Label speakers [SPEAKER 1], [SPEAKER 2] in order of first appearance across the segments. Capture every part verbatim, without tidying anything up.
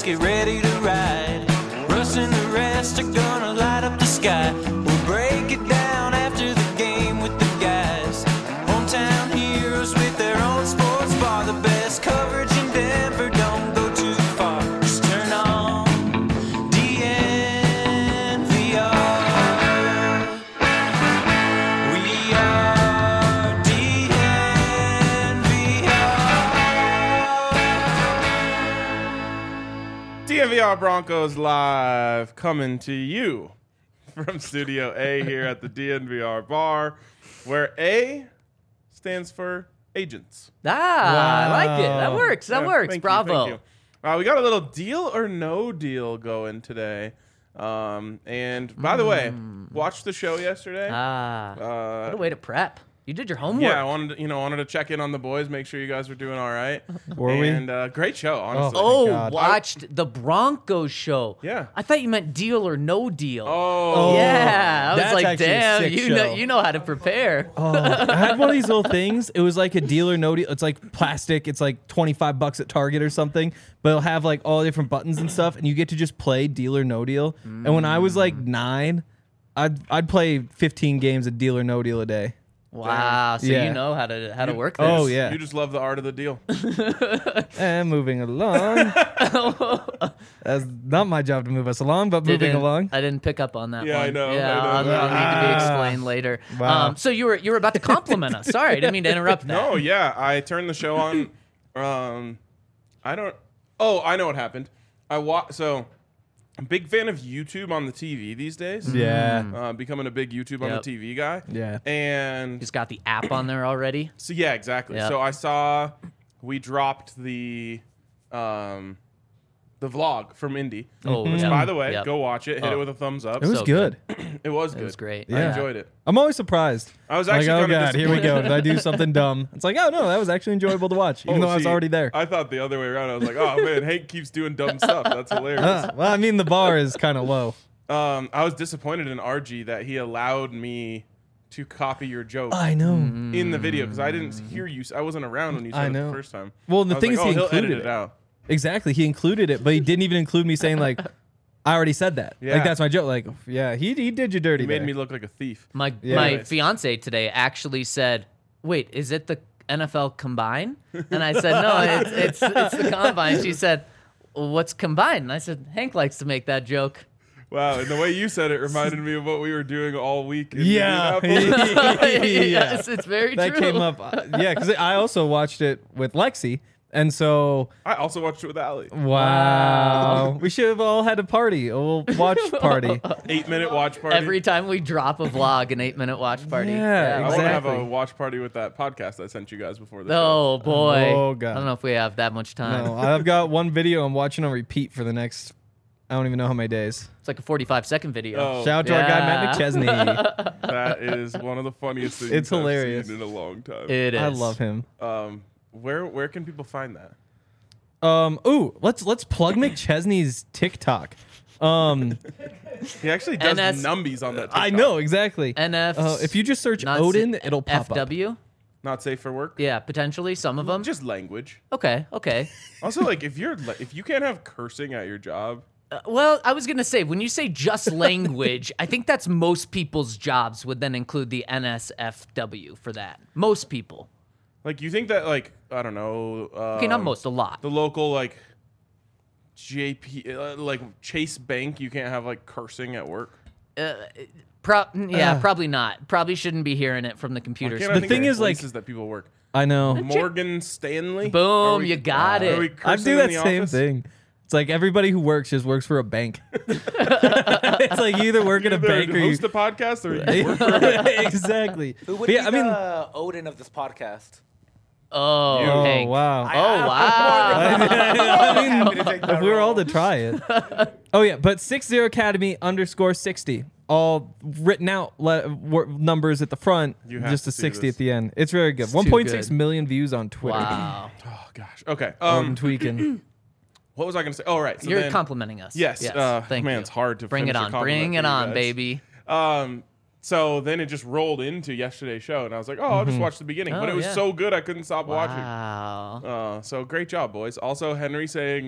[SPEAKER 1] get ready to ride. Russ and the rest are gonna light up the sky. We'll break it down after the game with the guys. Hometown heroes with their own sports bar. The best coverage in Denver, don't go too far. Just turn on D N V R. We are D N V R.
[SPEAKER 2] D N V R Broncos Live coming to you from Studio A here at the D N V R bar, where A stands for agents.
[SPEAKER 3] Ah, I like it. That
[SPEAKER 4] Wow.
[SPEAKER 3] works. That
[SPEAKER 2] Yeah,
[SPEAKER 3] works.
[SPEAKER 2] thank you,
[SPEAKER 3] Bravo.
[SPEAKER 2] thank you. Uh, we got a little deal or no deal going today. Um, and by the way, watched the show yesterday.
[SPEAKER 3] Ah,
[SPEAKER 2] Uh,
[SPEAKER 3] what a way to prep. You did your homework.
[SPEAKER 2] yeah, I wanted to, you know wanted to check in on the boys, make sure you guys were doing all right.
[SPEAKER 4] Were we?
[SPEAKER 2] And uh, great show, honestly.
[SPEAKER 3] Oh,
[SPEAKER 4] God.
[SPEAKER 3] watched the Broncos show.
[SPEAKER 2] Yeah.
[SPEAKER 3] I thought you meant deal or no deal.
[SPEAKER 2] Oh,
[SPEAKER 3] yeah. I was
[SPEAKER 4] That's
[SPEAKER 3] like,
[SPEAKER 4] actually a
[SPEAKER 3] damn,
[SPEAKER 4] sick
[SPEAKER 3] you know,
[SPEAKER 4] show.
[SPEAKER 3] you know how to prepare.
[SPEAKER 4] Oh, I had one of these little things. It was like a deal or no deal. It's like plastic. It's like twenty-five bucks at Target or something, but it'll have like all different buttons and stuff, and you get to just play deal or no deal. And when I was like nine, I'd I'd play fifteen games of deal or no deal a day.
[SPEAKER 3] Wow. So
[SPEAKER 4] Yeah.
[SPEAKER 3] you know how to how to work this.
[SPEAKER 4] Oh, yeah.
[SPEAKER 2] You just love the art of the deal.
[SPEAKER 4] And moving along. That's not my job to move us along, but moving
[SPEAKER 3] Didn't-
[SPEAKER 4] along.
[SPEAKER 3] I didn't pick up on that
[SPEAKER 2] Yeah,
[SPEAKER 3] one.
[SPEAKER 2] I know,
[SPEAKER 3] Yeah,
[SPEAKER 2] I know.
[SPEAKER 3] I'll, I'll need to be
[SPEAKER 4] Ah.
[SPEAKER 3] explained later.
[SPEAKER 4] Wow.
[SPEAKER 3] Um, so you were you were about to compliment us. Sorry, I didn't mean to interrupt that.
[SPEAKER 2] No, yeah, I turned the show on. Um, I don't. Oh, I know what happened. I wa- So, I'm a big fan of YouTube on the T V these days.
[SPEAKER 4] Yeah.
[SPEAKER 2] Uh, becoming a big YouTube on the
[SPEAKER 3] Yep.
[SPEAKER 2] T V guy.
[SPEAKER 4] Yeah.
[SPEAKER 2] And
[SPEAKER 3] Just got the app on there already.
[SPEAKER 2] so yeah, exactly.
[SPEAKER 3] Yep.
[SPEAKER 2] So I saw we dropped the um the vlog from Indy.
[SPEAKER 3] Oh,
[SPEAKER 2] Which,
[SPEAKER 3] yep.
[SPEAKER 2] by the way,
[SPEAKER 3] Yep.
[SPEAKER 2] go watch it. Hit
[SPEAKER 3] Oh.
[SPEAKER 2] it with a thumbs up.
[SPEAKER 4] It was
[SPEAKER 3] So
[SPEAKER 4] good.
[SPEAKER 2] It was good.
[SPEAKER 3] It was great.
[SPEAKER 2] I
[SPEAKER 4] Yeah.
[SPEAKER 2] enjoyed it.
[SPEAKER 4] I'm always surprised.
[SPEAKER 2] I was
[SPEAKER 4] Like,
[SPEAKER 2] actually
[SPEAKER 4] oh
[SPEAKER 2] kind of
[SPEAKER 4] god, here we go. Did I do something dumb? It's like, oh no, that was actually enjoyable to watch, even
[SPEAKER 2] Oh,
[SPEAKER 4] though I was
[SPEAKER 2] see,
[SPEAKER 4] already there.
[SPEAKER 2] I thought the other way around. I was like, oh man, Hank keeps doing dumb stuff. That's hilarious.
[SPEAKER 4] Uh, well, I mean, the bar is kind of low.
[SPEAKER 2] Um, I was disappointed in R G that he allowed me to copy your joke
[SPEAKER 4] I know.
[SPEAKER 2] in the video because I didn't hear you. I wasn't around when you
[SPEAKER 4] I
[SPEAKER 2] said it
[SPEAKER 4] know.
[SPEAKER 2] the first time.
[SPEAKER 4] Well, the
[SPEAKER 2] I was
[SPEAKER 4] thing
[SPEAKER 2] like,
[SPEAKER 4] is,
[SPEAKER 2] oh,
[SPEAKER 4] he
[SPEAKER 2] he'll
[SPEAKER 4] included
[SPEAKER 2] edit it
[SPEAKER 4] it.
[SPEAKER 2] out.
[SPEAKER 4] Exactly, he included it, but he didn't even include me saying like, I already said that.
[SPEAKER 2] Yeah.
[SPEAKER 4] Like that's my joke. Like, yeah, he he did you dirty.
[SPEAKER 2] He made
[SPEAKER 4] there.
[SPEAKER 2] me look like a thief.
[SPEAKER 3] My
[SPEAKER 4] Yeah.
[SPEAKER 3] my
[SPEAKER 2] Anyways.
[SPEAKER 3] fiance today actually said, "Wait, is it the N F L Combine?" And I said, "No, it's it's it's the Combine." She said, well, "What's Combine?" And I said, "Hank likes to make that joke."
[SPEAKER 2] Wow, and the way you said it reminded me of what we were doing all week. In
[SPEAKER 4] Yeah,
[SPEAKER 2] Indianapolis.
[SPEAKER 3] Yes, it's very
[SPEAKER 4] that
[SPEAKER 3] true.
[SPEAKER 4] came up. Uh, yeah, because I also watched it with Lexi, and so
[SPEAKER 2] I also watched it with Allie.
[SPEAKER 4] wow, we should have all had a party, a little watch party.
[SPEAKER 2] Eight minute watch party.
[SPEAKER 3] Every time we drop a vlog, an eight minute watch party.
[SPEAKER 4] Yeah,
[SPEAKER 2] I want to have a
[SPEAKER 4] exactly.
[SPEAKER 2] watch party with that podcast I sent you guys before the show.
[SPEAKER 3] Oh boy.
[SPEAKER 4] Oh, God.
[SPEAKER 3] I don't know if we have that much time.
[SPEAKER 4] No, I've got one video I'm watching on repeat for the next. I don't even know how many days.
[SPEAKER 3] It's like a forty-five second video.
[SPEAKER 2] Oh,
[SPEAKER 4] Shout out to our guy Matt
[SPEAKER 3] Yeah.
[SPEAKER 4] McChesney.
[SPEAKER 2] that is one of the funniest things
[SPEAKER 4] It's
[SPEAKER 2] I've
[SPEAKER 4] hilarious.
[SPEAKER 2] seen in a long time.
[SPEAKER 3] It is.
[SPEAKER 4] I love him.
[SPEAKER 2] um, where where can people find that?
[SPEAKER 4] Um, ooh, let's let's plug McChesney's TikTok. Um,
[SPEAKER 2] He actually does
[SPEAKER 3] N S
[SPEAKER 2] numbies on that. TikTok.
[SPEAKER 4] I know exactly.
[SPEAKER 3] N F.
[SPEAKER 4] Uh, if you just search
[SPEAKER 3] not
[SPEAKER 4] Odin,
[SPEAKER 3] s-
[SPEAKER 4] it'll pop
[SPEAKER 3] F W.
[SPEAKER 2] Not safe for work.
[SPEAKER 3] Yeah, potentially some of them.
[SPEAKER 2] Just language.
[SPEAKER 3] Okay, okay.
[SPEAKER 2] Also, like if you're li- if you can't have cursing at your job,
[SPEAKER 3] Uh, well, I was gonna say when you say just language, I think that's most people's jobs would then include the N S F W for that. Most people.
[SPEAKER 2] like you think that like I don't know. Um,
[SPEAKER 3] Okay, not most, a lot.
[SPEAKER 2] The local like J P uh, like Chase Bank, you can't have like cursing at work.
[SPEAKER 3] Pro- yeah,
[SPEAKER 4] Uh.
[SPEAKER 3] probably not. Probably shouldn't be hearing it from the
[SPEAKER 2] Why
[SPEAKER 3] computers.
[SPEAKER 2] can't I
[SPEAKER 4] The
[SPEAKER 2] think
[SPEAKER 4] thing
[SPEAKER 2] of
[SPEAKER 4] is, like-
[SPEAKER 2] places that people work.
[SPEAKER 4] I know.
[SPEAKER 2] Morgan Stanley.
[SPEAKER 3] Boom,
[SPEAKER 2] Are we-
[SPEAKER 3] you got
[SPEAKER 2] Are we
[SPEAKER 3] it.
[SPEAKER 4] I
[SPEAKER 2] cursing
[SPEAKER 4] do
[SPEAKER 2] in
[SPEAKER 4] that
[SPEAKER 2] the
[SPEAKER 4] same
[SPEAKER 2] office?
[SPEAKER 4] thing. It's like everybody who works just works for a bank. It's like you either work at a
[SPEAKER 2] Either
[SPEAKER 4] bank or you.
[SPEAKER 2] host a podcast or you work.
[SPEAKER 4] exactly.
[SPEAKER 5] Who would
[SPEAKER 4] But yeah,
[SPEAKER 5] be
[SPEAKER 4] I mean,
[SPEAKER 5] the Odin of this podcast?
[SPEAKER 3] Oh,
[SPEAKER 2] You.
[SPEAKER 4] oh
[SPEAKER 3] Hank.
[SPEAKER 4] wow.
[SPEAKER 3] Oh wow.
[SPEAKER 4] I mean,
[SPEAKER 5] Happy to take that
[SPEAKER 4] if we were all
[SPEAKER 5] role.
[SPEAKER 4] to try it. Oh yeah, but six zero Academy underscore sixty, all written out le- wor- numbers at the front,
[SPEAKER 2] You have
[SPEAKER 4] just
[SPEAKER 2] to
[SPEAKER 4] a
[SPEAKER 2] see
[SPEAKER 4] sixty
[SPEAKER 2] this.
[SPEAKER 4] at the end. It's very good.
[SPEAKER 3] It's
[SPEAKER 4] One
[SPEAKER 3] too
[SPEAKER 4] point six
[SPEAKER 3] good.
[SPEAKER 4] million views on Twitter.
[SPEAKER 3] Wow.
[SPEAKER 2] Oh gosh. Okay.
[SPEAKER 4] Um,
[SPEAKER 2] Um,
[SPEAKER 4] tweaking.
[SPEAKER 2] what was I gonna say? Oh right. So
[SPEAKER 3] You're
[SPEAKER 2] then,
[SPEAKER 3] complimenting us.
[SPEAKER 2] Yes. uh,
[SPEAKER 3] Thank
[SPEAKER 2] man,
[SPEAKER 3] you.
[SPEAKER 2] it's hard to
[SPEAKER 3] Bring
[SPEAKER 2] finish
[SPEAKER 3] it
[SPEAKER 2] a
[SPEAKER 3] on.
[SPEAKER 2] compliment
[SPEAKER 3] Bring
[SPEAKER 2] for
[SPEAKER 3] it
[SPEAKER 2] you
[SPEAKER 3] on,
[SPEAKER 2] guys.
[SPEAKER 3] baby.
[SPEAKER 2] Um. So then it just rolled into yesterday's show, and I was like, "Oh, I'll just watch the beginning." but
[SPEAKER 3] Oh,
[SPEAKER 2] it was
[SPEAKER 3] yeah.
[SPEAKER 2] so good, I couldn't stop watching.
[SPEAKER 3] Wow.
[SPEAKER 2] Uh, so great job, boys. Also, Henry saying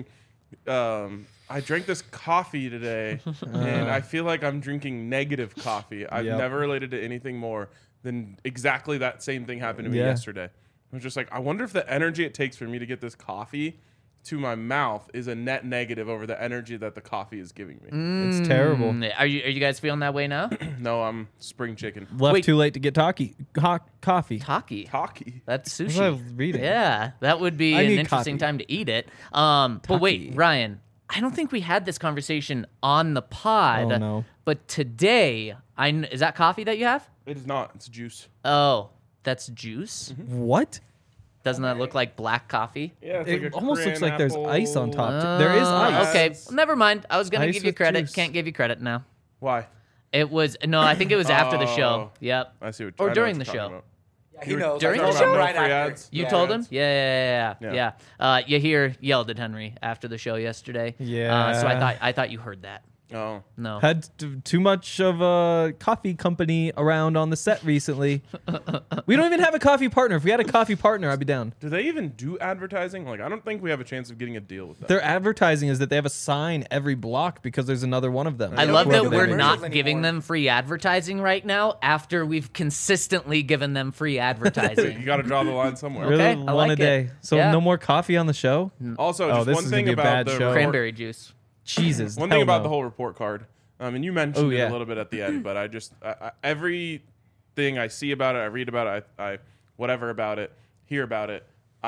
[SPEAKER 2] Um, I drank this coffee today, and I feel like I'm drinking negative coffee. I've
[SPEAKER 4] Yep.
[SPEAKER 2] never related to anything more than exactly that same thing happened to me
[SPEAKER 4] Yeah.
[SPEAKER 2] yesterday. I was just like, I wonder if the energy it takes for me to get this coffee to my mouth is a net negative over the energy that the coffee is giving me.
[SPEAKER 4] It's terrible.
[SPEAKER 3] Mm, Are you are you guys feeling that way now?
[SPEAKER 2] No, I'm spring chicken.
[SPEAKER 4] Left
[SPEAKER 3] Wait.
[SPEAKER 4] too late to get talkie, ho- coffee.
[SPEAKER 3] Taki.
[SPEAKER 2] Hockey.
[SPEAKER 3] That's
[SPEAKER 4] That's what I
[SPEAKER 3] sushi.
[SPEAKER 4] was reading.
[SPEAKER 3] Yeah, that would be
[SPEAKER 4] I
[SPEAKER 3] an
[SPEAKER 4] need
[SPEAKER 3] interesting
[SPEAKER 4] coffee.
[SPEAKER 3] time to eat it. Um, but wait,
[SPEAKER 4] Taki.
[SPEAKER 3] Ryan, I don't think we had this conversation on the pod.
[SPEAKER 4] Oh, no.
[SPEAKER 3] But today, I kn- is that coffee that you have?
[SPEAKER 2] It is not. It's juice.
[SPEAKER 3] Oh, that's juice.
[SPEAKER 4] What?
[SPEAKER 3] Doesn't that look like black coffee?
[SPEAKER 2] Yeah, it's
[SPEAKER 4] It
[SPEAKER 2] like a
[SPEAKER 4] almost looks like there's
[SPEAKER 2] cran
[SPEAKER 4] ice on
[SPEAKER 2] apple-
[SPEAKER 4] top. There is
[SPEAKER 3] Uh,
[SPEAKER 4] ice.
[SPEAKER 3] Okay,
[SPEAKER 2] Yes.
[SPEAKER 3] well, never mind. I was gonna
[SPEAKER 4] Ice
[SPEAKER 3] give you
[SPEAKER 4] with
[SPEAKER 3] credit.
[SPEAKER 4] juice.
[SPEAKER 3] Can't give you credit now.
[SPEAKER 2] Why?
[SPEAKER 3] It was no. I think it was after the show.
[SPEAKER 2] Oh.
[SPEAKER 3] Yep.
[SPEAKER 2] I see what
[SPEAKER 3] Or
[SPEAKER 2] I know
[SPEAKER 3] during
[SPEAKER 2] what
[SPEAKER 3] the
[SPEAKER 2] you're
[SPEAKER 3] show.
[SPEAKER 2] talking about.
[SPEAKER 5] Yeah, he knows.
[SPEAKER 3] during
[SPEAKER 5] I
[SPEAKER 3] the
[SPEAKER 5] told
[SPEAKER 3] show?
[SPEAKER 5] him right
[SPEAKER 2] No free
[SPEAKER 5] after.
[SPEAKER 2] ads?
[SPEAKER 3] You
[SPEAKER 5] Yeah.
[SPEAKER 3] told him? Yeah, yeah, yeah,
[SPEAKER 2] Yeah.
[SPEAKER 3] yeah. yeah. Uh, Yahir yelled at Henry after the show yesterday. Uh, so I
[SPEAKER 4] Yeah.
[SPEAKER 3] thought I thought you heard that.
[SPEAKER 2] Oh.
[SPEAKER 3] No.
[SPEAKER 4] Had t- too much of a coffee company around on the set recently. We don't even have a coffee partner. If we had a coffee partner, I'd be down.
[SPEAKER 2] Do they even do advertising? Like, I don't think we have a chance of getting a deal with them.
[SPEAKER 4] Their advertising is that they have a sign every block because there's another one of them.
[SPEAKER 3] I
[SPEAKER 2] Yeah,
[SPEAKER 3] love
[SPEAKER 2] we
[SPEAKER 3] that
[SPEAKER 2] don't do
[SPEAKER 3] we're
[SPEAKER 2] commercials
[SPEAKER 3] not giving
[SPEAKER 5] anymore.
[SPEAKER 3] them free advertising right now after we've consistently given them free
[SPEAKER 2] you
[SPEAKER 3] advertising.
[SPEAKER 2] got to draw the line somewhere.
[SPEAKER 4] Really,
[SPEAKER 3] Okay, I
[SPEAKER 4] one
[SPEAKER 3] like
[SPEAKER 4] a
[SPEAKER 3] it.
[SPEAKER 4] day. So
[SPEAKER 3] Yeah.
[SPEAKER 4] no more coffee on the show.
[SPEAKER 2] Also,
[SPEAKER 4] Oh,
[SPEAKER 2] just
[SPEAKER 4] this
[SPEAKER 2] one
[SPEAKER 4] is gonna
[SPEAKER 2] thing
[SPEAKER 4] be a
[SPEAKER 2] about
[SPEAKER 4] bad
[SPEAKER 2] the
[SPEAKER 4] show.
[SPEAKER 2] report-
[SPEAKER 3] Cranberry juice.
[SPEAKER 4] Jesus.
[SPEAKER 2] One
[SPEAKER 4] hell
[SPEAKER 2] thing about
[SPEAKER 4] no.
[SPEAKER 2] the whole report card. Um, and you mentioned
[SPEAKER 4] Oh,
[SPEAKER 2] it
[SPEAKER 4] yeah.
[SPEAKER 2] a little bit at the end, but I just I, I, everything I see about it, I read about it, I, I whatever about it, hear about it.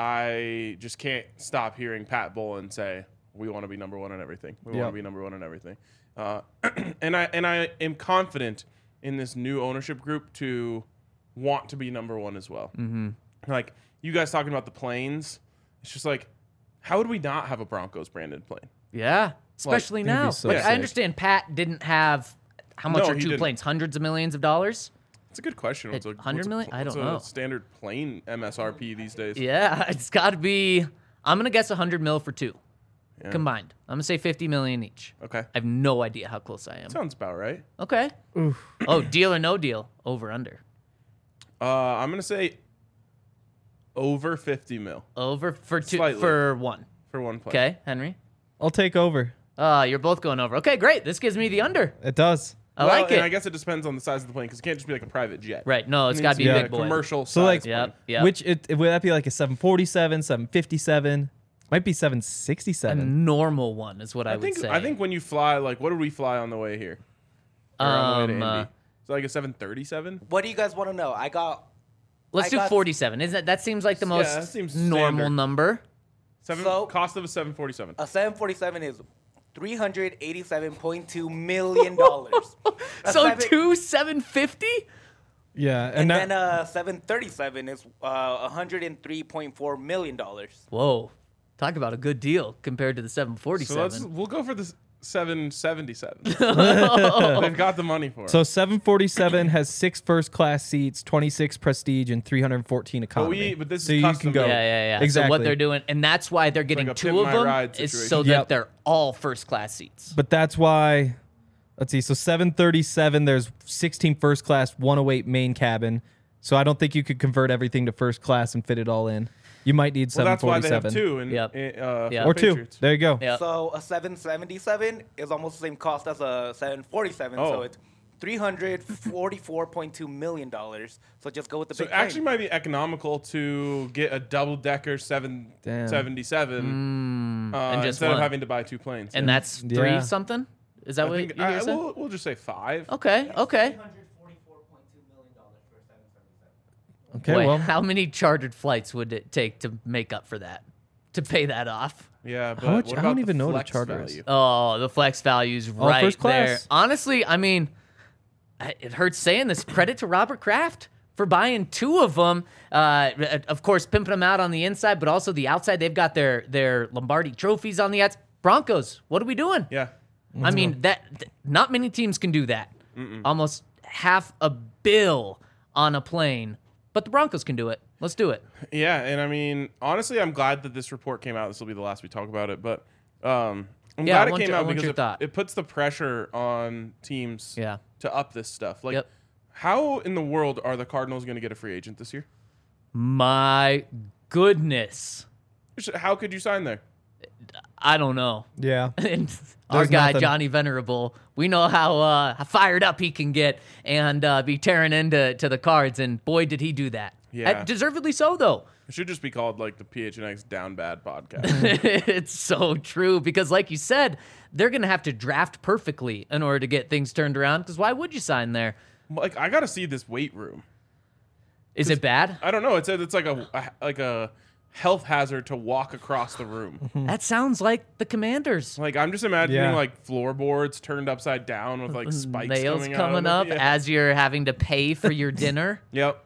[SPEAKER 2] I just can't stop hearing Pat Bullen say, "We want to be number one in everything. We want
[SPEAKER 4] Yep.
[SPEAKER 2] to be number one in everything." Uh, and I and I am confident in this new ownership group to want to be number one as well. Mm-hmm. Like you guys talking about the planes, it's just like, how would we not have a Broncos branded plane?
[SPEAKER 3] Yeah, especially
[SPEAKER 4] that'd be
[SPEAKER 3] now.
[SPEAKER 4] so
[SPEAKER 3] like
[SPEAKER 4] sick.
[SPEAKER 3] I understand Pat didn't have how much
[SPEAKER 2] No,
[SPEAKER 3] are
[SPEAKER 2] he
[SPEAKER 3] two
[SPEAKER 2] didn't.
[SPEAKER 3] planes? Hundreds of millions of dollars.
[SPEAKER 2] It's a good question. What's a,
[SPEAKER 3] one hundred
[SPEAKER 2] what's a-
[SPEAKER 3] million? I
[SPEAKER 2] what's
[SPEAKER 3] don't
[SPEAKER 2] a
[SPEAKER 3] know.
[SPEAKER 2] standard plane M S R P these days?
[SPEAKER 3] Yeah, it's got to be. I'm gonna guess a hundred mil for two
[SPEAKER 2] Yeah.
[SPEAKER 3] combined. I'm gonna say fifty million each.
[SPEAKER 2] Okay.
[SPEAKER 3] I have no idea how close I am.
[SPEAKER 2] Sounds about right.
[SPEAKER 3] Okay. Oh, deal or no deal? Over under.
[SPEAKER 2] Uh, I'm gonna say over fifty mil
[SPEAKER 3] Over for two
[SPEAKER 2] Slightly.
[SPEAKER 3] for one.
[SPEAKER 2] for one plane.
[SPEAKER 3] Okay, Henry.
[SPEAKER 4] I'll take over.
[SPEAKER 3] Uh, you're both going over. Okay, great. This gives me the under.
[SPEAKER 4] It does.
[SPEAKER 3] I
[SPEAKER 2] Well,
[SPEAKER 3] like
[SPEAKER 2] and
[SPEAKER 3] it.
[SPEAKER 2] I guess it depends on the size of the plane because it can't just be like a private jet.
[SPEAKER 3] Right. No, it's
[SPEAKER 2] It
[SPEAKER 3] got
[SPEAKER 2] needs
[SPEAKER 3] to be
[SPEAKER 4] Yeah.
[SPEAKER 3] a
[SPEAKER 2] a
[SPEAKER 3] big boy.
[SPEAKER 2] commercial.
[SPEAKER 4] So, like,
[SPEAKER 2] size
[SPEAKER 3] Yep.
[SPEAKER 2] plane.
[SPEAKER 3] Yep.
[SPEAKER 4] Which it, would that be like a seven forty-seven, seven fifty-seven? Might be seven
[SPEAKER 3] a
[SPEAKER 4] sixty-seven.
[SPEAKER 3] normal one is what I,
[SPEAKER 2] I
[SPEAKER 3] would
[SPEAKER 2] think
[SPEAKER 3] say.
[SPEAKER 2] I think when you fly, like, what did we fly on the way here? Or on the way
[SPEAKER 3] Um,
[SPEAKER 2] to
[SPEAKER 3] uh,
[SPEAKER 2] Indy? Is it like a seven thirty-seven?
[SPEAKER 5] What do you guys want to know? I got
[SPEAKER 3] Let's
[SPEAKER 5] I
[SPEAKER 3] do
[SPEAKER 5] got-
[SPEAKER 3] forty-seven. Isn't that that seems like the
[SPEAKER 2] Yeah,
[SPEAKER 3] most
[SPEAKER 2] that seems
[SPEAKER 3] normal
[SPEAKER 2] standard.
[SPEAKER 3] number?
[SPEAKER 2] Seven
[SPEAKER 5] So-
[SPEAKER 2] cost of a seven forty-seven.
[SPEAKER 5] a seven forty-seven is three hundred eighty-seven point two million dollars.
[SPEAKER 3] So two seven fifty.
[SPEAKER 4] Yeah, and,
[SPEAKER 5] And
[SPEAKER 4] that,
[SPEAKER 5] then a seven thirty-seven is uh, one hundred three point four million dollars.
[SPEAKER 3] Whoa, talk about a good deal compared to the seven
[SPEAKER 2] So let's
[SPEAKER 3] forty-seven.
[SPEAKER 2] we'll go for the seven seventy-seven. They've got the money for it.
[SPEAKER 4] so seven forty-seven has six first class seats, twenty-six prestige, and three hundred fourteen economy.
[SPEAKER 2] we- but this
[SPEAKER 4] so
[SPEAKER 2] is
[SPEAKER 4] you
[SPEAKER 2] custom
[SPEAKER 4] can go.
[SPEAKER 2] built.
[SPEAKER 3] Yeah, yeah, yeah.
[SPEAKER 4] Exactly.
[SPEAKER 3] So what they're doing, and that's why they're getting
[SPEAKER 2] like a
[SPEAKER 3] two
[SPEAKER 2] Pimp
[SPEAKER 3] of
[SPEAKER 2] My
[SPEAKER 3] them,
[SPEAKER 2] Ride
[SPEAKER 3] is
[SPEAKER 2] situation.
[SPEAKER 3] so that
[SPEAKER 4] Yep.
[SPEAKER 3] they're all first class seats.
[SPEAKER 4] But that's why, let's see. So seven thirty-seven, there's sixteen first class, one oh eight main cabin. So I don't think you could convert everything to first class and fit it all in. You might need
[SPEAKER 2] well, that's why they have
[SPEAKER 4] seven forty-seven.
[SPEAKER 2] two. And
[SPEAKER 3] Yep.
[SPEAKER 2] uh,
[SPEAKER 3] Yep.
[SPEAKER 2] for
[SPEAKER 4] Or two.
[SPEAKER 2] Patriots.
[SPEAKER 4] There you go.
[SPEAKER 3] Yeah.
[SPEAKER 5] So a seven seventy-seven is almost the same cost as a seven forty-seven. So
[SPEAKER 2] Oh.
[SPEAKER 5] it's three hundred forty-four point two million dollars. So just go with the
[SPEAKER 2] So
[SPEAKER 5] big
[SPEAKER 2] it actually
[SPEAKER 5] plane.
[SPEAKER 2] might be economical to get a double decker seven
[SPEAKER 4] Damn.
[SPEAKER 2] seventy-seven uh,
[SPEAKER 3] and just
[SPEAKER 2] instead
[SPEAKER 3] one.
[SPEAKER 2] of having to buy two planes.
[SPEAKER 3] And
[SPEAKER 2] Yeah.
[SPEAKER 3] that's three
[SPEAKER 4] Yeah.
[SPEAKER 3] something. Is that
[SPEAKER 2] I
[SPEAKER 3] what
[SPEAKER 2] think
[SPEAKER 3] you
[SPEAKER 2] I,
[SPEAKER 3] guys said?
[SPEAKER 2] we'll, we'll just say five.
[SPEAKER 3] Okay, okay.
[SPEAKER 4] Okay,
[SPEAKER 3] Wait,
[SPEAKER 4] well,
[SPEAKER 3] how many chartered flights would it take to make up for that? To pay that off?
[SPEAKER 2] Yeah, but
[SPEAKER 4] How much-
[SPEAKER 2] what
[SPEAKER 4] I
[SPEAKER 2] about
[SPEAKER 4] don't
[SPEAKER 2] the
[SPEAKER 4] even know what a
[SPEAKER 2] flex
[SPEAKER 4] charter is.
[SPEAKER 2] value?
[SPEAKER 3] Oh, the flex value's
[SPEAKER 4] All
[SPEAKER 3] right
[SPEAKER 4] first class.
[SPEAKER 3] there. Honestly, I mean, I- it hurts saying this. Credit to Robert Kraft for buying two of them. Uh, of course, pimping them out on the inside, but also the outside. They've got their their Lombardi trophies on the outside. Broncos, what are we doing?
[SPEAKER 2] Yeah.
[SPEAKER 3] I mean, that th- not many teams can do that. Almost half a bill on a plane, but the Broncos can do it. Let's do it.
[SPEAKER 2] Yeah, and I mean, honestly, I'm glad that this report came out. This will be the last we talk about it, but um, I'm
[SPEAKER 3] Yeah, I
[SPEAKER 2] glad it
[SPEAKER 3] want
[SPEAKER 2] came
[SPEAKER 3] your- I
[SPEAKER 2] out
[SPEAKER 3] want
[SPEAKER 2] because
[SPEAKER 3] your
[SPEAKER 2] it,
[SPEAKER 3] thought.
[SPEAKER 2] it puts the pressure on teams
[SPEAKER 3] Yeah.
[SPEAKER 2] to up this stuff. Like,
[SPEAKER 3] Yep.
[SPEAKER 2] how in the world are the Cardinals going to get a free agent this year?
[SPEAKER 3] My goodness.
[SPEAKER 2] How could you sign there?
[SPEAKER 3] I don't know.
[SPEAKER 4] Yeah.
[SPEAKER 3] And our
[SPEAKER 4] There's
[SPEAKER 3] guy
[SPEAKER 4] nothing.
[SPEAKER 3] Johnny Venerable, we know how uh, how fired up he can get and uh, be tearing into to the cards, and boy, did he do that.
[SPEAKER 2] Yeah.
[SPEAKER 3] Uh, deservedly so, though.
[SPEAKER 2] It should just be called like the P H N X Down Bad podcast.
[SPEAKER 3] It's so true because, like you said, they're gonna have to draft perfectly in order to get things turned around. Because why would you sign there?
[SPEAKER 2] Like I gotta see this weight room.
[SPEAKER 3] Is it bad?
[SPEAKER 2] I don't know. It said it's like a, a like a health hazard to walk across the room.
[SPEAKER 3] That sounds like the Commanders.
[SPEAKER 2] Like I'm just imagining
[SPEAKER 4] Yeah.
[SPEAKER 2] like floorboards turned upside down with like spikes
[SPEAKER 3] Nails
[SPEAKER 2] coming,
[SPEAKER 3] coming
[SPEAKER 2] out
[SPEAKER 3] up
[SPEAKER 2] of it. Yeah.
[SPEAKER 3] as you're having to pay for your dinner.
[SPEAKER 2] Yep.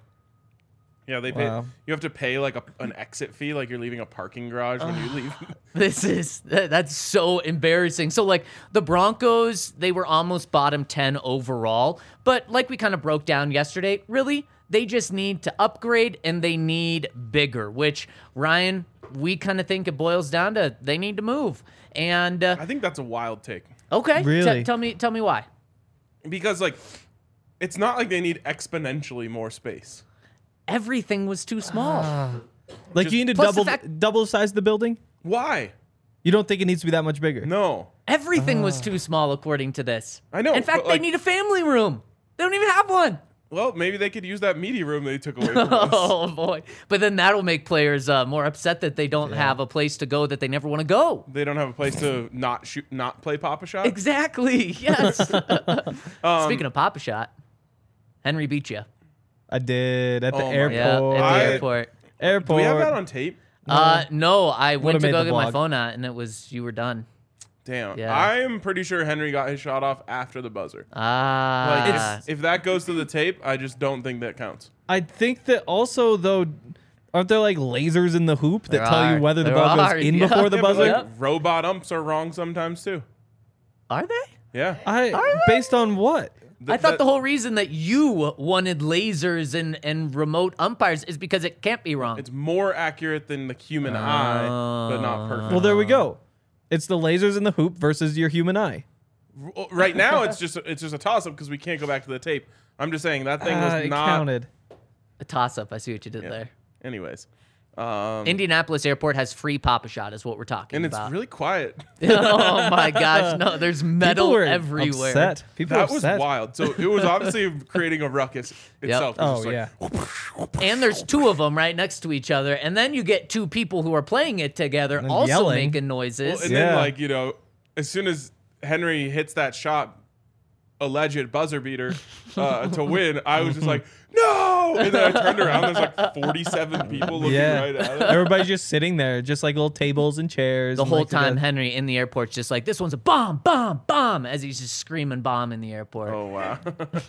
[SPEAKER 2] Yeah, they pay.
[SPEAKER 4] Wow.
[SPEAKER 2] You have to pay like a, an exit fee, like you're leaving a parking garage when you leave.
[SPEAKER 3] This is that- that's so embarrassing. So like the Broncos, they were almost bottom ten overall, but like we kind of broke down yesterday, really, they just need to upgrade and they need bigger, which Ryan, we kind of think it boils down to they need to move. And uh,
[SPEAKER 2] I think that's a wild take
[SPEAKER 3] okay,
[SPEAKER 4] Really?
[SPEAKER 3] t- tell me tell me why.
[SPEAKER 2] because like it's not like they need exponentially more space.
[SPEAKER 3] Everything was too small.
[SPEAKER 4] Like
[SPEAKER 2] Just-
[SPEAKER 4] you need to
[SPEAKER 3] Plus the
[SPEAKER 4] double
[SPEAKER 3] fact-
[SPEAKER 4] double size the building?
[SPEAKER 2] Why?
[SPEAKER 4] You don't think it needs to be that much bigger?
[SPEAKER 2] No.
[SPEAKER 3] Everything was too small according to this.
[SPEAKER 2] I know,
[SPEAKER 3] In fact,
[SPEAKER 2] but,
[SPEAKER 3] they
[SPEAKER 2] like-
[SPEAKER 3] need a family room. They don't even have one.
[SPEAKER 2] Well, maybe they could use that media room they took away from us.
[SPEAKER 3] Oh boy! But then that'll make players uh, more upset that they don't have a place to go that they never want to go.
[SPEAKER 2] They don't have a place to not shoot, not play Papa Shot.
[SPEAKER 3] Exactly. Yes.
[SPEAKER 2] Um,
[SPEAKER 3] Speaking of Papa Shot, Henry beat you.
[SPEAKER 4] I did at the
[SPEAKER 2] Oh my-
[SPEAKER 4] airport.
[SPEAKER 3] Yeah, at the
[SPEAKER 2] I-
[SPEAKER 3] airport.
[SPEAKER 4] Airport.
[SPEAKER 2] Do we have that on tape?
[SPEAKER 3] Uh, no, I went
[SPEAKER 4] Would've
[SPEAKER 3] to
[SPEAKER 4] made
[SPEAKER 3] go
[SPEAKER 4] the
[SPEAKER 3] get my
[SPEAKER 4] vlog.
[SPEAKER 3] phone out, and it was you were done.
[SPEAKER 2] Damn.
[SPEAKER 3] Yeah.
[SPEAKER 2] I am pretty sure Henry got his shot off after the buzzer. Like,
[SPEAKER 3] Ah,
[SPEAKER 2] if, if that goes to the tape, I just don't think that counts.
[SPEAKER 4] I think that also though, aren't there like lasers in the hoop that
[SPEAKER 3] There
[SPEAKER 4] tell
[SPEAKER 3] are.
[SPEAKER 4] you whether the
[SPEAKER 3] There
[SPEAKER 4] ball
[SPEAKER 3] are,
[SPEAKER 4] goes in
[SPEAKER 3] yeah.
[SPEAKER 4] before the
[SPEAKER 2] Yeah, but,
[SPEAKER 4] buzzer?
[SPEAKER 2] like,
[SPEAKER 3] Yep.
[SPEAKER 2] robot umps are wrong sometimes too.
[SPEAKER 3] are they?
[SPEAKER 2] Yeah.
[SPEAKER 4] I based on what?
[SPEAKER 3] I thought the whole reason that you wanted lasers and, and remote umpires is because it can't be wrong.
[SPEAKER 2] It's more accurate than the human eye, but not perfect.
[SPEAKER 4] Well, there we go. It's the lasers in the hoop versus your human eye.
[SPEAKER 2] Well, right now, it's just it's just a toss up because we can't go back to the tape. I'm just saying that thing was
[SPEAKER 4] Ah, it
[SPEAKER 2] not
[SPEAKER 4] counted.
[SPEAKER 3] A toss up. I see what you did
[SPEAKER 2] Yeah.
[SPEAKER 3] there.
[SPEAKER 2] Anyways, um,
[SPEAKER 3] Indianapolis Airport has free Papa Shot, is what we're talking
[SPEAKER 2] and it's
[SPEAKER 3] about.
[SPEAKER 2] really quiet.
[SPEAKER 3] Oh my gosh, no, there's metal
[SPEAKER 4] People were
[SPEAKER 3] everywhere.
[SPEAKER 4] Upset. People
[SPEAKER 2] That
[SPEAKER 4] were
[SPEAKER 2] was
[SPEAKER 4] upset.
[SPEAKER 2] wild. So it was obviously creating a ruckus itself. It was
[SPEAKER 4] Oh
[SPEAKER 2] just like,
[SPEAKER 4] yeah.
[SPEAKER 3] And there's two of them right next to each other, and then you get two people who are playing it together
[SPEAKER 4] And
[SPEAKER 3] also
[SPEAKER 4] yelling.
[SPEAKER 3] making noises.
[SPEAKER 2] Well, and
[SPEAKER 4] Yeah.
[SPEAKER 2] then like you know, as soon as Henry hits that shot, alleged buzzer beater uh, to win, I was just like, no! And then I turned around. There's like forty-seven people looking
[SPEAKER 4] Yeah.
[SPEAKER 2] right at it.
[SPEAKER 4] Everybody's just sitting there, just like little tables and chairs.
[SPEAKER 3] the
[SPEAKER 4] and,
[SPEAKER 3] whole
[SPEAKER 4] like,
[SPEAKER 3] time,
[SPEAKER 4] the-
[SPEAKER 3] Henry in the airport's just like, this one's a bomb, bomb, bomb, as he's just screaming bomb in the airport.
[SPEAKER 2] Oh wow.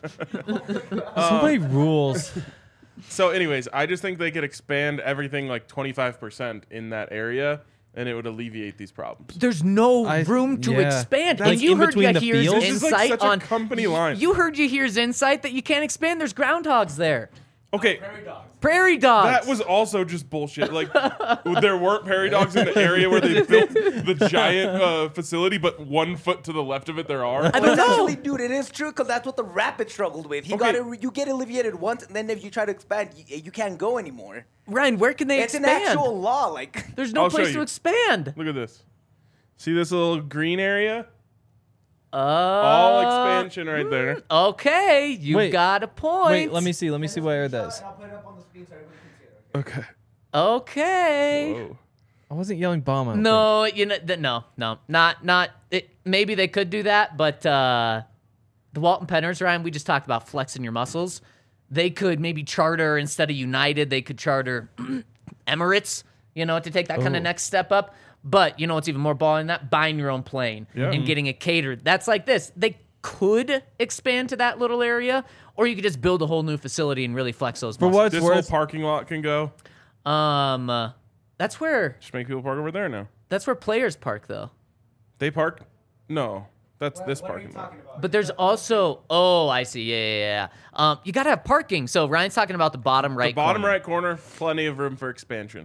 [SPEAKER 4] so many rules.
[SPEAKER 2] So, anyways, I just think they could expand everything like twenty-five percent in that area, and it would alleviate these problems.
[SPEAKER 3] There's no
[SPEAKER 4] I-
[SPEAKER 3] room to
[SPEAKER 4] yeah.
[SPEAKER 3] expand.
[SPEAKER 4] That's
[SPEAKER 3] and you
[SPEAKER 4] in
[SPEAKER 3] heard
[SPEAKER 4] between the
[SPEAKER 3] Yahir's
[SPEAKER 4] fields?
[SPEAKER 2] This is like
[SPEAKER 3] insight
[SPEAKER 2] such a
[SPEAKER 3] on
[SPEAKER 2] company line.
[SPEAKER 3] You heard Yahir's insight that you can't expand. There's groundhogs there.
[SPEAKER 2] Okay,
[SPEAKER 3] Prairie dogs.
[SPEAKER 2] that was also just bullshit. Like, there weren't prairie dogs in the area where they built the giant uh, facility, but one foot to the left of it there are.
[SPEAKER 3] I
[SPEAKER 5] But
[SPEAKER 3] don't know.
[SPEAKER 5] actually, dude, it is true because that's what the Rapids struggled with. He
[SPEAKER 2] Okay.
[SPEAKER 5] got it, you get alleviated once, and then if you try to expand, you, you can't go anymore.
[SPEAKER 3] Ryan, where can they
[SPEAKER 5] It's an
[SPEAKER 3] expand?
[SPEAKER 5] actual law. Like,
[SPEAKER 3] There's no
[SPEAKER 2] I'll show
[SPEAKER 3] place to
[SPEAKER 2] you.
[SPEAKER 3] expand.
[SPEAKER 2] Look at this. See this little green area?
[SPEAKER 3] Uh,
[SPEAKER 2] All expansion right there.
[SPEAKER 3] Okay, you've
[SPEAKER 4] Wait.
[SPEAKER 3] got a point.
[SPEAKER 4] Wait, let me see. Let me see where that is.
[SPEAKER 5] I'll put it up on the screen so everybody can see it.
[SPEAKER 2] Okay.
[SPEAKER 3] Okay.
[SPEAKER 2] Whoa.
[SPEAKER 4] I wasn't yelling bomb. I don't
[SPEAKER 3] No, you know, th- no, no, not, not. It, maybe they could do that, but uh, the Walton Penners, Ryan, we just talked about flexing your muscles. They could maybe charter instead of United. They could charter Emirates, you know, to take that kind
[SPEAKER 4] Ooh.
[SPEAKER 3] of next step up. But you know what's even more balling than that? Buying your own plane
[SPEAKER 2] Yeah.
[SPEAKER 3] and getting it catered. That's like this. They could expand to that little area, or you could just build a whole new facility and really flex those
[SPEAKER 4] For
[SPEAKER 3] muscles.
[SPEAKER 4] what it's
[SPEAKER 2] This whole
[SPEAKER 4] worth,
[SPEAKER 2] parking lot can go.
[SPEAKER 3] Um, uh, that's where
[SPEAKER 2] Just make people park over there now.
[SPEAKER 3] that's where players park though.
[SPEAKER 2] They park? No. That's this parking lot.
[SPEAKER 3] But there's also, oh, I see, yeah, yeah, yeah. Um, you gotta have parking. So Ryan's talking about the bottom right.
[SPEAKER 2] The bottom
[SPEAKER 3] corner.
[SPEAKER 2] right corner, plenty of room for expansion.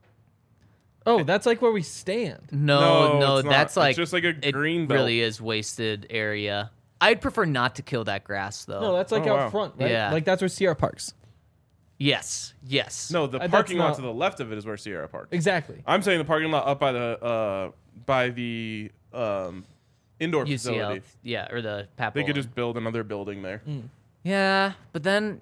[SPEAKER 4] oh, that's like where we stand.
[SPEAKER 3] No,
[SPEAKER 2] No,
[SPEAKER 3] no,
[SPEAKER 2] it's not.
[SPEAKER 3] that's
[SPEAKER 2] It's
[SPEAKER 3] like
[SPEAKER 2] just like a
[SPEAKER 3] it
[SPEAKER 2] green belt.
[SPEAKER 3] really is wasted area. I'd prefer not to kill that grass though.
[SPEAKER 4] No, that's like
[SPEAKER 2] Oh,
[SPEAKER 4] out
[SPEAKER 2] wow.
[SPEAKER 4] front, right?
[SPEAKER 3] Yeah.
[SPEAKER 4] Like that's where Sierra parks.
[SPEAKER 3] Yes, yes.
[SPEAKER 2] No, the
[SPEAKER 4] Uh, that's
[SPEAKER 2] parking lot
[SPEAKER 4] not-
[SPEAKER 2] to the left of it is where Sierra parked.
[SPEAKER 4] Exactly.
[SPEAKER 2] I'm saying the parking lot up by the uh by the um indoor
[SPEAKER 3] U C L,
[SPEAKER 2] facility.
[SPEAKER 3] yeah, or the Papo.
[SPEAKER 2] They could
[SPEAKER 3] one.
[SPEAKER 2] just build another building there.
[SPEAKER 3] Yeah, but then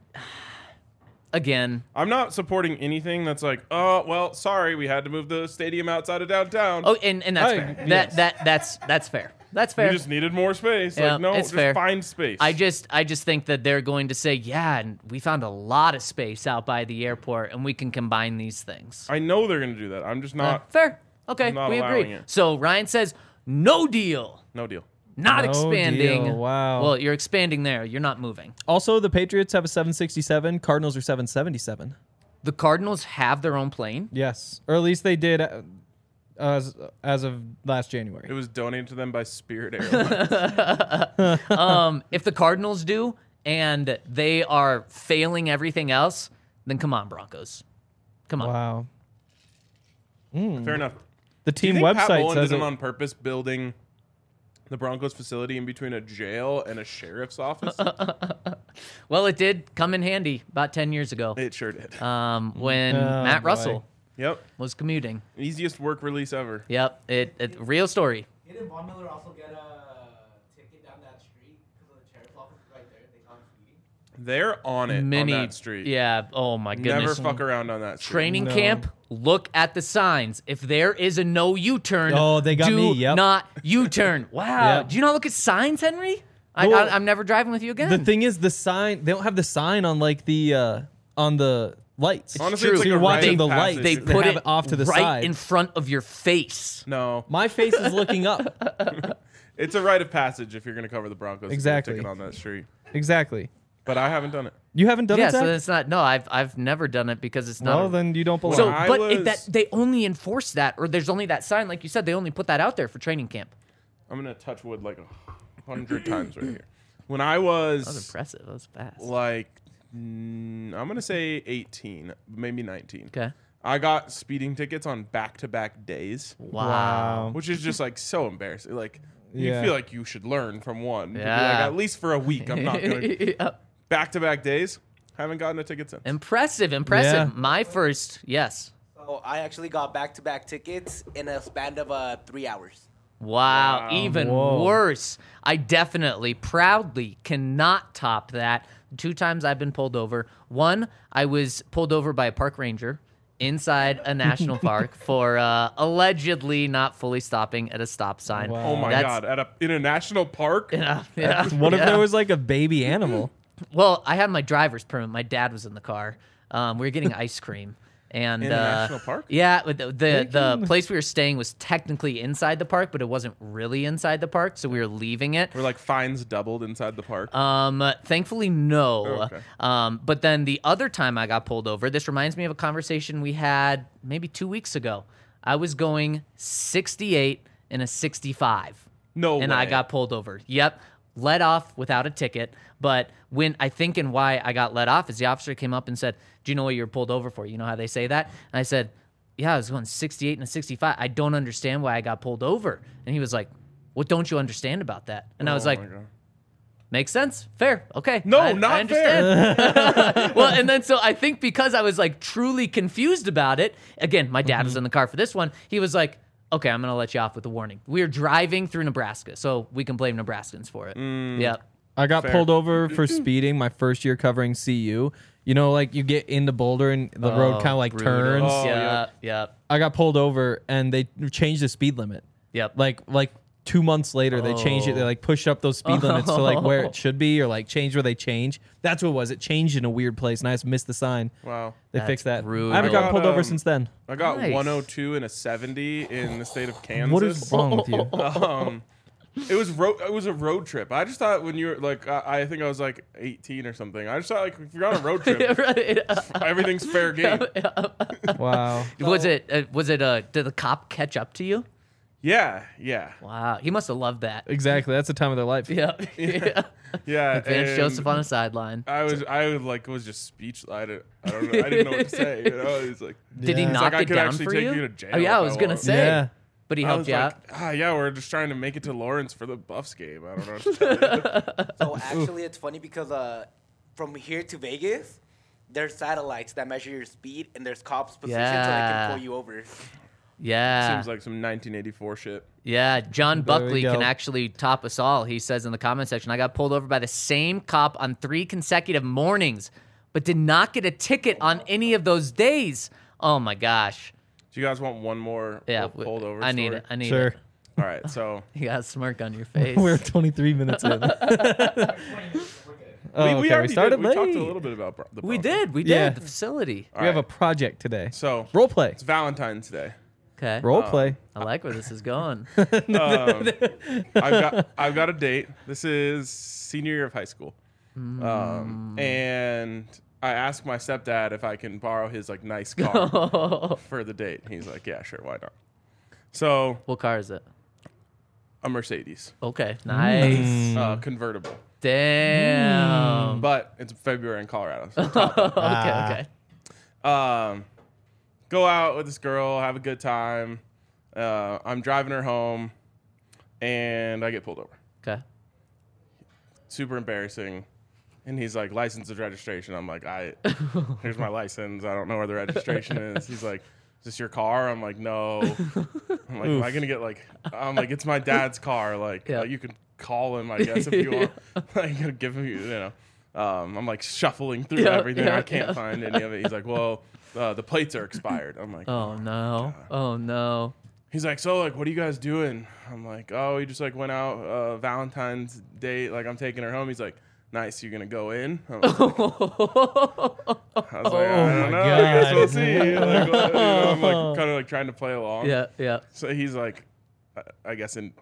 [SPEAKER 3] again,
[SPEAKER 2] I'm not supporting anything that's like, oh well, sorry, we had to move the stadium outside of downtown.
[SPEAKER 3] oh, and, and that's
[SPEAKER 4] I-
[SPEAKER 3] fair.
[SPEAKER 4] yes.
[SPEAKER 3] That that that's that's fair. That's fair.
[SPEAKER 2] we just needed more space.
[SPEAKER 3] Yeah,
[SPEAKER 2] like, no,
[SPEAKER 3] it's
[SPEAKER 2] just
[SPEAKER 3] fair.
[SPEAKER 2] find space.
[SPEAKER 3] I just I just think that they're going to say, yeah, and we found a lot of space out by the airport, and we can combine these things.
[SPEAKER 2] I know they're gonna do that. I'm just
[SPEAKER 3] Uh,
[SPEAKER 2] not.
[SPEAKER 3] fair. Okay,
[SPEAKER 2] I'm not
[SPEAKER 3] we
[SPEAKER 2] allowing
[SPEAKER 3] agree.
[SPEAKER 2] it.
[SPEAKER 3] So Ryan says, no deal.
[SPEAKER 2] No deal.
[SPEAKER 3] Not
[SPEAKER 4] No
[SPEAKER 3] expanding.
[SPEAKER 4] deal, wow.
[SPEAKER 3] Well, you're expanding there. You're not moving.
[SPEAKER 4] Also, the Patriots have a seven sixty-seven. Cardinals are seven seventy-seven.
[SPEAKER 3] The Cardinals have their own plane.
[SPEAKER 4] Yes, or at least they did uh, as as of last January.
[SPEAKER 2] It was donated to them by Spirit Airlines.
[SPEAKER 3] Um, if the Cardinals do and they are failing everything else, then come on, Broncos. Come on.
[SPEAKER 4] Wow.
[SPEAKER 2] Fair enough.
[SPEAKER 4] The
[SPEAKER 2] Do you
[SPEAKER 4] team
[SPEAKER 2] think Pat
[SPEAKER 4] website
[SPEAKER 2] Bowlen
[SPEAKER 4] says
[SPEAKER 2] did it
[SPEAKER 4] it-
[SPEAKER 2] on purpose, building the Broncos facility in between a jail and a sheriff's office?
[SPEAKER 3] Well, it did come in handy about ten years ago
[SPEAKER 2] It sure did.
[SPEAKER 3] um, when
[SPEAKER 4] Oh,
[SPEAKER 3] Matt
[SPEAKER 4] boy.
[SPEAKER 3] Russell
[SPEAKER 2] Yep.
[SPEAKER 3] was commuting.
[SPEAKER 2] Easiest work release ever.
[SPEAKER 3] Yep, it, it real story.
[SPEAKER 6] Didn't Von Miller also get a ticket down that street because of the sheriff's office right there? They caught him speeding.
[SPEAKER 2] They're on it
[SPEAKER 3] Many,
[SPEAKER 2] on that street.
[SPEAKER 3] yeah. Oh my
[SPEAKER 2] Never
[SPEAKER 3] goodness.
[SPEAKER 2] fuck around on that street.
[SPEAKER 3] Training
[SPEAKER 4] No.
[SPEAKER 3] camp. Look at the signs. If there is a no U-turn,
[SPEAKER 4] Oh, they got
[SPEAKER 3] do
[SPEAKER 4] me, yep.
[SPEAKER 3] not U-turn. Wow.
[SPEAKER 4] Yep.
[SPEAKER 3] Do you not look at signs, Henry? I,
[SPEAKER 4] Well,
[SPEAKER 3] I, I'm never driving with you again.
[SPEAKER 4] The thing is, the sign they don't have the sign on like the uh, on the lights.
[SPEAKER 2] Honestly,
[SPEAKER 3] true.
[SPEAKER 2] it's like
[SPEAKER 4] So you're
[SPEAKER 2] a
[SPEAKER 4] watching
[SPEAKER 2] rite
[SPEAKER 4] the
[SPEAKER 2] of
[SPEAKER 4] lights.
[SPEAKER 2] passage.
[SPEAKER 3] they
[SPEAKER 4] They
[SPEAKER 3] put
[SPEAKER 4] have
[SPEAKER 3] it,
[SPEAKER 4] it off to the
[SPEAKER 3] right
[SPEAKER 4] side.
[SPEAKER 3] in front of your face.
[SPEAKER 2] No,
[SPEAKER 4] My face is looking up.
[SPEAKER 2] it's a rite of passage if you're going to cover the Broncos. to get a
[SPEAKER 4] Exactly.
[SPEAKER 2] ticket on that street.
[SPEAKER 4] Exactly.
[SPEAKER 2] But I haven't done it.
[SPEAKER 4] You haven't done
[SPEAKER 3] Yeah,
[SPEAKER 4] it, Zach?
[SPEAKER 3] so it's not. No, I've I've never done it because it's not.
[SPEAKER 4] well,
[SPEAKER 3] a-
[SPEAKER 4] then you don't belong.
[SPEAKER 3] so,
[SPEAKER 2] I
[SPEAKER 3] but it,
[SPEAKER 2] was-
[SPEAKER 3] that they only enforce that, or there's only that sign, like you said, they only put that out there for training camp.
[SPEAKER 2] I'm going to touch wood like a hundred times right here. When I was,
[SPEAKER 3] That was impressive. That was fast.
[SPEAKER 2] like, mm, I'm going to say eighteen, maybe nineteen.
[SPEAKER 3] Okay.
[SPEAKER 2] I got speeding tickets on back-to-back days,
[SPEAKER 3] Wow.
[SPEAKER 2] which is just like so embarrassing. Like you
[SPEAKER 4] Yeah.
[SPEAKER 2] feel like you should learn from one. To be
[SPEAKER 3] Yeah.
[SPEAKER 2] like, at least for a week, I'm not going to
[SPEAKER 3] Yeah.
[SPEAKER 2] back-to-back days. Haven't gotten a ticket since.
[SPEAKER 3] Impressive, impressive.
[SPEAKER 4] Yeah.
[SPEAKER 3] My first, yes.
[SPEAKER 5] So I actually got back-to-back tickets in a span of uh, three hours.
[SPEAKER 3] Wow,
[SPEAKER 2] Wow.
[SPEAKER 3] even
[SPEAKER 4] Whoa.
[SPEAKER 3] worse. I definitely, proudly cannot top that. Two times I've been pulled over. One, I was pulled over by a park ranger inside a national park for uh, allegedly not fully stopping at a stop sign.
[SPEAKER 4] Wow.
[SPEAKER 2] Oh my
[SPEAKER 3] That's-
[SPEAKER 2] god! At a in a national park.
[SPEAKER 3] Yeah, yeah,
[SPEAKER 4] What if
[SPEAKER 3] yeah.
[SPEAKER 4] there was like a baby animal?
[SPEAKER 3] Well, I had my driver's permit. My dad was in the car. Um, we were getting ice cream. And
[SPEAKER 2] In a
[SPEAKER 3] uh,
[SPEAKER 2] national park?
[SPEAKER 3] Yeah, but the the, the place we were staying was technically inside the park, but it wasn't really inside the park, so we were leaving it.
[SPEAKER 2] Were like fines doubled inside the park?
[SPEAKER 3] Um, thankfully, no.
[SPEAKER 2] Oh, okay.
[SPEAKER 3] Um, but then the other time I got pulled over, this reminds me of a conversation we had maybe two weeks ago. I was going sixty-eight in a sixty-five.
[SPEAKER 2] No
[SPEAKER 3] And I
[SPEAKER 2] way.
[SPEAKER 3] got pulled over. Yep. Let off without a ticket. But when I think and why I got let off is the officer came up and said, "Do you know what you're pulled over for?" You know how they say that? And I said, "Yeah, I was going sixty-eight and a sixty-five. I don't understand why I got pulled over." And he was like, "What don't you understand about that?" And I was
[SPEAKER 2] Oh
[SPEAKER 3] like,
[SPEAKER 2] my God.
[SPEAKER 3] "Makes sense. Fair. Okay.
[SPEAKER 2] No,
[SPEAKER 3] I,
[SPEAKER 2] not
[SPEAKER 3] I understand." Well, and then so I think because I was like truly confused about it, again, my dad
[SPEAKER 2] Mm-hmm.
[SPEAKER 3] was in the car for this one. He was like, "Okay, I'm going to let you off with a warning. We are driving through Nebraska, so we can blame Nebraskans for it."
[SPEAKER 2] Mm.
[SPEAKER 3] Yep.
[SPEAKER 4] I got
[SPEAKER 2] Fair.
[SPEAKER 4] pulled over for speeding my first year covering C U. You know, like you get into Boulder and the road
[SPEAKER 3] Oh,
[SPEAKER 4] kind of like
[SPEAKER 3] brutal.
[SPEAKER 4] turns.
[SPEAKER 2] Oh,
[SPEAKER 3] yep.
[SPEAKER 2] yep.
[SPEAKER 3] Yep.
[SPEAKER 4] I got pulled over and they changed the speed limit.
[SPEAKER 3] Yep.
[SPEAKER 4] Like like two months later, they changed it. They like pushed up those speed limits to like where it should be, or like change where they change. That's what it was. It changed in a weird place, and I just missed the sign.
[SPEAKER 2] Wow.
[SPEAKER 4] They
[SPEAKER 3] That's
[SPEAKER 4] fixed that.
[SPEAKER 3] brutal.
[SPEAKER 4] I haven't gotten
[SPEAKER 2] I
[SPEAKER 4] pulled
[SPEAKER 2] got,
[SPEAKER 4] over
[SPEAKER 2] um,
[SPEAKER 4] since then.
[SPEAKER 2] I got
[SPEAKER 3] Nice.
[SPEAKER 2] one oh two and a seventy in the state of Kansas.
[SPEAKER 4] What is wrong with you?
[SPEAKER 2] um, it was road. It was a road trip. I just thought when you were like, I, I think I was like eighteen or something. I just thought like if you're on a road trip,
[SPEAKER 3] Right.
[SPEAKER 2] everything's fair game.
[SPEAKER 4] Wow.
[SPEAKER 3] Was it? Uh, was it? Uh, did the cop catch up to you?
[SPEAKER 2] Yeah, yeah,
[SPEAKER 3] Wow. He must have loved that.
[SPEAKER 4] Exactly. That's the time of their life.
[SPEAKER 3] Yep. Yeah.
[SPEAKER 2] yeah.
[SPEAKER 3] Advance
[SPEAKER 2] and
[SPEAKER 3] Joseph on a sideline.
[SPEAKER 2] I was, I was like, was just speechless. I didn't, I don't know. I didn't know what to say. You know, he's like,
[SPEAKER 3] Did he
[SPEAKER 4] Yeah. It's
[SPEAKER 3] knock
[SPEAKER 2] like, I
[SPEAKER 3] it
[SPEAKER 2] could
[SPEAKER 3] down
[SPEAKER 2] actually
[SPEAKER 3] for
[SPEAKER 2] take
[SPEAKER 3] you?
[SPEAKER 2] you to jail
[SPEAKER 3] Oh yeah, I
[SPEAKER 2] if
[SPEAKER 3] was
[SPEAKER 2] I
[SPEAKER 3] gonna
[SPEAKER 2] want.
[SPEAKER 3] say.
[SPEAKER 4] Yeah.
[SPEAKER 3] But he
[SPEAKER 2] I
[SPEAKER 3] helped
[SPEAKER 2] was
[SPEAKER 3] you
[SPEAKER 2] like,
[SPEAKER 3] out.
[SPEAKER 2] ah, yeah, we're just trying to make it to Lawrence for the Buffs game. I don't know. What to tell you.
[SPEAKER 5] So actually, it's funny because uh, from here to Vegas, there's satellites that measure your speed, and there's cops positioned so they
[SPEAKER 3] Yeah.
[SPEAKER 5] can pull you over.
[SPEAKER 3] Yeah.
[SPEAKER 2] Seems like some nineteen eighty-four shit.
[SPEAKER 3] Yeah, John
[SPEAKER 4] There we
[SPEAKER 3] Buckley
[SPEAKER 4] go.
[SPEAKER 3] can actually top us all. He says in the comment section, I got pulled over by the same cop on three consecutive mornings, but did not get a ticket on any of those days. Oh my gosh.
[SPEAKER 2] Do you guys want one more
[SPEAKER 3] Yeah,
[SPEAKER 2] pull- pulled over
[SPEAKER 3] I need
[SPEAKER 2] story?
[SPEAKER 3] it. I need
[SPEAKER 4] Sure.
[SPEAKER 3] it.
[SPEAKER 2] All right, so
[SPEAKER 3] You got a smirk on your face.
[SPEAKER 4] We're twenty-three minutes in.
[SPEAKER 6] twenty minutes. We're good.
[SPEAKER 4] Oh,
[SPEAKER 2] we, we
[SPEAKER 4] okay,
[SPEAKER 2] already
[SPEAKER 4] we started
[SPEAKER 2] did, we
[SPEAKER 4] late.
[SPEAKER 2] talked a little bit about bro- the
[SPEAKER 3] we
[SPEAKER 2] Broncos.
[SPEAKER 3] did. We did.
[SPEAKER 4] Yeah.
[SPEAKER 3] The facility.
[SPEAKER 2] All
[SPEAKER 4] We have a
[SPEAKER 2] right,
[SPEAKER 4] project today.
[SPEAKER 2] so
[SPEAKER 4] Role play.
[SPEAKER 2] it's Valentine's Day.
[SPEAKER 3] Okay.
[SPEAKER 4] Role play.
[SPEAKER 3] I like where this is going.
[SPEAKER 2] Um, I've got I've got a date. This is senior year of high school, um, and I asked my stepdad if I can borrow his like nice car for the date. He's like, "Yeah, sure, why not?" So
[SPEAKER 3] What car is it?
[SPEAKER 2] a Mercedes,
[SPEAKER 3] Okay. Nice.
[SPEAKER 4] Mm.
[SPEAKER 2] uh, convertible,
[SPEAKER 3] Damn.
[SPEAKER 2] but it's February in Colorado. So
[SPEAKER 3] okay. Okay.
[SPEAKER 2] um, go out with this girl, have a good time. Uh, I'm driving her home, and I get pulled over.
[SPEAKER 3] Okay.
[SPEAKER 2] Super embarrassing. And he's like, license and registration. I'm like, I here's my license. I don't know where the registration is. He's like, is this your car? I'm like, no. I'm like, am I gonna get like? I'm like, it's my dad's car. Like,
[SPEAKER 3] Yeah.
[SPEAKER 2] uh, you can call him, I guess, if you want. Like, give him, you know. Um, I'm like shuffling through
[SPEAKER 3] Yeah,
[SPEAKER 2] everything.
[SPEAKER 3] yeah,
[SPEAKER 2] I can't
[SPEAKER 3] yeah.
[SPEAKER 2] find any of it. He's like, well, uh, the plates are expired. I'm like,
[SPEAKER 3] Oh no. Oh no.
[SPEAKER 2] He's like, so like, what are you guys doing? I'm like, oh, we just like went out uh, Valentine's Day. Like, I'm taking her home. He's like, nice. You gonna go in? I'm like, I was like, I don't
[SPEAKER 4] my
[SPEAKER 2] know. I guess we'll
[SPEAKER 4] God.
[SPEAKER 2] see. Like, what- you know, I'm like, kind of like trying to play along.
[SPEAKER 3] Yeah. Yeah.
[SPEAKER 2] So he's like, I- I guess in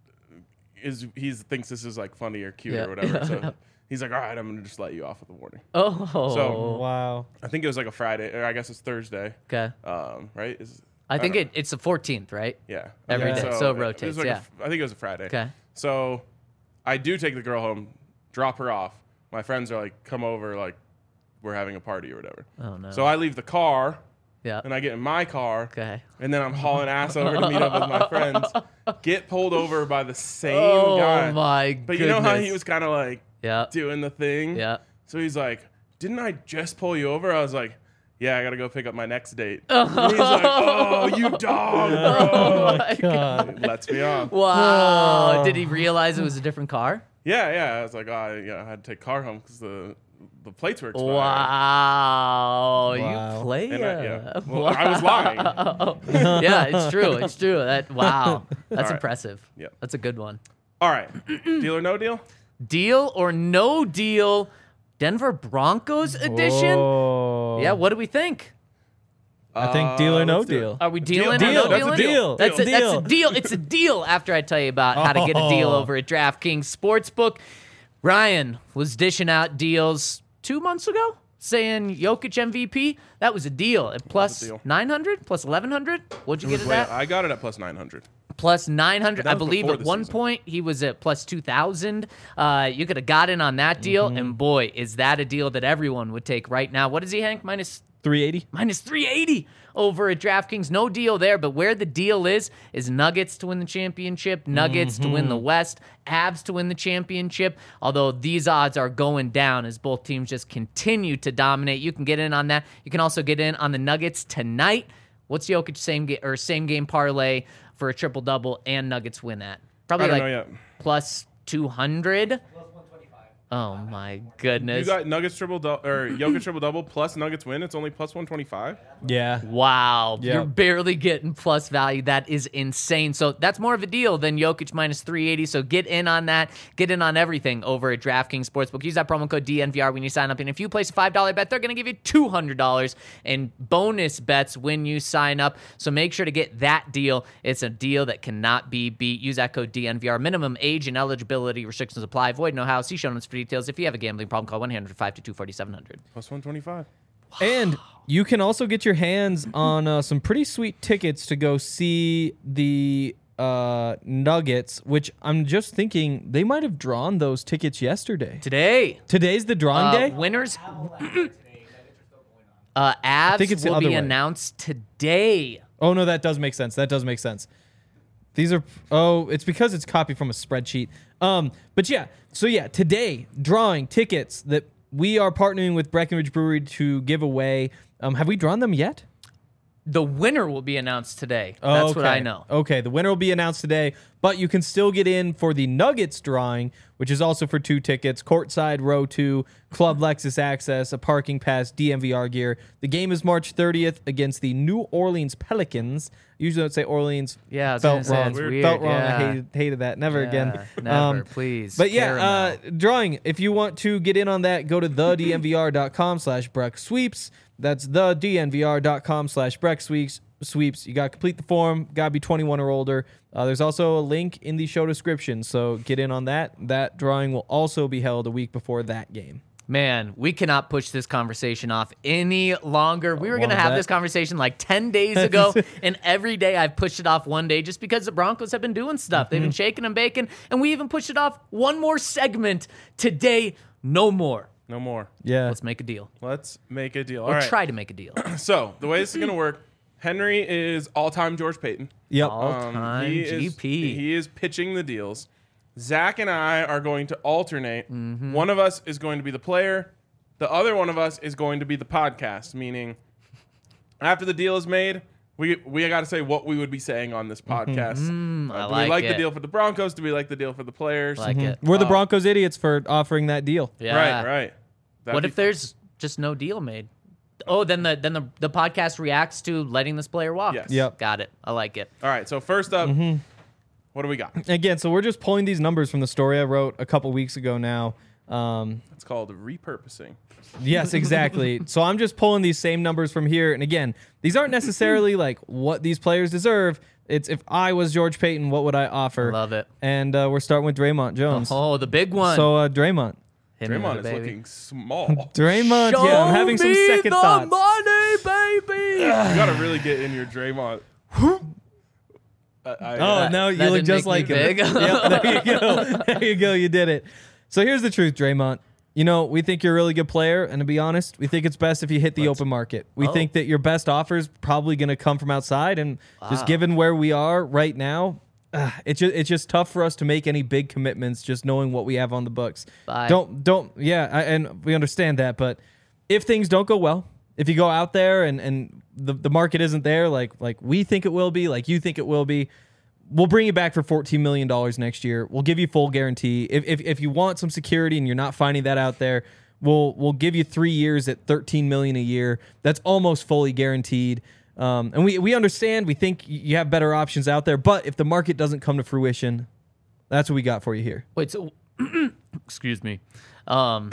[SPEAKER 2] is he thinks this is like funny or cute
[SPEAKER 3] Yeah,
[SPEAKER 2] or whatever.
[SPEAKER 3] yeah,
[SPEAKER 2] so
[SPEAKER 3] yeah.
[SPEAKER 2] he's like, all right, I'm gonna just let you off with a warning.
[SPEAKER 3] Oh.
[SPEAKER 2] So-
[SPEAKER 4] Wow.
[SPEAKER 2] I think it was like a Friday, or I guess it's Thursday.
[SPEAKER 3] Okay.
[SPEAKER 2] Um, right? Is
[SPEAKER 3] I think
[SPEAKER 2] don't
[SPEAKER 3] it, it's the fourteenth, right?
[SPEAKER 2] Yeah.
[SPEAKER 3] Every
[SPEAKER 2] Okay,
[SPEAKER 4] day,
[SPEAKER 3] so it
[SPEAKER 2] was
[SPEAKER 3] rotates,
[SPEAKER 2] like a
[SPEAKER 3] yeah.
[SPEAKER 2] f- I think it was a Friday.
[SPEAKER 3] Okay.
[SPEAKER 2] So I do take the girl home, drop her off. My friends are like, come over, like, we're having a party or whatever.
[SPEAKER 3] Oh no.
[SPEAKER 2] So I leave the car,
[SPEAKER 3] yeah.
[SPEAKER 2] and I get in my car,
[SPEAKER 3] Okay.
[SPEAKER 2] and then I'm hauling ass over to meet up with my friends. Get pulled over by the same
[SPEAKER 3] Oh
[SPEAKER 2] guy.
[SPEAKER 3] my
[SPEAKER 2] But
[SPEAKER 3] goodness.
[SPEAKER 2] you know how he was kind of like
[SPEAKER 3] Yeah.
[SPEAKER 2] doing the thing?
[SPEAKER 3] Yeah.
[SPEAKER 2] So he's like, didn't I just pull you over? I was like, yeah, I got to go pick up my next date. And he's like, oh, you dog, bro.
[SPEAKER 3] Oh my God.
[SPEAKER 2] Lets me off.
[SPEAKER 3] Wow. Did he realize it was a different car?
[SPEAKER 2] Yeah, yeah. I was like, oh, I, yeah, I had to take car home because the the plates were expired.
[SPEAKER 3] Wow.
[SPEAKER 4] Wow.
[SPEAKER 3] You play
[SPEAKER 2] And I,
[SPEAKER 3] it.
[SPEAKER 2] yeah. Well, I was lying.
[SPEAKER 3] Yeah, it's true. It's true. That wow. That's
[SPEAKER 2] All right.
[SPEAKER 3] impressive.
[SPEAKER 2] Yeah.
[SPEAKER 3] That's a good one.
[SPEAKER 2] All right, deal or no deal?
[SPEAKER 3] Deal or no deal? Denver Broncos edition?
[SPEAKER 4] Whoa.
[SPEAKER 3] Yeah, what do we think?
[SPEAKER 4] I think deal or
[SPEAKER 2] Uh,
[SPEAKER 4] no
[SPEAKER 2] let's do it.
[SPEAKER 4] deal.
[SPEAKER 3] Are we dealing
[SPEAKER 2] Deal.
[SPEAKER 3] or
[SPEAKER 4] Deal.
[SPEAKER 3] no
[SPEAKER 4] That's a
[SPEAKER 3] dealing?
[SPEAKER 4] deal.
[SPEAKER 3] That's a,
[SPEAKER 4] Deal.
[SPEAKER 3] that's a deal. It's a deal after I tell you about how to get a deal
[SPEAKER 4] Oh.
[SPEAKER 3] over at DraftKings Sportsbook. Ryan was dishing out deals two months ago, saying Jokic M V P. That was a deal at plus
[SPEAKER 2] deal.
[SPEAKER 3] nine hundred, plus eleven hundred. What'd you get at
[SPEAKER 2] Wait,
[SPEAKER 3] that?
[SPEAKER 2] I got it at plus nine hundred.
[SPEAKER 3] Plus nine hundred.
[SPEAKER 2] But that
[SPEAKER 3] I
[SPEAKER 2] was
[SPEAKER 3] believe
[SPEAKER 2] before
[SPEAKER 3] at
[SPEAKER 2] the
[SPEAKER 3] one
[SPEAKER 2] season.
[SPEAKER 3] point he was at plus two thousand. Uh, you could have got in on that deal,
[SPEAKER 2] Mm-hmm.
[SPEAKER 3] and boy, is that a deal that everyone would take right now. What is he, Hank? Minus
[SPEAKER 4] three eighty.
[SPEAKER 3] minus three eighty over at DraftKings. No deal there, but where the deal is, is Nuggets to win the championship, Nuggets to win the West, Avs to win the championship, although these odds are going down as both teams just continue to dominate. You can get in on that. You can also get in on the Nuggets tonight. What's Jokic same game or same game parlay for a triple-double and Nuggets win at? Probably
[SPEAKER 2] I don't
[SPEAKER 3] like
[SPEAKER 2] know yet.
[SPEAKER 3] plus two hundred.
[SPEAKER 6] Plus one twenty-five.
[SPEAKER 3] Oh, my
[SPEAKER 2] You
[SPEAKER 3] goodness.
[SPEAKER 2] got Nuggets triple double or Jokic triple double plus Nuggets win. It's only plus one twenty five.
[SPEAKER 4] Yeah.
[SPEAKER 3] Wow.
[SPEAKER 4] Yeah.
[SPEAKER 3] You're barely getting plus value. That is insane. So that's more of a deal than Jokic minus three eighty. So get in on that. Get in on everything over at DraftKings Sportsbook. Use that promo code D N V R when you sign up. And if you place a five dollar bet, they're going to give you two hundred dollars in bonus bets when you sign up. So make sure to get that deal. It's a deal that cannot be beat. Use that code D N V R. Minimum age and eligibility restrictions apply. Void no how. See show notes for details. If you have a gambling problem, call one eight hundred five two two four seven hundred.
[SPEAKER 2] Plus one twenty five.
[SPEAKER 4] And you can also get your hands on uh, some pretty sweet tickets to go see the uh, Nuggets, which I'm just thinking they might have drawn those tickets yesterday.
[SPEAKER 3] Today,
[SPEAKER 4] Today's the drawing
[SPEAKER 3] uh,
[SPEAKER 4] day?
[SPEAKER 3] winners,
[SPEAKER 6] Today, Nuggets are still going on.
[SPEAKER 3] uh, Avs
[SPEAKER 4] think it's the
[SPEAKER 3] will
[SPEAKER 4] other
[SPEAKER 3] be
[SPEAKER 4] way.
[SPEAKER 3] announced today.
[SPEAKER 4] Oh, no, that does make sense. That does make sense. These are, oh, it's because it's copied from a spreadsheet. Um, But yeah, so yeah, today, drawing tickets that we are partnering with Breckenridge Brewery to give away. Um, have we drawn them yet?
[SPEAKER 3] The winner will be announced today.
[SPEAKER 4] Oh,
[SPEAKER 3] That's what
[SPEAKER 4] okay.
[SPEAKER 3] I know.
[SPEAKER 4] Okay, the winner will be announced today, but you can still get in for the Nuggets drawing, which is also for two tickets, courtside row two, Club Lexus access, a parking pass, D M V R gear. The game is March thirtieth against the New Orleans Pelicans. Usually I would say Orleans.
[SPEAKER 3] Yeah, I was
[SPEAKER 4] felt
[SPEAKER 3] gonna say,
[SPEAKER 4] wrong.
[SPEAKER 3] it's weird,
[SPEAKER 4] Felt wrong.
[SPEAKER 3] yeah.
[SPEAKER 4] I hated, hated that. Never
[SPEAKER 3] Yeah,
[SPEAKER 4] again.
[SPEAKER 3] Never, please.
[SPEAKER 4] But yeah, uh,
[SPEAKER 3] Caramel.
[SPEAKER 4] drawing. If you want to get in on that, go to the D N V R dot com slash Breck Sweeps. That's the D N V R dot com slash Breck Sweeps. Sweeps. You got to complete the form. Got to be twenty-one or older. Uh, there's also a link in the show description, so get in on that. That drawing will also be held a week before that game.
[SPEAKER 3] Man, we cannot push this conversation off any longer. We were going to
[SPEAKER 4] long
[SPEAKER 3] have
[SPEAKER 4] bet.
[SPEAKER 3] this conversation like ten days ago, and every day I've pushed it off one day just because the Broncos have been doing stuff. They've been shaking and baking, and we even pushed it off one more segment. Today, no more.
[SPEAKER 2] No more.
[SPEAKER 4] Yeah.
[SPEAKER 3] Let's make a deal.
[SPEAKER 2] Let's make a deal. All
[SPEAKER 3] Or
[SPEAKER 2] right.
[SPEAKER 3] try to make a deal.
[SPEAKER 2] So the way this is going to work, Henry is all-time George Payton.
[SPEAKER 4] Yep.
[SPEAKER 3] All-time
[SPEAKER 2] he
[SPEAKER 3] G
[SPEAKER 2] is,
[SPEAKER 3] P.
[SPEAKER 2] he is pitching the deals. Zach and I are going to alternate.
[SPEAKER 3] Mm-hmm.
[SPEAKER 2] One of us is going to be the player. The other one of us is going to be the podcast, meaning after the deal is made, we we got to say what we would be saying on this podcast.
[SPEAKER 3] Mm, I
[SPEAKER 2] Uh, do
[SPEAKER 3] like
[SPEAKER 2] we like
[SPEAKER 3] it.
[SPEAKER 2] the deal for the Broncos? Do we like the deal for the players?
[SPEAKER 3] Like it.
[SPEAKER 4] We're the Broncos idiots for offering that deal.
[SPEAKER 3] Yeah.
[SPEAKER 2] Right, right. That'd
[SPEAKER 3] What
[SPEAKER 2] be
[SPEAKER 3] if there's just no deal made? Oh, then the then the, the podcast reacts to letting this player walk.
[SPEAKER 2] Yes.
[SPEAKER 4] Yep.
[SPEAKER 3] Got it. I like it.
[SPEAKER 2] All right, so first up, what do we got?
[SPEAKER 4] Again, so we're just pulling these numbers from the story I wrote a couple weeks ago now. Um,
[SPEAKER 2] It's called repurposing.
[SPEAKER 4] Yes, exactly. So I'm just pulling these same numbers from here. And again, these aren't necessarily like what these players deserve. It's if I was George Payton, what would I offer?
[SPEAKER 3] Love it.
[SPEAKER 4] And uh, we're starting with Draymond Jones.
[SPEAKER 3] Oh, the big one.
[SPEAKER 4] So uh, Draymond.
[SPEAKER 3] Hit me with
[SPEAKER 2] Draymond
[SPEAKER 3] it,
[SPEAKER 2] is
[SPEAKER 3] baby.
[SPEAKER 2] looking small.
[SPEAKER 4] Draymond,
[SPEAKER 3] Show
[SPEAKER 4] yeah, I'm having some
[SPEAKER 3] me
[SPEAKER 4] second
[SPEAKER 3] the
[SPEAKER 4] thoughts.
[SPEAKER 3] money, baby.
[SPEAKER 2] You got to really get in your Draymond. I, I,
[SPEAKER 4] Oh, no, you
[SPEAKER 3] that
[SPEAKER 4] look
[SPEAKER 3] didn't
[SPEAKER 4] just
[SPEAKER 3] make
[SPEAKER 4] like
[SPEAKER 3] me
[SPEAKER 4] him.
[SPEAKER 3] big.
[SPEAKER 4] Yep, there you go. There you go. You did it. So here's the truth, Draymond. You know, we think you're a really good player, and to be honest, we think it's best if you hit the open market. We
[SPEAKER 3] Oh.
[SPEAKER 4] think that your best offer is probably going to come from outside, and just
[SPEAKER 3] Wow.
[SPEAKER 4] given where we are right now, uh, it's just it's just tough for us to make any big commitments. Just knowing what we have on the books.
[SPEAKER 3] Bye.
[SPEAKER 4] Don't don't yeah, I, and we understand that, but if things don't go well, if you go out there and and the the market isn't there, like like we think it will be, like you think it will be. We'll bring you back for fourteen million dollars next year. We'll give you full guarantee. If, if if you want some security and you're not finding that out there, we'll we'll give you three years at thirteen million dollars a year. That's almost fully guaranteed. Um, and we, we understand. We think you have better options out there. But if the market doesn't come to fruition, that's what we got for you here.
[SPEAKER 3] Wait, so excuse me. Um,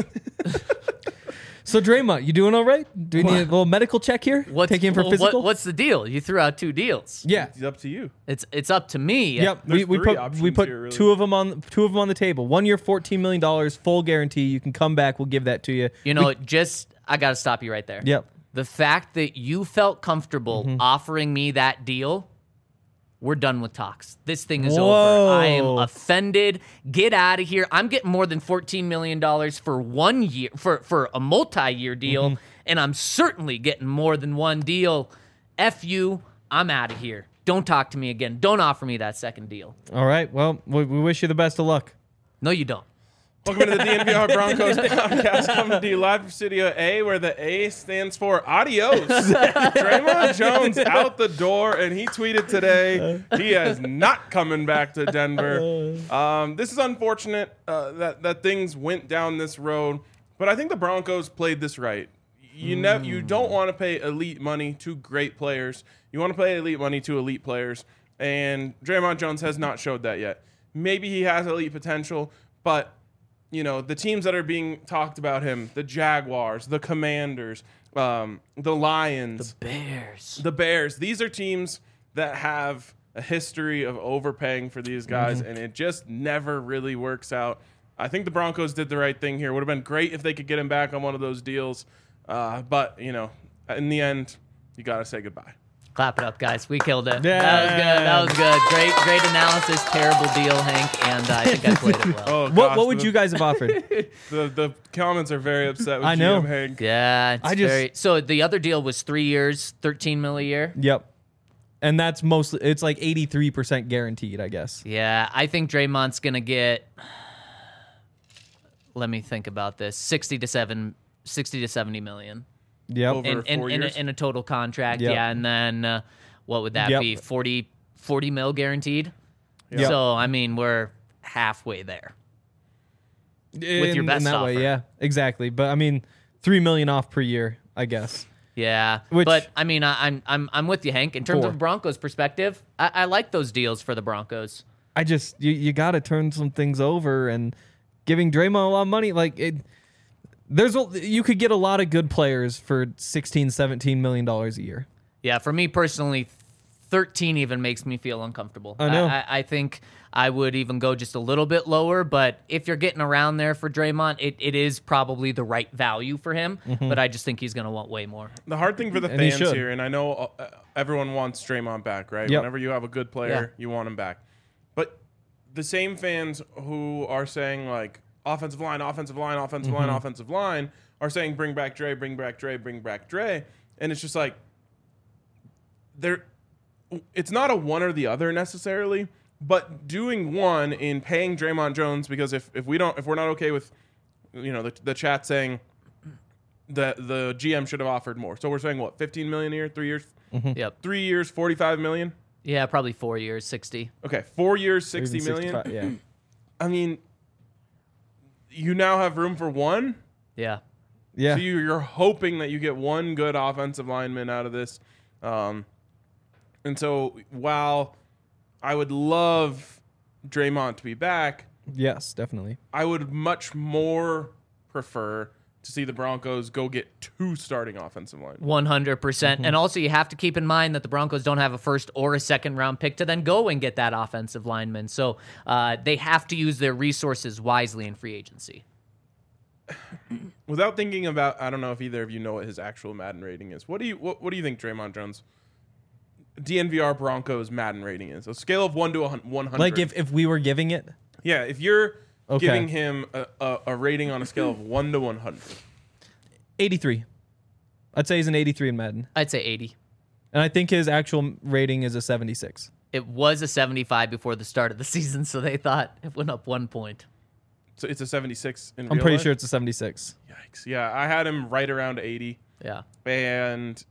[SPEAKER 4] So Draymond, you doing all right? Do we need a little medical check here?
[SPEAKER 3] what's
[SPEAKER 4] Take you in for
[SPEAKER 3] well,
[SPEAKER 4] physical?
[SPEAKER 3] What, what's the deal? You threw out two deals.
[SPEAKER 4] yeah.
[SPEAKER 2] it's up to you.
[SPEAKER 3] It's it's up to me.
[SPEAKER 4] Yep, we,
[SPEAKER 2] There's
[SPEAKER 4] we
[SPEAKER 2] three
[SPEAKER 4] put
[SPEAKER 2] options
[SPEAKER 4] we put
[SPEAKER 2] here, really.
[SPEAKER 4] two of them on two of them on the table. One year, fourteen million dollars, full guarantee. You can come back. We'll give that to you.
[SPEAKER 3] You know, just I got to stop you right there.
[SPEAKER 4] Yep.
[SPEAKER 3] The fact that you felt comfortable
[SPEAKER 4] Mm-hmm.
[SPEAKER 3] offering me that deal, we're done with talks. This thing is
[SPEAKER 4] Whoa.
[SPEAKER 3] over. I am offended. Get out of here. I'm getting more than fourteen million dollars for one year, for, for a multi-year deal,
[SPEAKER 4] Mm-hmm.
[SPEAKER 3] and I'm certainly getting more than one deal. F you. I'm out of here. Don't talk to me again. Don't offer me that second deal.
[SPEAKER 4] All right. Well, we, we wish you the best of luck.
[SPEAKER 3] No, you don't.
[SPEAKER 2] Welcome to the D N V R Broncos podcast, coming to you live from Studio A, where the A stands for adios. Draymond Jones out the door, and he tweeted today he is not coming back to Denver. Um, this is unfortunate uh, that that things went down this road, but I think the Broncos played this right. You never, you don't want to pay elite money to great players. You want to pay elite money to elite players, and Draymond Jones has not showed that yet. Maybe he has elite potential, but you know, the teams that are being talked about him, the Jaguars, the Commanders, um, the Lions,
[SPEAKER 3] Bears.
[SPEAKER 2] the Bears, these are teams that have a history of overpaying for these guys, and it just never really works out. I think the Broncos did the right thing here. Would have been great if they could get him back on one of those deals. Uh, but, you know, in the end, you got to say goodbye.
[SPEAKER 3] Clap it up, guys. We killed it.
[SPEAKER 4] Yeah.
[SPEAKER 3] That was good. That was good. Great, great analysis. Terrible deal, Hank. And uh, I think I played it well.
[SPEAKER 2] Oh,
[SPEAKER 4] What
[SPEAKER 2] gosh,
[SPEAKER 4] what would
[SPEAKER 2] the,
[SPEAKER 4] you guys have offered?
[SPEAKER 2] The, the comments are very upset with
[SPEAKER 4] I know.
[SPEAKER 2] G M Hank.
[SPEAKER 3] Yeah, it's
[SPEAKER 4] I just-
[SPEAKER 3] very. So the other deal was three years, thirteen mil a year.
[SPEAKER 4] Yep. And that's mostly it's like eighty-three percent guaranteed, I guess.
[SPEAKER 3] Yeah, I think Draymond's gonna get let me think about this. sixty to seven, sixty to seventy million
[SPEAKER 4] Yep.
[SPEAKER 2] Over
[SPEAKER 3] in in,
[SPEAKER 2] four
[SPEAKER 3] in, a,
[SPEAKER 2] years?
[SPEAKER 3] in a total contract.
[SPEAKER 4] Yep.
[SPEAKER 3] Yeah, and then uh, what would that
[SPEAKER 4] Yep.
[SPEAKER 3] be? forty, forty mil guaranteed.
[SPEAKER 4] Yep.
[SPEAKER 3] So I mean, we're halfway there.
[SPEAKER 4] in,
[SPEAKER 3] your best
[SPEAKER 4] in that way,
[SPEAKER 3] offer.
[SPEAKER 4] yeah, exactly. But I mean, three million off per year, I guess.
[SPEAKER 3] Yeah,
[SPEAKER 4] Which-
[SPEAKER 3] but I mean, I, I'm I'm I'm with you, Hank. In terms
[SPEAKER 4] Four.
[SPEAKER 3] of Broncos' perspective, I, I like those deals for the Broncos.
[SPEAKER 4] I just you, you got to turn some things over, and giving Draymond a lot of money, like it. There's a, you could get a lot of good players for sixteen, seventeen million dollars a year.
[SPEAKER 3] Yeah, for me personally, thirteen even makes me feel uncomfortable.
[SPEAKER 4] I know.
[SPEAKER 3] I, I think I would even go just a little bit lower, but if you're getting around there for Draymond, it, it is probably the right value for him.
[SPEAKER 4] Mm-hmm.
[SPEAKER 3] But I just think he's going to want way more.
[SPEAKER 2] The hard thing for the
[SPEAKER 4] And he
[SPEAKER 2] fans
[SPEAKER 4] should.
[SPEAKER 2] here, and I know uh, everyone wants Draymond back, right?
[SPEAKER 4] Yep.
[SPEAKER 2] Whenever you have a good player, you want him back. But the same fans who are saying, like, offensive line, offensive line, offensive line, offensive line, are saying, bring back Dre, bring back Dre, bring back Dre. And it's just like, they're, it's not a one or the other necessarily, but doing one in paying Draymond Jones, because if, if we don't, if we're not okay with, you know, the, the chat saying that the G M should have offered more. So we're saying what, fifteen million a year, three years,
[SPEAKER 3] Yep.
[SPEAKER 2] three years, forty-five million.
[SPEAKER 3] Yeah, probably four years, sixty.
[SPEAKER 2] Okay. Four years,
[SPEAKER 4] Or even
[SPEAKER 2] sixty million.
[SPEAKER 4] sixty-five, Yeah.
[SPEAKER 2] I mean, you now have room for one.
[SPEAKER 3] Yeah.
[SPEAKER 4] Yeah.
[SPEAKER 2] So you, you're hoping that you get one good offensive lineman out of this. Um, and so while I would love Draymond to be back,
[SPEAKER 4] Yes, definitely.
[SPEAKER 2] I would much more prefer to see the Broncos go get two starting offensive linemen.
[SPEAKER 3] one hundred percent.
[SPEAKER 4] Mm-hmm.
[SPEAKER 3] And also, you have to keep in mind that the Broncos don't have a first or a second round pick to then go and get that offensive lineman. So uh, they have to use their resources wisely in free agency.
[SPEAKER 2] Without thinking about, I don't know if either of you know what his actual Madden rating is. What do you what, what do you think Draymond Jones D N V R Broncos Madden rating is? A scale of one to one hundred.
[SPEAKER 4] Like if, if we were giving it,
[SPEAKER 2] yeah, if you're
[SPEAKER 4] Okay.
[SPEAKER 2] giving him a, a, a rating on a scale of one to one hundred.
[SPEAKER 4] eighty-three. I'd say he's an eighty-three in Madden.
[SPEAKER 3] I'd say eighty.
[SPEAKER 4] And I think his actual rating is a seventy-six.
[SPEAKER 3] It was a seventy-five before the start of the season, so they thought it went up one point.
[SPEAKER 2] So it's a seventy-six in
[SPEAKER 4] I'm
[SPEAKER 2] real
[SPEAKER 4] pretty
[SPEAKER 2] life?
[SPEAKER 4] sure it's a seventy-six.
[SPEAKER 2] Yikes. Yeah, I had him right around eighty.
[SPEAKER 3] Yeah.
[SPEAKER 2] And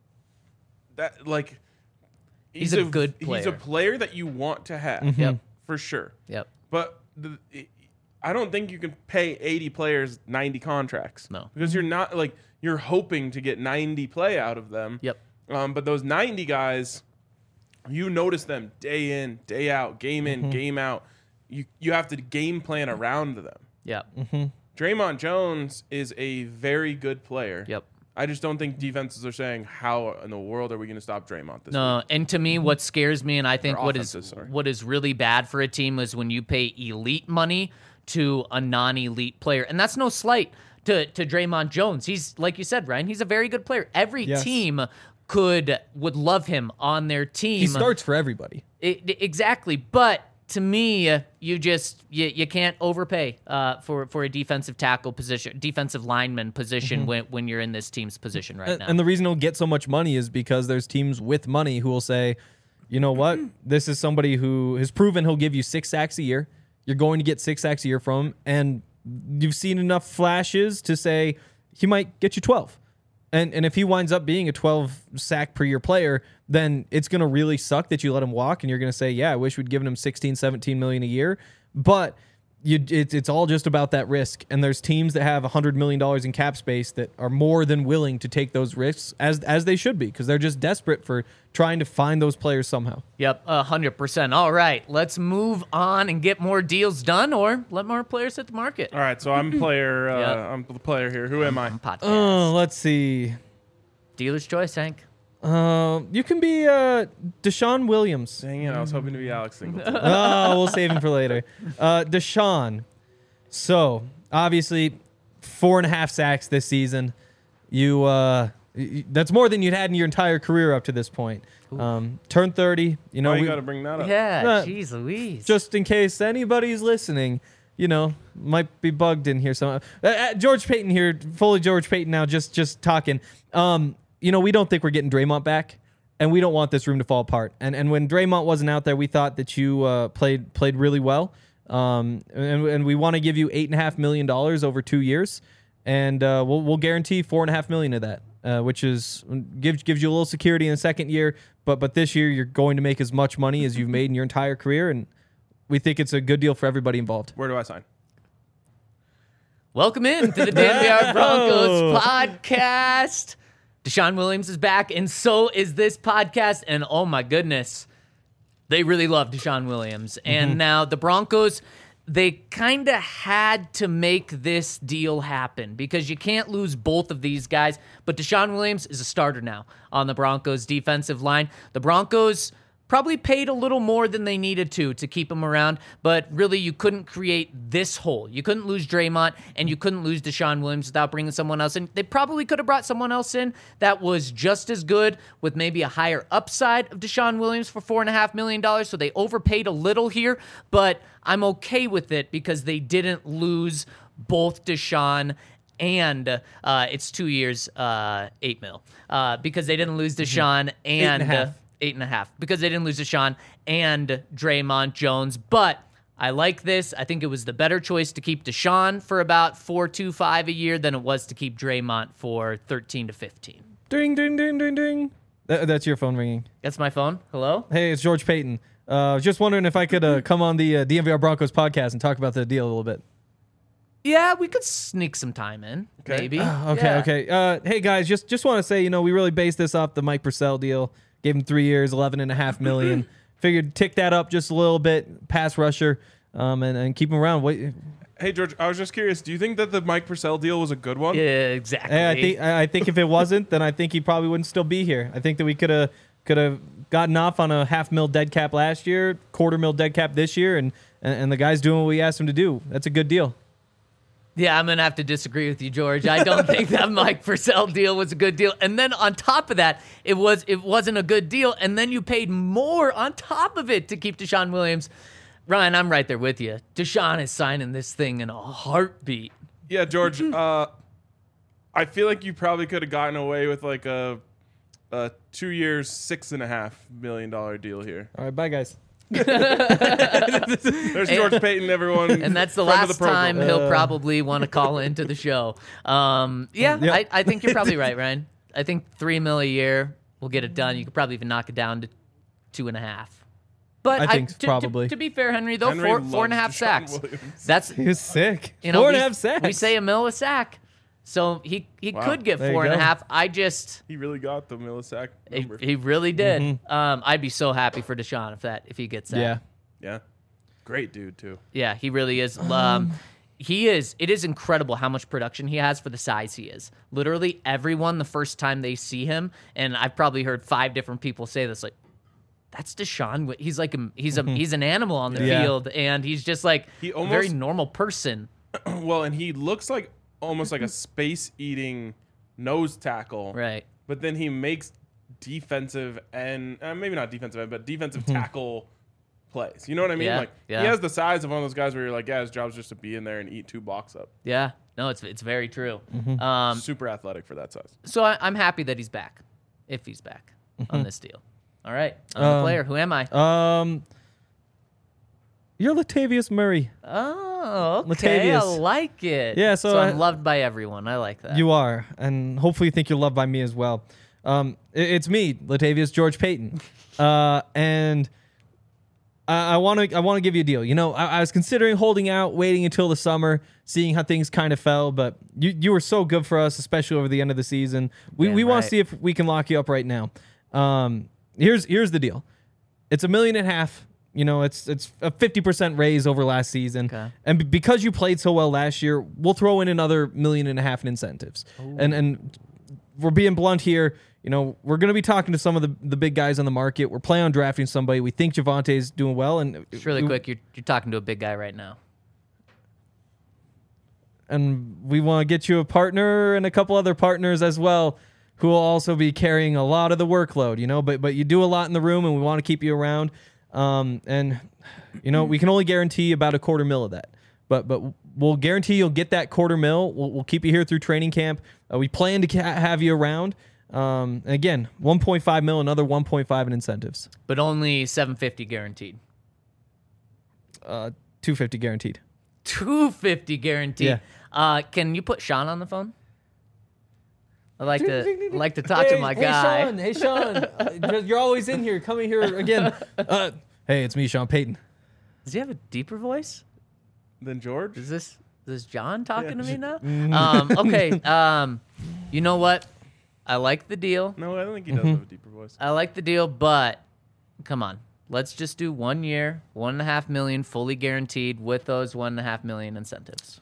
[SPEAKER 2] that, like,
[SPEAKER 3] He's a good
[SPEAKER 2] He's
[SPEAKER 3] player.
[SPEAKER 2] a player that you want to have.
[SPEAKER 4] Mm-hmm.
[SPEAKER 3] Yep.
[SPEAKER 2] For sure.
[SPEAKER 3] Yep.
[SPEAKER 2] But the, it, I don't think you can pay eighty players ninety contracts.
[SPEAKER 3] No.
[SPEAKER 2] Because you're not, like, you're hoping to get ninety play out of them.
[SPEAKER 3] Yep.
[SPEAKER 2] Um, but those ninety guys, you notice them day in, day out, game in,
[SPEAKER 4] Mm-hmm.
[SPEAKER 2] game out. You you have to game plan around them.
[SPEAKER 3] Yep.
[SPEAKER 2] Draymond Jones is a very good player.
[SPEAKER 3] Yep.
[SPEAKER 2] I just don't think defenses are saying, how in the world are we going to stop Draymond this
[SPEAKER 3] No,
[SPEAKER 2] week?
[SPEAKER 3] and to me, what scares me, and I think
[SPEAKER 2] Or
[SPEAKER 3] what is
[SPEAKER 2] offenses, sorry.
[SPEAKER 3] what is really bad for a team is when you pay elite money to a non-elite player, and that's no slight to to Draymond Jones. He's like you said, Ryan. He's a very good player. Every
[SPEAKER 4] Yes.
[SPEAKER 3] team could would love him on their team.
[SPEAKER 4] He starts for everybody.
[SPEAKER 3] It, exactly, but to me, uh, you just you, you can't overpay uh, for for a defensive tackle position, defensive lineman position when when you're in this team's position right
[SPEAKER 4] And,
[SPEAKER 3] now.
[SPEAKER 4] and the reason he'll get so much money is because there's teams with money who will say, you know what, this is somebody who has proven he'll give you six sacks a year. You're going to get six sacks a year from him, and you've seen enough flashes to say he might get you twelve. And and if he winds up being a twelve sack per year player, then it's going to really suck that you let him walk, and you're going to say, yeah, I wish we'd given him sixteen, seventeen million a year. But you, it's it's all just about that risk. And there's teams that have one hundred million dollars in cap space that are more than willing to take those risks, as as they should be, because they're just desperate for trying to find those players somehow.
[SPEAKER 3] Yep, a hundred percent. All right, let's move on and get more deals done, or let more players hit the market.
[SPEAKER 2] All right, so I'm player. Uh,
[SPEAKER 3] Yeah.
[SPEAKER 2] I'm the player here. Who am I?
[SPEAKER 3] Podcast.
[SPEAKER 4] Oh, let's see.
[SPEAKER 3] Dealer's choice, Hank.
[SPEAKER 4] Uh, you can be uh, Deshaun Williams.
[SPEAKER 2] Dang it, I was hoping to be Alex Singleton.
[SPEAKER 4] Oh, we'll save him for later. Uh, Deshaun. So, obviously, four and a half sacks this season. You, uh, y- that's more than you'd had in your entire career up to this point. Um, turned thirty. You know,
[SPEAKER 2] Why you
[SPEAKER 4] we-
[SPEAKER 2] got to bring that up?
[SPEAKER 3] Yeah,
[SPEAKER 4] Uh,
[SPEAKER 3] jeez Louise.
[SPEAKER 4] just in case anybody's listening, you know, might be bugged in here. So, uh, uh, George Payton here, fully George Payton now, just just talking. Um, you know, we don't think we're getting Draymond back, and we don't want this room to fall apart. And and when Draymond wasn't out there, we thought that you uh, played played really well. Um, and, and we want to give you eight and a half million dollars over two years, and uh, we'll we'll guarantee four and a half million of that, uh, which is gives gives you a little security in the second year. But but this year you're going to make as much money as you've made in your entire career, and we think it's a good deal for everybody involved.
[SPEAKER 2] Where do I sign?
[SPEAKER 3] Welcome in to the D N V R Broncos podcast. Deshaun Williams is back, and so is this podcast. And oh my goodness, they really love Deshaun Williams. And now the Broncos, they kind of had to make this deal happen because you can't lose both of these guys. But Deshaun Williams is a starter now on the Broncos defensive line. The Broncos probably paid a little more than they needed to to keep him around, but really you couldn't create this hole. You couldn't lose Draymond, and you couldn't lose Deshaun Williams without bringing someone else in. They probably could have brought someone else in that was just as good with maybe a higher upside of Deshaun Williams for four point five million dollars, so they overpaid a little here, but I'm okay with it because they didn't lose both Deshaun and uh, it's two years, uh, eight mil, uh, because they didn't lose Deshaun and...
[SPEAKER 4] Eight and a half.
[SPEAKER 3] Uh, Eight and a half because they didn't lose Deshaun and Draymond Jones. But I like this. I think it was the better choice to keep Deshaun for about four two five a year than it was to keep Draymond for thirteen to fifteen.
[SPEAKER 4] Ding ding ding ding ding. Th- that's your phone ringing.
[SPEAKER 3] That's my phone. Hello.
[SPEAKER 4] Hey, it's George Payton. Uh, just wondering if I could uh, come on the uh, D N V R Broncos podcast and talk about the deal a little bit.
[SPEAKER 3] Yeah, we could sneak some time in.
[SPEAKER 2] Okay.
[SPEAKER 3] Maybe.
[SPEAKER 4] Uh, okay,
[SPEAKER 3] Yeah.
[SPEAKER 4] okay. Uh, hey guys, just just want to say, you know, we really based this off the Mike Purcell deal. Gave him three years, eleven and a half million. Figured tick that up just a little bit, pass rusher, um, and, and keep him around. Wait,
[SPEAKER 2] Hey, George, I was just curious. Do you think that the Mike Purcell deal was a good one?
[SPEAKER 3] Yeah, exactly.
[SPEAKER 4] hey, I think I I think if it wasn't, then I think he probably wouldn't still be here. I think that we could have could have gotten off on a half mil dead cap last year, quarter mil dead cap this year, and, and and the guy's doing what we asked him to do. That's a good deal.
[SPEAKER 3] Yeah, I'm going to have to disagree with you, George. I don't think that Mike Purcell deal was a good deal. And then on top of that, it, was, it wasn't a good deal. And then you paid more on top of it to keep Deshaun Williams. Ryan, I'm right there with you. Deshaun is signing this thing in a heartbeat.
[SPEAKER 2] Yeah, George. uh, I feel like you probably could have gotten away with like a, a two years, six and a half million dollar deal here.
[SPEAKER 4] All right, bye guys.
[SPEAKER 2] There's George Payton, everyone.
[SPEAKER 3] And that's the
[SPEAKER 2] friend of
[SPEAKER 3] last
[SPEAKER 2] program.
[SPEAKER 3] time he'll probably want to call into the show. Um, yeah,
[SPEAKER 4] Yep.
[SPEAKER 3] I, I think you're probably right, Ryan. I think three mil a year will get it done. You could probably even knock it down to two and a half. But
[SPEAKER 4] I think
[SPEAKER 3] to, to-
[SPEAKER 4] probably.
[SPEAKER 3] To, be fair, Henry, though,
[SPEAKER 2] Henry
[SPEAKER 3] four, four and a half
[SPEAKER 2] loves
[SPEAKER 3] sacks.
[SPEAKER 2] Deshaun Williams.
[SPEAKER 3] That's
[SPEAKER 4] He was sick.
[SPEAKER 3] you know
[SPEAKER 4] Four and
[SPEAKER 3] we,
[SPEAKER 4] a half sacks.
[SPEAKER 3] we say a mil a sack, so he he
[SPEAKER 2] Wow.
[SPEAKER 3] could get
[SPEAKER 4] There you
[SPEAKER 3] four and a
[SPEAKER 4] go.
[SPEAKER 3] half. I just
[SPEAKER 2] He really got the millisack
[SPEAKER 3] he,
[SPEAKER 2] number.
[SPEAKER 3] he really did.
[SPEAKER 4] Mm-hmm.
[SPEAKER 3] Um, I'd be so happy for Deshaun if that if he gets that.
[SPEAKER 4] Yeah.
[SPEAKER 2] Yeah. Great dude, too.
[SPEAKER 3] Yeah, he really is. Um, he is. It is incredible how much production he has for the size he is. Literally, everyone the first time they see him, and I've probably heard five different people say this, like, "That's Deshaun. Wi- He's like a, he's a he's an animal on the
[SPEAKER 4] Yeah.
[SPEAKER 3] field, and he's just like
[SPEAKER 2] He
[SPEAKER 3] a very
[SPEAKER 2] almost-
[SPEAKER 3] normal person."
[SPEAKER 2] Well, and he looks like almost like a space eating nose tackle.
[SPEAKER 3] Right.
[SPEAKER 2] But then he makes defensive and uh, maybe not defensive end, but defensive tackle plays. You know what I mean?
[SPEAKER 3] Yeah,
[SPEAKER 2] Like
[SPEAKER 3] yeah.
[SPEAKER 2] he has the size of one of those guys where you're like, yeah, his job's just to be in there and eat two blocks up.
[SPEAKER 3] Yeah. No, it's it's very true. Um,
[SPEAKER 2] Super athletic for that size.
[SPEAKER 3] so I, I'm happy that he's back, if he's back on this deal. All right, I'm the
[SPEAKER 4] Um,
[SPEAKER 3] player. Who am I?
[SPEAKER 4] Um, you're Latavius Murray.
[SPEAKER 3] Oh, okay. I
[SPEAKER 4] Latavius.
[SPEAKER 3] like it.
[SPEAKER 4] Yeah, so I-
[SPEAKER 3] I'm loved by everyone. I like that.
[SPEAKER 4] You are, and hopefully you think you're loved by me as well. Um, i- it's me, Latavius George Payton, uh, and I want to I want to give you a deal. You know, I, I was considering holding out, waiting until the summer, seeing how things kind of fell, but you you were so good for us, especially over the end of the season. We
[SPEAKER 3] Damn
[SPEAKER 4] we want
[SPEAKER 3] right.
[SPEAKER 4] to see if we can lock you up right now. Um, here's here's the deal. It's a million and a half. You know, it's it's a fifty percent raise over last season.
[SPEAKER 3] Okay.
[SPEAKER 4] And b- because you played so well last year, we'll throw in another million and a half in incentives. And and we're being blunt here. You know, we're going to be talking to some of the, the big guys on the market. We're planning on drafting somebody. We think Javante's doing well. And
[SPEAKER 3] Just really
[SPEAKER 4] we,
[SPEAKER 3] quick, you're, you're talking to a big guy right now.
[SPEAKER 4] And we want to get you a partner and a couple other partners as well who will also be carrying a lot of the workload, you know, but but you do a lot in the room and we want to keep you around. Um, and, you know, we can only guarantee about a quarter mil of that. But but we'll guarantee you'll get that quarter mil. We'll, we'll keep you here through training camp. Uh, we plan to ca- have you around. Um, and again, one point five mil, another one point five in incentives.
[SPEAKER 3] But only seven fifty guaranteed.
[SPEAKER 4] Uh, two fifty guaranteed.
[SPEAKER 3] two fifty guaranteed.
[SPEAKER 4] Yeah.
[SPEAKER 3] Uh, can you put Sean on the phone? I like to like to talk to my
[SPEAKER 4] hey,
[SPEAKER 3] guy.
[SPEAKER 4] Sean, hey, Sean. Uh, you're always in here. Come in here again. Uh, hey, it's me, Sean Payton.
[SPEAKER 3] Does he have a deeper voice?
[SPEAKER 2] Then George.
[SPEAKER 3] Is this is this John talking
[SPEAKER 2] Yeah.
[SPEAKER 3] to me now? um, okay. Um, you know what? I like the deal.
[SPEAKER 2] No, I don't think he does have a deeper voice.
[SPEAKER 3] I like the deal, but come on. Let's just do one year, one and a half million fully guaranteed with those one and a half million incentives.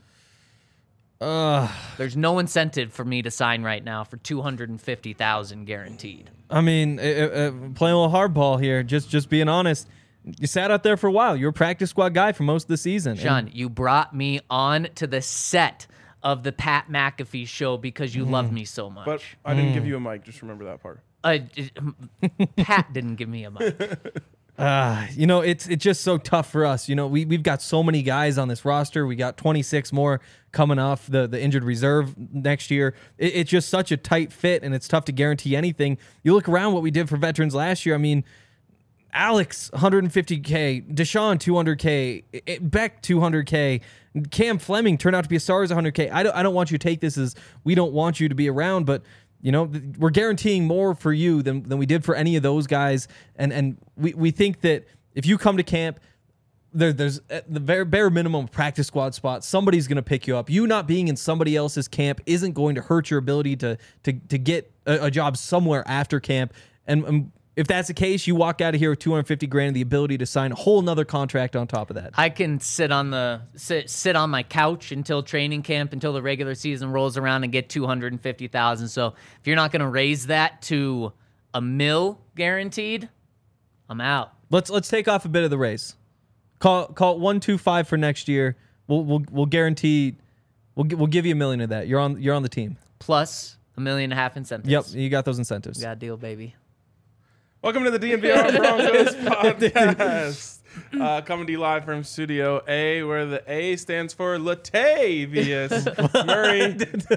[SPEAKER 4] Uh,
[SPEAKER 3] There's no incentive for me to sign right now for two hundred fifty thousand guaranteed.
[SPEAKER 4] I mean, uh, uh, playing a little hardball here. Just, just being honest. You sat out there for a while. You were a practice squad guy for most of the season.
[SPEAKER 3] Sean,
[SPEAKER 4] And
[SPEAKER 3] you brought me on to the set of the Pat McAfee show because you love me so much.
[SPEAKER 2] But I didn't give you a mic. Just remember that part.
[SPEAKER 3] Uh, Pat didn't give me a mic.
[SPEAKER 4] Uh, you know, it's it's just so tough for us. You know, we, we've got so many guys on this roster. We got twenty-six more coming off the, the injured reserve next year. It, it's just such a tight fit, and it's tough to guarantee anything. You look around what we did for veterans last year. I mean, Alex, one hundred fifty K. Deshaun, two hundred K. It, Beck, two hundred K. Cam Fleming turned out to be a star as one hundred K. I don't, I don't want you to take this as we don't want you to be around, but you know, we're guaranteeing more for you than, than we did for any of those guys. And and we, we think that if you come to camp, there, there's at the bare, bare minimum practice squad spot. Somebody's going to pick you up. You not being in somebody else's camp isn't going to hurt your ability to to, to get a, a job somewhere after camp. And, and if that's the case, you walk out of here with two hundred fifty grand and the ability to sign a whole nother contract on top of that.
[SPEAKER 3] I can sit on the sit, sit on my couch until training camp, until the regular season rolls around, and get two hundred fifty thousand. So if you're not going to raise that to a mil guaranteed, I'm out.
[SPEAKER 4] Let's let's take off a bit of the raise. Call call it one two five for next year. We'll we'll we'll guarantee we'll gi- we'll give you a million of that. You're on you're on the team.
[SPEAKER 3] Plus a million and a half incentives.
[SPEAKER 4] Yep, you got those incentives.
[SPEAKER 3] Got a deal, baby.
[SPEAKER 2] Welcome to the D N V R Broncos podcast. Uh, coming to you live from Studio A, where the A stands for Latavius Murray.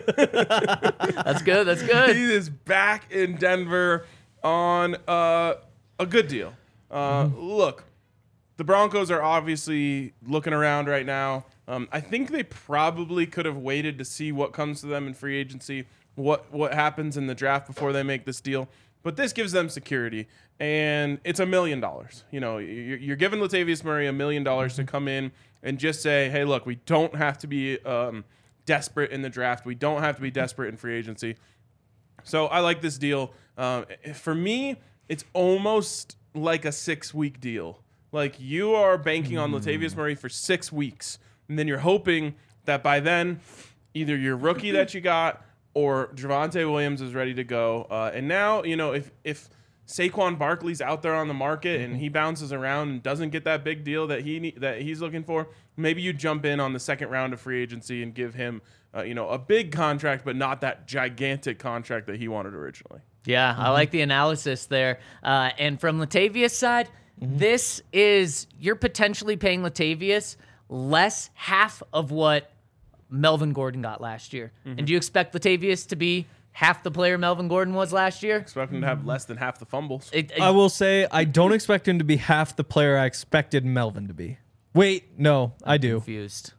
[SPEAKER 3] That's good. That's good.
[SPEAKER 2] He is back in Denver on uh, a good deal. Uh, Look, the Broncos are obviously looking around right now. Um, I think they probably could have waited to see what comes to them in free agency, what what happens in the draft before they make this deal. But this gives them security, and it's a million dollars. You know, you're, you're giving Latavius Murray a million dollars to come in and just say, hey, look, we don't have to be um, desperate in the draft. We don't have to be desperate in free agency. So I like this deal. Uh, for me, it's almost like a six-week deal. Like, you are banking on Latavius Murray for six weeks, and then you're hoping that by then, either your rookie that you got or Javonte Williams is ready to go. Uh, and now, you know, if if Saquon Barkley's out there on the market and he bounces around and doesn't get that big deal that he need, that he's looking for, maybe you jump in on the second round of free agency and give him, uh, you know, a big contract, but not that gigantic contract that he wanted originally.
[SPEAKER 3] Yeah, I like the analysis there. Uh, and from Latavius' side, this is, you're potentially paying Latavius less half of what Melvin Gordon got last year. And do you expect Latavius to be half the player Melvin Gordon was last year?
[SPEAKER 2] Expect him to have less than half the fumbles.
[SPEAKER 3] It- it-
[SPEAKER 4] I will say I don't expect him to be half the player I expected Melvin to be. Wait, no, I do.
[SPEAKER 3] confused.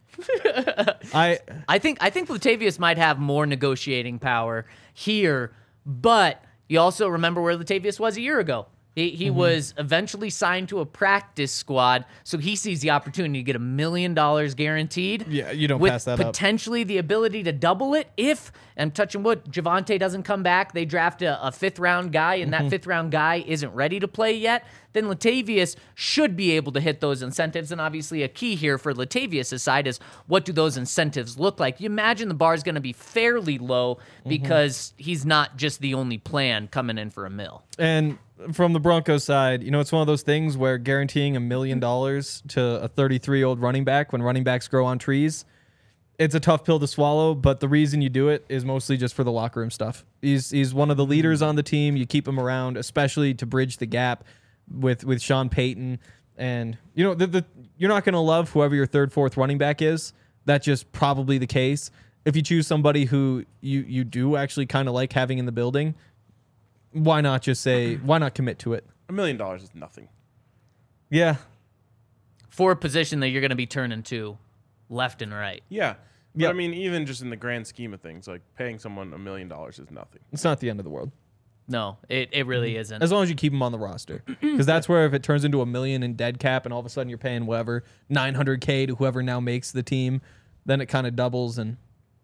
[SPEAKER 4] I
[SPEAKER 3] I think I think Latavius might have more negotiating power here, but you also remember where Latavius was a year ago. He, he was eventually signed to a practice squad, so he sees the opportunity to get a million dollars guaranteed.
[SPEAKER 4] Yeah, you don't
[SPEAKER 3] with
[SPEAKER 4] pass that up.
[SPEAKER 3] potentially the ability to double it if, and touching wood, Javonte doesn't come back. They draft a, a fifth round guy, and that fifth round guy isn't ready to play yet. Then Latavius should be able to hit those incentives. And obviously, a key here for Latavius' side is what do those incentives look like? You imagine the bar is going to be fairly low because he's not just the only plan coming in for a mill.
[SPEAKER 4] and from the Broncos side, you know, it's one of those things where guaranteeing a million dollars to a thirty-three-year-old running back when running backs grow on trees, it's a tough pill to swallow, but the reason you do it is mostly just for the locker room stuff. He's he's one of the leaders on the team. You keep him around, especially to bridge the gap with with Sean Payton. And, you know, the, the you're not going to love whoever your third, fourth running back is. That's just probably the case. If you choose somebody who you, you do actually kind of like having in the building, why not just say, why not commit to it?
[SPEAKER 2] A million dollars is nothing.
[SPEAKER 4] Yeah.
[SPEAKER 3] for a position that you're going to be turning to left and right.
[SPEAKER 2] Yeah. But
[SPEAKER 4] Yep.
[SPEAKER 2] I mean, even just in the grand scheme of things, like paying someone a million dollars is nothing.
[SPEAKER 4] It's not the end of the world.
[SPEAKER 3] No, it, it really isn't.
[SPEAKER 4] As long as you keep him on the roster. Because that's where if it turns into a million in dead cap and all of a sudden you're paying whatever, nine hundred K to whoever now makes the team, then it kind of doubles and,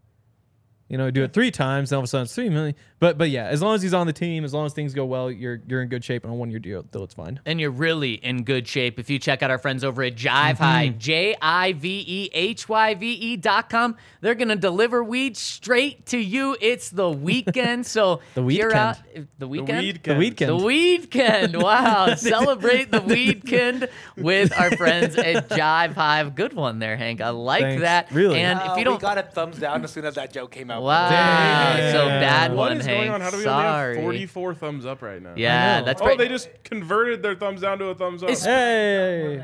[SPEAKER 4] you know, do it three times, then all of a sudden it's three million. But but yeah, as long as he's on the team, as long as things go well, you're you're in good shape on a one-year deal, deal it's fine.
[SPEAKER 3] And you're really in good shape if you check out our friends over at Jive High, J I V E H Y V E dot com. They're going to deliver weed straight to you. It's the weekend, so
[SPEAKER 4] The
[SPEAKER 3] if you're
[SPEAKER 4] weekend.
[SPEAKER 3] out, the
[SPEAKER 2] The
[SPEAKER 3] weekend?
[SPEAKER 2] weed
[SPEAKER 4] The weekend.
[SPEAKER 3] The weekend. Wow. Celebrate the weekend with our friends at Jive Hive. Good one there, Hank. I like
[SPEAKER 4] Thanks.
[SPEAKER 3] that.
[SPEAKER 4] Really?
[SPEAKER 3] And
[SPEAKER 5] Uh,
[SPEAKER 3] if you don't
[SPEAKER 5] we got a thumbs down as soon as that joke came out.
[SPEAKER 3] Wow.
[SPEAKER 4] Damn.
[SPEAKER 3] So bad
[SPEAKER 2] What
[SPEAKER 3] one,
[SPEAKER 2] is
[SPEAKER 3] Hank.
[SPEAKER 2] going on? How do we
[SPEAKER 3] Sorry.
[SPEAKER 2] only have forty-four thumbs up right now?
[SPEAKER 3] Yeah,
[SPEAKER 4] know.
[SPEAKER 3] that's
[SPEAKER 2] Oh,
[SPEAKER 3] right.
[SPEAKER 2] they just converted their thumbs down to a thumbs up.
[SPEAKER 3] It's-
[SPEAKER 4] Hey.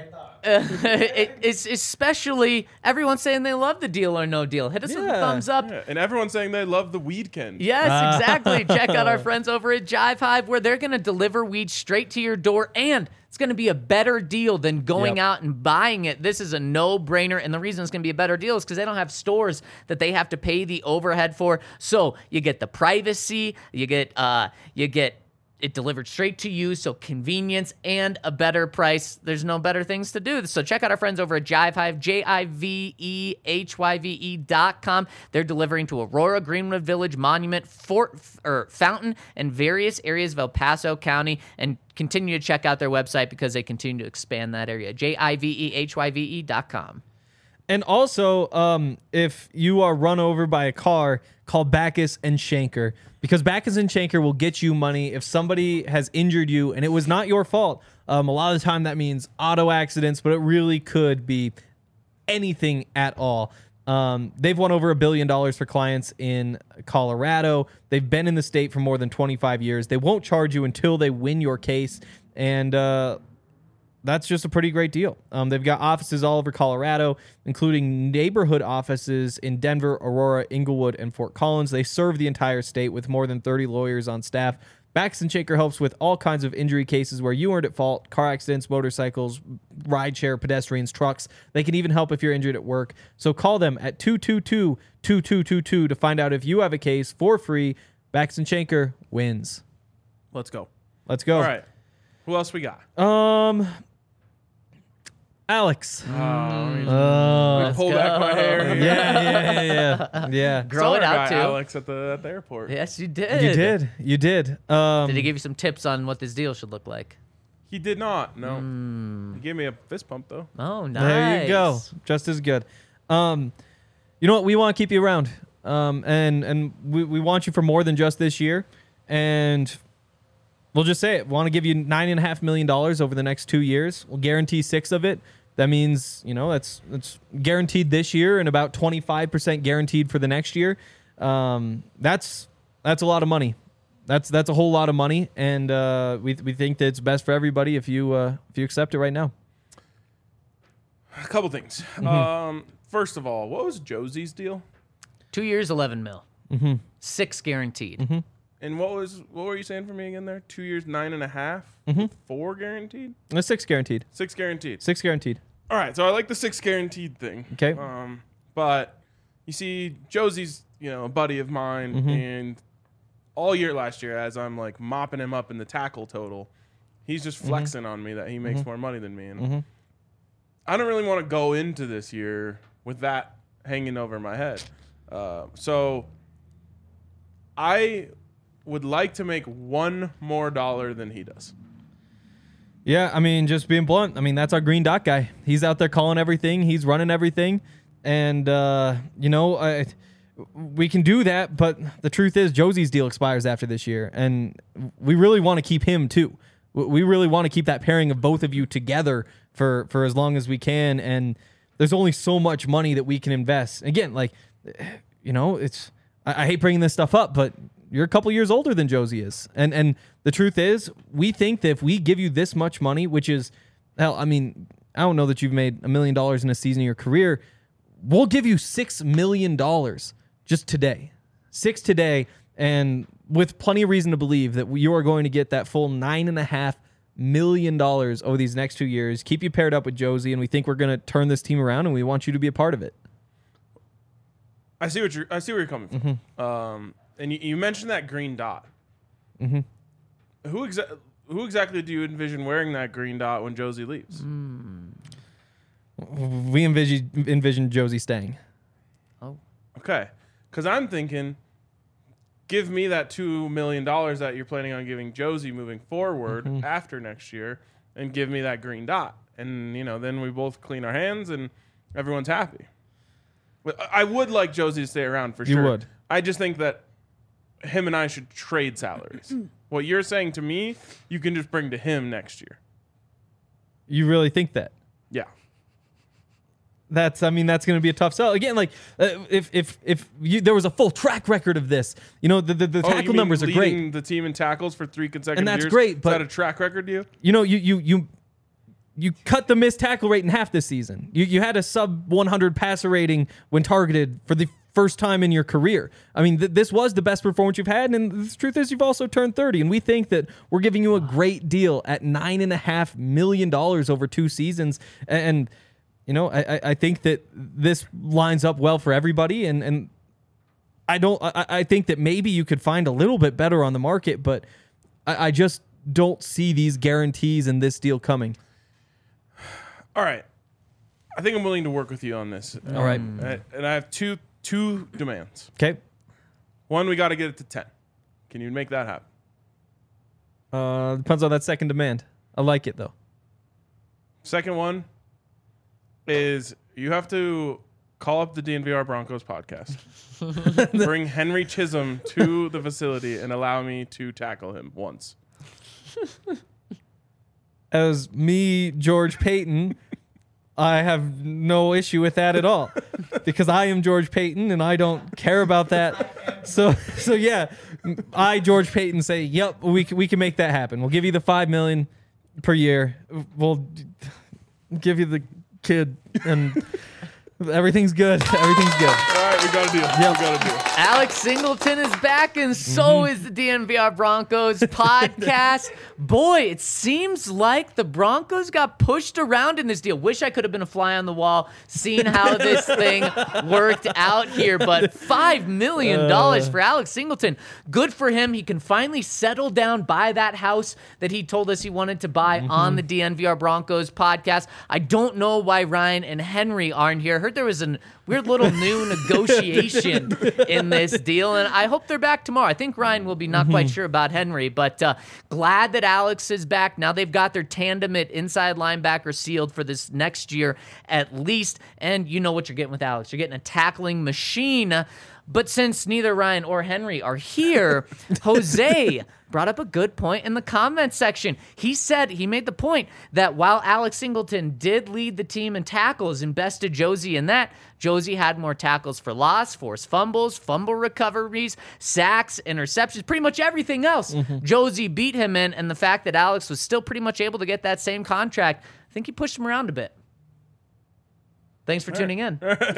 [SPEAKER 3] it, it's especially everyone saying they love the Deal or No Deal. Hit us with a
[SPEAKER 4] Yeah.
[SPEAKER 3] thumbs up.
[SPEAKER 2] Yeah, and everyone's saying they love the weekend.
[SPEAKER 3] Yes,
[SPEAKER 4] Ah.
[SPEAKER 3] exactly. Check out our friends over at Jive Hive where they're going to deliver weed straight to your door, and it's going to be a better deal than going
[SPEAKER 4] Yep.
[SPEAKER 3] out and buying it. This is a no-brainer, and the reason it's going to be a better deal is because they don't have stores that they have to pay the overhead for. So you get the privacy, you get uh, you get it delivered straight to you, so convenience and a better price. There's no better things to do. So check out our friends over at Jive Hive, J I V E H Y V E dot com. They're delivering to Aurora, Greenwood Village, Monument, Fort or Fountain, and various areas of El Paso County. And continue to check out their website because they continue to expand that area. J I V E H Y V E dot com.
[SPEAKER 4] And also, um, if you are run over by a car, call Backus and Shanker, because Backus and Shanker will get you money if somebody has injured you and it was not your fault. Um, a lot of the time that means auto accidents, but it really could be anything at all. Um, they've won over a billion dollars for clients in Colorado. They've been in the state for more than twenty-five years. They won't charge you until they win your case. And, uh, that's just a pretty great deal. Um, they've got offices all over Colorado, including neighborhood offices in Denver, Aurora, Inglewood, and Fort Collins. They serve the entire state with more than thirty lawyers on staff. Backus and Shanker helps with all kinds of injury cases where you weren't at fault, car accidents, motorcycles, rideshare, pedestrians, trucks. They can even help if you're injured at work. So call them at two two two, two two two two to find out if you have a case for free. Backus and Shanker wins.
[SPEAKER 2] Let's go.
[SPEAKER 4] Let's go.
[SPEAKER 2] All right. Who else we got?
[SPEAKER 4] Um, Alex.
[SPEAKER 2] Oh, let me
[SPEAKER 4] Uh,
[SPEAKER 3] Let's
[SPEAKER 2] pull back my
[SPEAKER 3] go.
[SPEAKER 2] hair.
[SPEAKER 4] yeah, yeah, yeah, yeah. yeah.
[SPEAKER 3] Grow
[SPEAKER 2] Saw
[SPEAKER 3] it
[SPEAKER 2] our
[SPEAKER 3] out
[SPEAKER 2] guy
[SPEAKER 3] too.
[SPEAKER 2] Alex at the at the airport.
[SPEAKER 3] Yes, you did.
[SPEAKER 4] You did. You did. Um,
[SPEAKER 3] Did he give you some tips on what this deal should look like?
[SPEAKER 2] He did not. No.
[SPEAKER 3] Hmm.
[SPEAKER 2] He gave me a fist pump though.
[SPEAKER 3] Oh, nice.
[SPEAKER 4] There you go. Just as good. Um, you know what? We want to keep you around. Um, and and we, we want you for more than just this year. And we'll just say it. We want to give you nine and a half million dollars over the next two years. We'll guarantee six of it. That means, you know, that's that's guaranteed this year and about twenty-five percent guaranteed for the next year. Um, that's that's a lot of money. That's that's a whole lot of money, and uh, we we think that it's best for everybody if you uh, if you accept it right now.
[SPEAKER 2] A couple things.
[SPEAKER 3] Mm-hmm.
[SPEAKER 2] Um, first of all, what was Josie's deal?
[SPEAKER 3] Two years, eleven mil.
[SPEAKER 4] Mm-hmm.
[SPEAKER 3] Six guaranteed.
[SPEAKER 2] And what was what were you saying for me again there? Two years, nine and a half,
[SPEAKER 4] Mhm.
[SPEAKER 2] four guaranteed,
[SPEAKER 4] That's six guaranteed.
[SPEAKER 2] six guaranteed.
[SPEAKER 4] Six guaranteed.
[SPEAKER 2] All right, so I like the six guaranteed thing.
[SPEAKER 4] Okay.
[SPEAKER 2] Um, but you see, Josie's you know a buddy of mine,
[SPEAKER 4] Mhm.
[SPEAKER 2] and all year last year, as I'm like mopping him up in the tackle total, he's just flexing on me that he makes more money than me, and
[SPEAKER 4] Mhm.
[SPEAKER 2] I don't really want to go into this year with that hanging over my head. Uh, so I would like to make one more dollar than he does.
[SPEAKER 4] Yeah, I mean, just being blunt. I mean, that's our green dot guy. He's out there calling everything. He's running everything, and uh, you know, I, we can do that. But the truth is, Josie's deal expires after this year, and we really want to keep him too. We really want to keep that pairing of both of you together for for as long as we can. And there's only so much money that we can invest. Again, like, you know, it's I, I hate bringing this stuff up, but you're a couple years older than Josie is. And and the truth is, we think that if we give you this much money, which is, hell, I mean, I don't know that you've made a million dollars in a season of your career. We'll give you six million dollars just today. Six today, and with plenty of reason to believe that you are going to get that full nine and a half million dollars over these next two years, keep you paired up with Josie, and we think we're going to turn this team around, and we want you to be a part of it.
[SPEAKER 2] I see what you're. I see where you're coming from.
[SPEAKER 4] Mm-hmm.
[SPEAKER 2] Um, and you, you mentioned that green dot.
[SPEAKER 4] Mm-hmm.
[SPEAKER 2] Who exa- Who exactly do you envision wearing that green dot when Josie leaves?
[SPEAKER 3] Mm.
[SPEAKER 4] We envision envision Josie staying.
[SPEAKER 3] Oh.
[SPEAKER 2] Okay, because I'm thinking, give me that two million dollars that you're planning on giving Josie moving forward
[SPEAKER 4] Mm-hmm.
[SPEAKER 2] after next year, and give me that green dot, and you know, then we both clean our hands and everyone's happy. But I would like Josie to stay around for
[SPEAKER 4] You
[SPEAKER 2] sure.
[SPEAKER 4] would.
[SPEAKER 2] I just think that him and I should trade salaries. What you're saying to me, you can just bring to him next year.
[SPEAKER 4] You really think that?
[SPEAKER 2] Yeah.
[SPEAKER 4] That's, I mean, that's going to be a tough sell. Again, like, uh, if if if you, there was a full track record of this, you know, the the, the
[SPEAKER 2] Oh, you
[SPEAKER 4] tackle
[SPEAKER 2] mean
[SPEAKER 4] numbers are
[SPEAKER 2] leading
[SPEAKER 4] great.
[SPEAKER 2] the team in tackles for three consecutive
[SPEAKER 4] And that's
[SPEAKER 2] years?
[SPEAKER 4] great,
[SPEAKER 2] Is
[SPEAKER 4] but-
[SPEAKER 2] that a track record to you?
[SPEAKER 4] You know, you you you you cut the missed tackle rate in half this season. You you had a sub one hundred passer rating when targeted for the first time in your career. I mean, th- this was the best performance you've had, and the truth is, you've also turned thirty. And we think that we're giving you a great deal at nine and a half million dollars over two seasons. And you know, I I think that this lines up well for everybody. And and I don't. I, I think that maybe you could find a little bit better on the market, but I, I just don't see these guarantees in this deal coming.
[SPEAKER 2] All right. I think I'm willing to work with you on this.
[SPEAKER 4] All right.
[SPEAKER 2] And I, and I have two two demands.
[SPEAKER 4] Okay.
[SPEAKER 2] One, we got to get it to ten. Can you make that happen?
[SPEAKER 4] Uh, depends on that second demand. I like it though.
[SPEAKER 2] Second one is you have to call up the D N V R Broncos podcast, bring Henry Chisholm to the facility, and allow me to tackle him once.
[SPEAKER 4] As me, George Payton, I have no issue with that at all because I am George Payton and I don't care about that. So, so yeah, I, George Payton, say, yep, we can, we can make that happen. We'll give you the five million per year. We'll give you the kid, and everything's good. Everything's good.
[SPEAKER 2] All right, we got a deal.
[SPEAKER 4] Yep.
[SPEAKER 2] We got a deal.
[SPEAKER 3] Alex Singleton is back, and so
[SPEAKER 4] Mm-hmm.
[SPEAKER 3] is the D N V R Broncos podcast. Boy, it seems like the Broncos got pushed around in this deal. Wish I could have been a fly on the wall, seeing how this thing worked out here. But five million dollars
[SPEAKER 4] Uh.
[SPEAKER 3] for Alex Singleton. Good for him. He can finally settle down, buy that house that he told us he wanted to buy
[SPEAKER 4] Mm-hmm.
[SPEAKER 3] on the D N V R Broncos podcast. I don't know why Ryan and Henry aren't here. I heard there was a weird little new negotiation in this deal, and I hope they're back tomorrow. I think Ryan will be not quite sure about Henry, but uh, glad that Alex is back. Now they've got their tandem at inside linebacker sealed for this next year at least, and you know what you're getting with Alex. You're getting a tackling machine. But since neither Ryan or Henry are here, Jose brought up a good point in the comment section. He said, he made the point that while Alex Singleton did lead the team in tackles and bested Josie in that, Josie had more tackles for loss, forced fumbles, fumble recoveries, sacks, interceptions, pretty much everything else. Josie beat him in, and the fact that Alex was still pretty much able to get that same contract, I think he pushed him around a bit. Thanks for tuning in.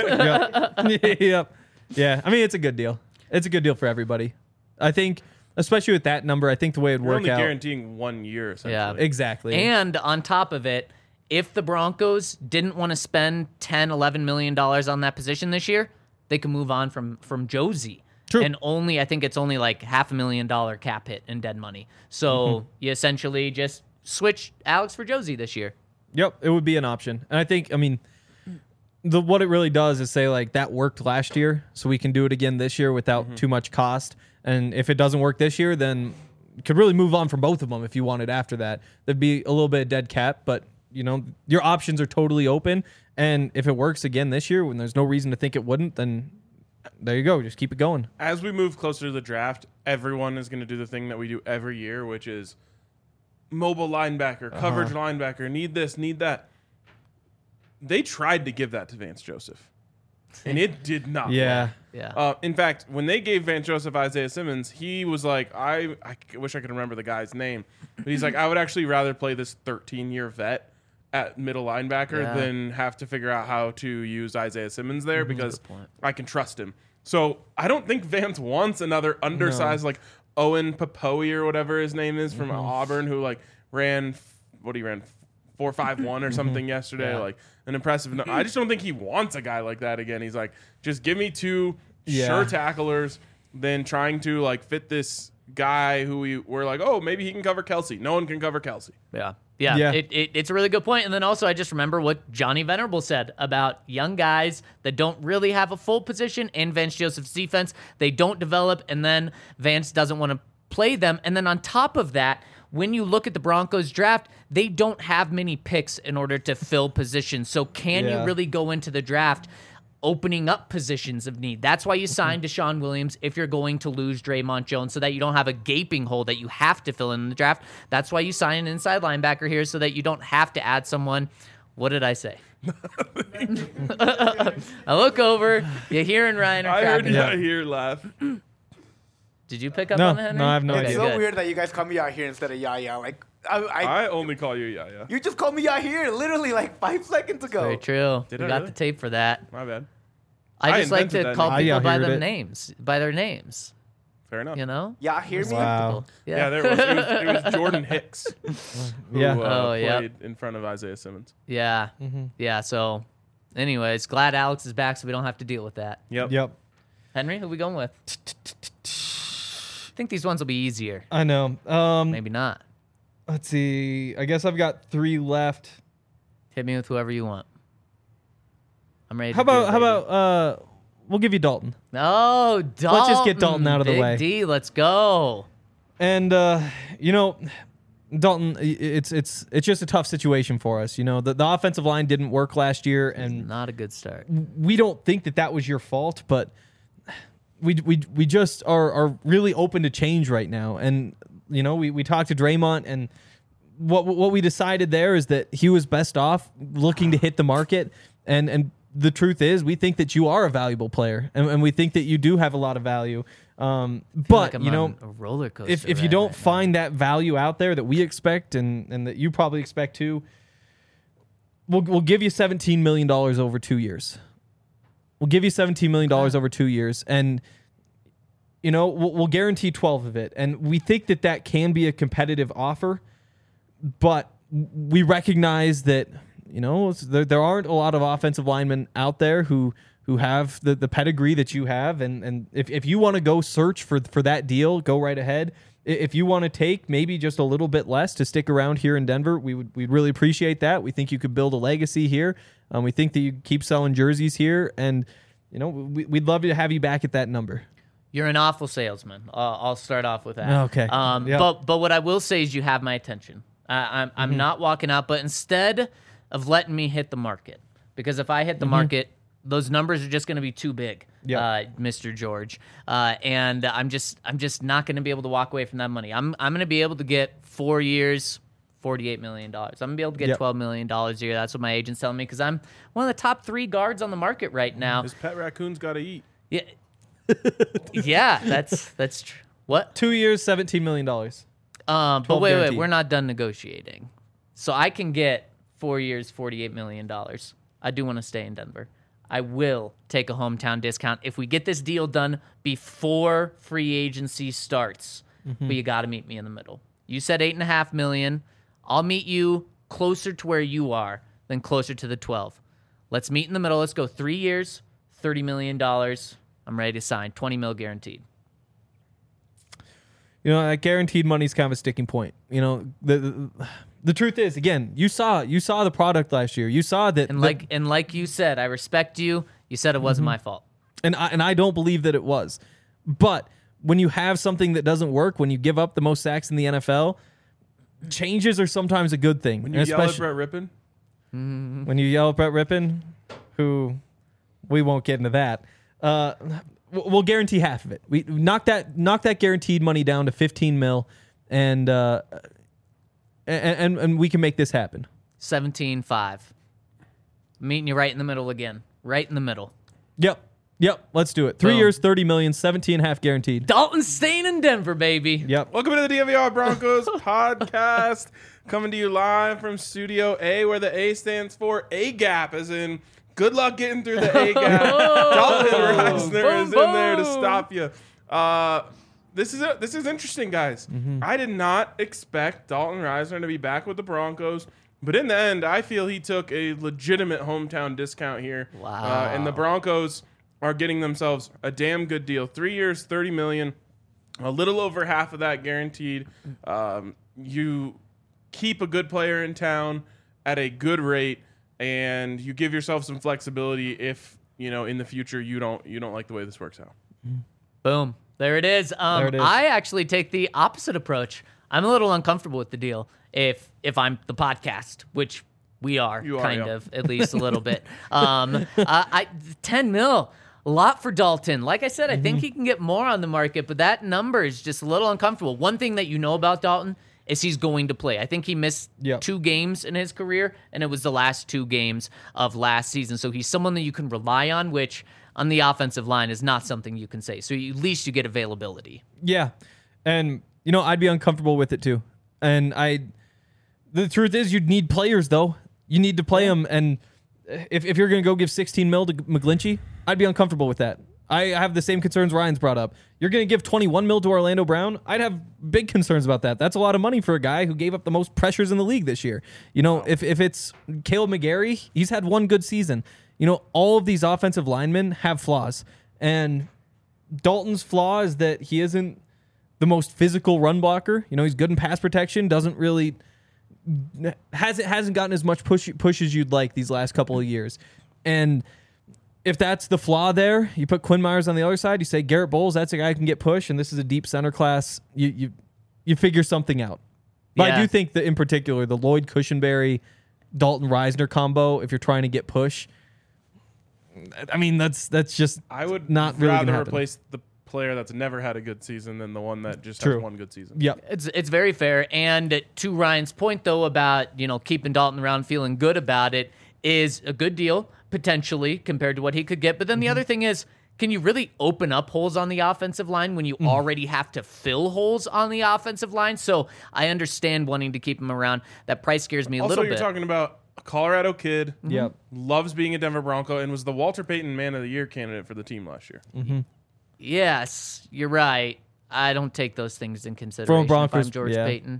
[SPEAKER 4] yep. yep. Yeah. I mean, it's a good deal. It's a good deal for everybody. I think, especially with that number, I think the way it'd
[SPEAKER 2] We're
[SPEAKER 4] work
[SPEAKER 2] only
[SPEAKER 4] out.
[SPEAKER 2] guaranteeing one year, essentially.
[SPEAKER 3] Yeah.
[SPEAKER 4] Exactly.
[SPEAKER 3] And on top of it, if the Broncos didn't want to spend ten, eleven million dollars on that position this year, they can move on from from Josie.
[SPEAKER 4] True.
[SPEAKER 3] And only, I think it's only like half a million dollar cap hit in dead money. So
[SPEAKER 4] Mm-hmm.
[SPEAKER 3] you essentially just switch Alex for Josie this year.
[SPEAKER 4] Yep, it would be an option. And I think, I mean, the what it really does is say, like, that worked last year, so we can do it again this year without too much cost. And if it doesn't work this year, then you could really move on from both of them if you wanted after that. There'd be a little bit of dead cap, but, you know, your options are totally open. And if it works again this year, when there's no reason to think it wouldn't, then there you go. Just keep it going.
[SPEAKER 2] As we move closer to the draft, everyone is going to do the thing that we do every year, which is mobile linebacker, coverage linebacker, need this, need that. They tried to give that to Vance Joseph, and it did not.
[SPEAKER 4] Yeah.
[SPEAKER 2] work.
[SPEAKER 3] Yeah.
[SPEAKER 2] Uh, in fact, when they gave Vance Joseph Isaiah Simmons, he was like, I, I wish I could remember the guy's name, but he's like, I would actually rather play this thirteen-year vet at middle linebacker
[SPEAKER 3] Yeah.
[SPEAKER 2] than have to figure out how to use Isaiah Simmons there because
[SPEAKER 3] good point.
[SPEAKER 2] I can trust him. So I don't think Vance wants another undersized like Owen Papoe or whatever his name is from Auburn who like ran f- what he ran four five one or something yesterday.
[SPEAKER 3] Yeah.
[SPEAKER 2] Like an impressive. No- I just don't think he wants a guy like that again. He's like, just give me two
[SPEAKER 4] Yeah.
[SPEAKER 2] sure tacklers, then trying to like fit this guy who we were like, oh, maybe he can cover Kelsey. No one can cover Kelsey.
[SPEAKER 3] Yeah. Yeah,
[SPEAKER 4] Yeah.
[SPEAKER 3] It, it, it's a really good point. And then also, I just remember what Johnny Venerable said about young guys that don't really have a full position in Vance Joseph's defense. They don't develop, and then Vance doesn't want to play them. And then on top of that, when you look at the Broncos draft, they don't have many picks in order to fill positions. So can
[SPEAKER 4] Yeah.
[SPEAKER 3] you really go into the draft opening up positions of need? That's why you signed Deshaun Williams if you're going to lose Draymond Jones, so that you don't have a gaping hole that you have to fill in the draft. That's why you sign an inside linebacker here, so that you don't have to add someone. What did I say? I look over, you hearing Ryan or
[SPEAKER 2] I heard
[SPEAKER 3] cracking
[SPEAKER 2] you
[SPEAKER 3] up.
[SPEAKER 2] out here laugh.
[SPEAKER 3] Did you pick up
[SPEAKER 4] No,
[SPEAKER 3] on that, Henry?
[SPEAKER 4] no, I have no
[SPEAKER 3] Okay,
[SPEAKER 5] It's
[SPEAKER 4] idea.
[SPEAKER 5] so
[SPEAKER 3] good.
[SPEAKER 5] weird that you guys call me out here instead of Yaya. Like, I, I,
[SPEAKER 2] I only call you yeah, yeah.
[SPEAKER 5] you just called me out here literally like five seconds ago.
[SPEAKER 3] Very true.
[SPEAKER 2] Did
[SPEAKER 3] we
[SPEAKER 2] I
[SPEAKER 3] got
[SPEAKER 2] really?
[SPEAKER 3] the tape for that.
[SPEAKER 2] My bad.
[SPEAKER 3] I
[SPEAKER 2] I
[SPEAKER 3] just like
[SPEAKER 2] invented
[SPEAKER 3] to
[SPEAKER 2] that
[SPEAKER 3] call
[SPEAKER 2] name.
[SPEAKER 4] I
[SPEAKER 3] people by
[SPEAKER 4] heard
[SPEAKER 3] their
[SPEAKER 4] it.
[SPEAKER 3] names, by their names.
[SPEAKER 2] Fair enough.
[SPEAKER 3] You know?
[SPEAKER 5] Yeah, hear me?
[SPEAKER 4] Wow.
[SPEAKER 2] Yeah, there was. It, was. it was Jordan Hicks who
[SPEAKER 4] Yeah.
[SPEAKER 2] uh,
[SPEAKER 3] Oh, yep.
[SPEAKER 2] played in front of Isaiah Simmons.
[SPEAKER 3] Yeah. Yeah. So, anyways, glad Alex is back, so we don't have to deal with that.
[SPEAKER 2] Yep.
[SPEAKER 4] Yep.
[SPEAKER 3] Henry, who we going with? I think these ones will be easier.
[SPEAKER 4] I know. Um,
[SPEAKER 3] Maybe not.
[SPEAKER 4] let's see. I guess I've got three left.
[SPEAKER 3] Hit me with whoever you want. I'm ready.
[SPEAKER 4] How
[SPEAKER 3] to do
[SPEAKER 4] about
[SPEAKER 3] it,
[SPEAKER 4] how
[SPEAKER 3] baby.
[SPEAKER 4] about uh, we'll give you Dalton.
[SPEAKER 3] Oh, Dalton.
[SPEAKER 4] Let's just get Dalton out of the
[SPEAKER 3] Big
[SPEAKER 4] way.
[SPEAKER 3] D, let's go.
[SPEAKER 4] And uh, you know, Dalton, i- it's it's it's just a tough situation for us. You know, the the offensive line didn't work last year, and
[SPEAKER 3] Not a good start.
[SPEAKER 4] we don't think that that was your fault, but we we we just are are really open to change right now. And you know, we we talked to Draymond, and what what we decided there is that he was best off looking to hit the market. And and the truth is, we think that you are a valuable player, and, and we think that you do have a lot of value. Um,
[SPEAKER 3] I feel
[SPEAKER 4] but
[SPEAKER 3] like I'm
[SPEAKER 4] you know,
[SPEAKER 3] on a roller coaster.
[SPEAKER 4] if if you
[SPEAKER 3] ride
[SPEAKER 4] don't
[SPEAKER 3] right now.
[SPEAKER 4] find that value out there that we expect, and and that you probably expect too, we'll we'll give you seventeen million dollars over two years. We'll give you seventeen million dollars over two years, and you know we'll, we'll guarantee twelve of it. And we think that that can be a competitive offer, but we recognize that you know there there aren't a lot of offensive linemen out there who who have the, the pedigree that you have, and and if, if you want to go search for for that deal, go right ahead. I- If you want to take maybe just a little bit less to stick around here in Denver, we would we'd really appreciate that. We think you could build a legacy here. Um, we think that you keep selling jerseys here, and you know we, we'd love to have you back at that number.
[SPEAKER 3] You're an awful salesman. Uh, I'll start off with that.
[SPEAKER 4] Okay.
[SPEAKER 3] Um,
[SPEAKER 4] Yep.
[SPEAKER 3] But but what I will say is you have my attention. Uh, I'm I'm
[SPEAKER 4] Mm-hmm.
[SPEAKER 3] not walking out, but instead of letting me hit the market, because if I hit the market, those numbers are just going to be too big,
[SPEAKER 4] Mm-hmm. Yep.
[SPEAKER 3] uh, Mister George. Uh, and I'm just I'm just not going to be able to walk away from that money. I'm I'm going to be able to get four years, forty-eight million dollars. I'm going to be able to get
[SPEAKER 4] Yep.
[SPEAKER 3] twelve million dollars a year. That's what my agent's telling me, because I'm one of the top three guards on the market right now.
[SPEAKER 2] His pet raccoon's got to eat.
[SPEAKER 3] Yeah, yeah, that's that's true. What?
[SPEAKER 4] Two years, seventeen million dollars.
[SPEAKER 3] Um, but
[SPEAKER 4] twelve
[SPEAKER 3] wait,
[SPEAKER 4] guaranteed.
[SPEAKER 3] wait, we're not done negotiating. So I can get four years, forty-eight million dollars. I do want to stay in Denver. I will take a hometown discount if we get this deal done before free agency starts.
[SPEAKER 4] Mm-hmm.
[SPEAKER 3] But you got to meet me in the middle. You said eight and a half million. I'll meet you closer to where you are than closer to the twelve. Let's meet in the middle. Let's go three years, thirty million dollars. I'm ready to sign. twenty mil guaranteed.
[SPEAKER 4] You know, that guaranteed money is kind of a sticking point. You know, the, the the truth is, again, you saw you saw the product last year. You saw that,
[SPEAKER 3] And
[SPEAKER 4] that-
[SPEAKER 3] like and like you said, I respect you. You said it wasn't my fault.
[SPEAKER 4] and I, and I don't believe that it was. But when you have something that doesn't work, when you give up the most sacks in the N F L, changes are sometimes a good thing.
[SPEAKER 2] When you
[SPEAKER 4] And
[SPEAKER 2] yell at
[SPEAKER 4] especially
[SPEAKER 2] Brett Rippon,
[SPEAKER 4] when you yell at Brett Rippon, who we won't get into that. Uh, we'll we'll guarantee half of it. We knock that knock that guaranteed money down to fifteen mil, and uh, and, and and we can make this happen.
[SPEAKER 3] seventeen five. Meeting you right in the middle again. Right in the middle.
[SPEAKER 4] Yep. Yep. Let's do it. Three
[SPEAKER 3] Boom.
[SPEAKER 4] years, thirty million, seventeen and a half guaranteed.
[SPEAKER 3] Dalton's staying in Denver, baby.
[SPEAKER 4] Yep.
[SPEAKER 2] welcome to the D V R Broncos podcast, coming to you live from Studio A, where the A stands for A Gap, as in good luck getting through the A Gap. Dalton Reisner
[SPEAKER 3] Boom,
[SPEAKER 2] is in there to
[SPEAKER 3] boom.
[SPEAKER 2] stop you. Uh, this is a, this is interesting, guys. I did not expect Dalton Risner to be back with the Broncos, but in the end, I feel he took a legitimate hometown discount here.
[SPEAKER 3] Wow.
[SPEAKER 2] Uh, and the Broncos are getting themselves a damn good deal. Three years, thirty million dollars, a little over half of that guaranteed. Um, you keep a good player in town at a good rate, and you give yourself some flexibility if, you know, in the future you don't you don't like the way this works out.
[SPEAKER 3] Boom. There it is. Um,
[SPEAKER 4] There it is.
[SPEAKER 3] I actually take the opposite approach. I'm a little uncomfortable with the deal if if I'm the podcast, which we are,
[SPEAKER 2] You are,
[SPEAKER 3] kind
[SPEAKER 2] yeah.
[SPEAKER 3] of, at least a little bit. Um, uh, I ten mil, a lot for Dalton. Like I said, I think he can get more on the market, but that number is just a little uncomfortable. One thing that you know about Dalton is he's going to play. I think he missed
[SPEAKER 4] Yep.
[SPEAKER 3] two games in his career, and it was the last two games of last season. So he's someone that you can rely on, which on the offensive line is not something you can say. So you, at least you get availability.
[SPEAKER 4] Yeah. And, you know, I'd be uncomfortable with it too. And I, the truth is, you'd need players, though. You need to play them. And if, if you're going to go give sixteen mil to McGlinchey, I'd be uncomfortable with that. I have the same concerns Ryan's brought up. You're going to give twenty-one mil to Orlando Brown? I'd have big concerns about that. That's a lot of money for a guy who gave up the most pressures in the league this year. You know, if, if it's Caleb McGarry, he's had one good season. You know, all of these offensive linemen have flaws. And Dalton's flaw is that he isn't the most physical run blocker. You know, he's good in pass protection, doesn't really hasn't hasn't gotten as much push push as you'd like these last couple of years. And if that's the flaw there, you put Quinn Myers on the other side, you say Garrett Bowles, that's a guy who can get push, and this is a deep center class. You you you figure something out. But
[SPEAKER 3] Yeah.
[SPEAKER 4] I do think that in particular, the Lloyd Cushenberry, Dalton Risner combo, if you're trying to get push, I mean that's that's just
[SPEAKER 2] I would
[SPEAKER 4] not really
[SPEAKER 2] rather
[SPEAKER 4] gonna happen.
[SPEAKER 2] replace the player that's never had a good season than the one that just
[SPEAKER 4] True.
[SPEAKER 2] has one good season.
[SPEAKER 4] Yep.
[SPEAKER 3] It's it's very fair. And to Ryan's point, though, about, you know, keeping Dalton around, feeling good about it, is a good deal, potentially, compared to what he could get. But then the other thing is, can you really open up holes on the offensive line when you already have to fill holes on the offensive line? So I understand wanting to keep him around. That price scares me a
[SPEAKER 2] Also,
[SPEAKER 3] little
[SPEAKER 2] you're
[SPEAKER 3] bit.
[SPEAKER 2] talking about a Colorado kid,
[SPEAKER 4] Yep.
[SPEAKER 2] loves being a Denver Bronco, and was the Walter Payton Man of the Year candidate for the team last year.
[SPEAKER 3] Yes, you're right. I don't take those things in consideration. if
[SPEAKER 4] Broncos,
[SPEAKER 3] I'm George
[SPEAKER 4] yeah.
[SPEAKER 3] Payton.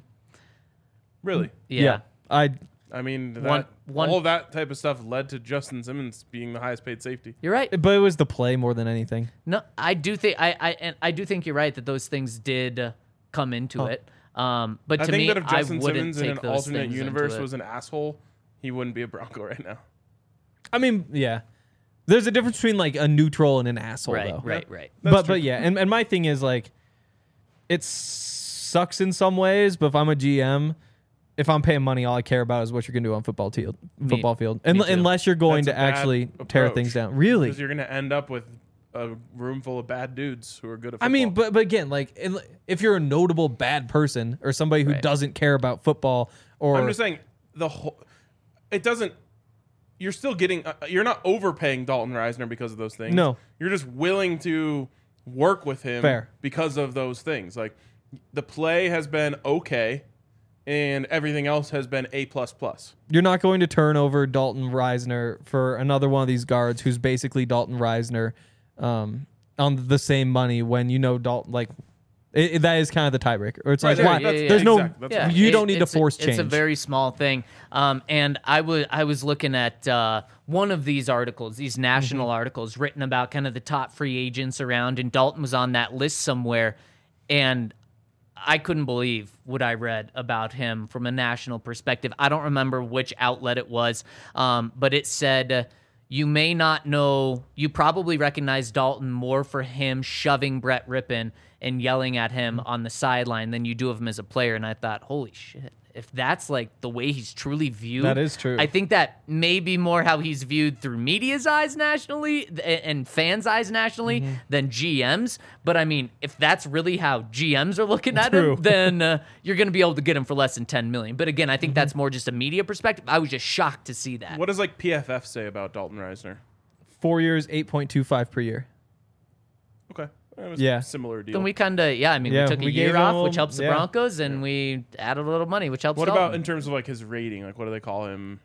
[SPEAKER 2] Really?
[SPEAKER 3] Yeah.
[SPEAKER 4] I
[SPEAKER 2] I mean, that,
[SPEAKER 3] One- one-
[SPEAKER 2] all that type of stuff led to Justin Simmons being the highest paid safety.
[SPEAKER 3] You're right.
[SPEAKER 4] but it was the play more than anything.
[SPEAKER 3] No, I do think I I and I do think you're right that those things did uh, come into
[SPEAKER 4] Huh.
[SPEAKER 3] it. Um, but
[SPEAKER 2] I
[SPEAKER 3] to
[SPEAKER 2] think
[SPEAKER 3] me,
[SPEAKER 2] that if
[SPEAKER 3] I
[SPEAKER 2] Justin
[SPEAKER 3] wouldn't
[SPEAKER 2] Simmons in
[SPEAKER 3] take
[SPEAKER 2] an
[SPEAKER 3] those
[SPEAKER 2] alternate
[SPEAKER 3] things
[SPEAKER 2] universe
[SPEAKER 3] into it.
[SPEAKER 2] was an asshole, he wouldn't be a Bronco right now.
[SPEAKER 4] I mean, yeah. There's a difference between like a neutral and an asshole,
[SPEAKER 3] right,
[SPEAKER 4] though.
[SPEAKER 3] right, right.
[SPEAKER 2] That's
[SPEAKER 4] but
[SPEAKER 2] true.
[SPEAKER 4] but yeah, and, and my thing is like, it sucks in some ways. But if I'm a G M, if I'm paying money, all I care about is what you're gonna do on football field. Football field,
[SPEAKER 3] me
[SPEAKER 4] Un-
[SPEAKER 3] too.
[SPEAKER 4] unless you're going
[SPEAKER 2] That's
[SPEAKER 4] to
[SPEAKER 2] a bad
[SPEAKER 4] actually tear
[SPEAKER 2] approach.
[SPEAKER 4] things down. Really?
[SPEAKER 2] Because you're going to end up with a room full of bad dudes who are good at
[SPEAKER 4] I
[SPEAKER 2] football.
[SPEAKER 4] mean, but but again, like in- if you're a notable bad person or somebody who
[SPEAKER 3] Right.
[SPEAKER 4] doesn't care about football, or
[SPEAKER 2] I'm just saying the whole. It doesn't. You're still getting. Uh, you're not overpaying Dalton Risner because of those things.
[SPEAKER 4] No.
[SPEAKER 2] You're just willing to work with him
[SPEAKER 4] Fair.
[SPEAKER 2] because of those things. Like the play has been okay, and everything else has been A plus plus.
[SPEAKER 4] you're not going to turn over Dalton Risner for another one of these guards who's basically Dalton Risner um, on the same money when you know Dalton like it, it- that is kind of the tiebreaker. Or it's like
[SPEAKER 2] Right,
[SPEAKER 4] why?
[SPEAKER 2] right, that's-
[SPEAKER 3] yeah,
[SPEAKER 4] there's
[SPEAKER 2] yeah,
[SPEAKER 4] no
[SPEAKER 2] exactly. That's
[SPEAKER 3] Yeah,
[SPEAKER 2] right.
[SPEAKER 4] you
[SPEAKER 3] it-
[SPEAKER 4] don't need to
[SPEAKER 3] it's a-
[SPEAKER 4] force
[SPEAKER 3] It's a
[SPEAKER 4] change.
[SPEAKER 3] very small thing. Um, and I was I was looking at uh, one of these articles, these national
[SPEAKER 4] Mm-hmm.
[SPEAKER 3] articles written about kind of the top free agents around, and Dalton was on that list somewhere, and I couldn't believe what I read about him from a national perspective. I don't remember which outlet it was, um, but it said. Uh, You may not know, you probably recognize Dalton more for him shoving Brett Rippon and yelling at him on the sideline than you do of him as a player. And I thought, holy shit, if that's like the way he's truly viewed.
[SPEAKER 4] That is true.
[SPEAKER 3] I think that may be more how he's viewed through media's eyes nationally th- and fans' eyes nationally
[SPEAKER 4] Mm-hmm.
[SPEAKER 3] than G M's. But I mean, if that's really how G M's are looking at
[SPEAKER 4] True.
[SPEAKER 3] him, then uh, you're going to be able to get him for less than ten million. But again, I think
[SPEAKER 4] Mm-hmm.
[SPEAKER 3] that's more just a media perspective. I was just shocked to see that.
[SPEAKER 2] What does like P F F say about Dalton Risner?
[SPEAKER 4] Four years, eight point two five per year.
[SPEAKER 2] Okay, it was
[SPEAKER 4] Yeah.
[SPEAKER 2] a similar deal.
[SPEAKER 3] Then we kind of, yeah, I mean,
[SPEAKER 4] Yeah,
[SPEAKER 3] we took a
[SPEAKER 4] we
[SPEAKER 3] year
[SPEAKER 4] gave him
[SPEAKER 3] off,
[SPEAKER 4] a
[SPEAKER 3] which
[SPEAKER 4] little-
[SPEAKER 3] helps the
[SPEAKER 4] yeah.
[SPEAKER 3] Broncos, and we added a little money, which helps
[SPEAKER 2] what
[SPEAKER 3] Dalton.
[SPEAKER 2] about in terms of like his rating? Like, what do they call him?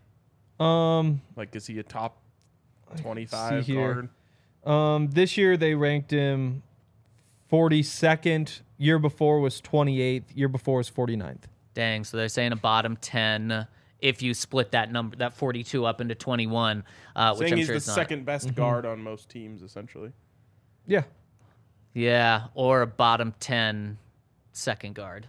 [SPEAKER 4] Um,
[SPEAKER 2] Like, is he a top twenty-five
[SPEAKER 4] see here.
[SPEAKER 2] guard?
[SPEAKER 4] um, this year they ranked him forty-second. Year before was twenty-eighth. Year before was forty-ninth.
[SPEAKER 3] Dang, so they're saying a bottom ten if you split that number, that forty-two up into twenty-one, uh, which
[SPEAKER 2] Saying
[SPEAKER 3] I'm
[SPEAKER 2] he's
[SPEAKER 3] sure
[SPEAKER 2] the
[SPEAKER 3] is not.
[SPEAKER 2] second best
[SPEAKER 4] Mm-hmm.
[SPEAKER 2] guard on most teams, essentially.
[SPEAKER 4] Yeah.
[SPEAKER 3] Yeah, or a bottom ten second guard.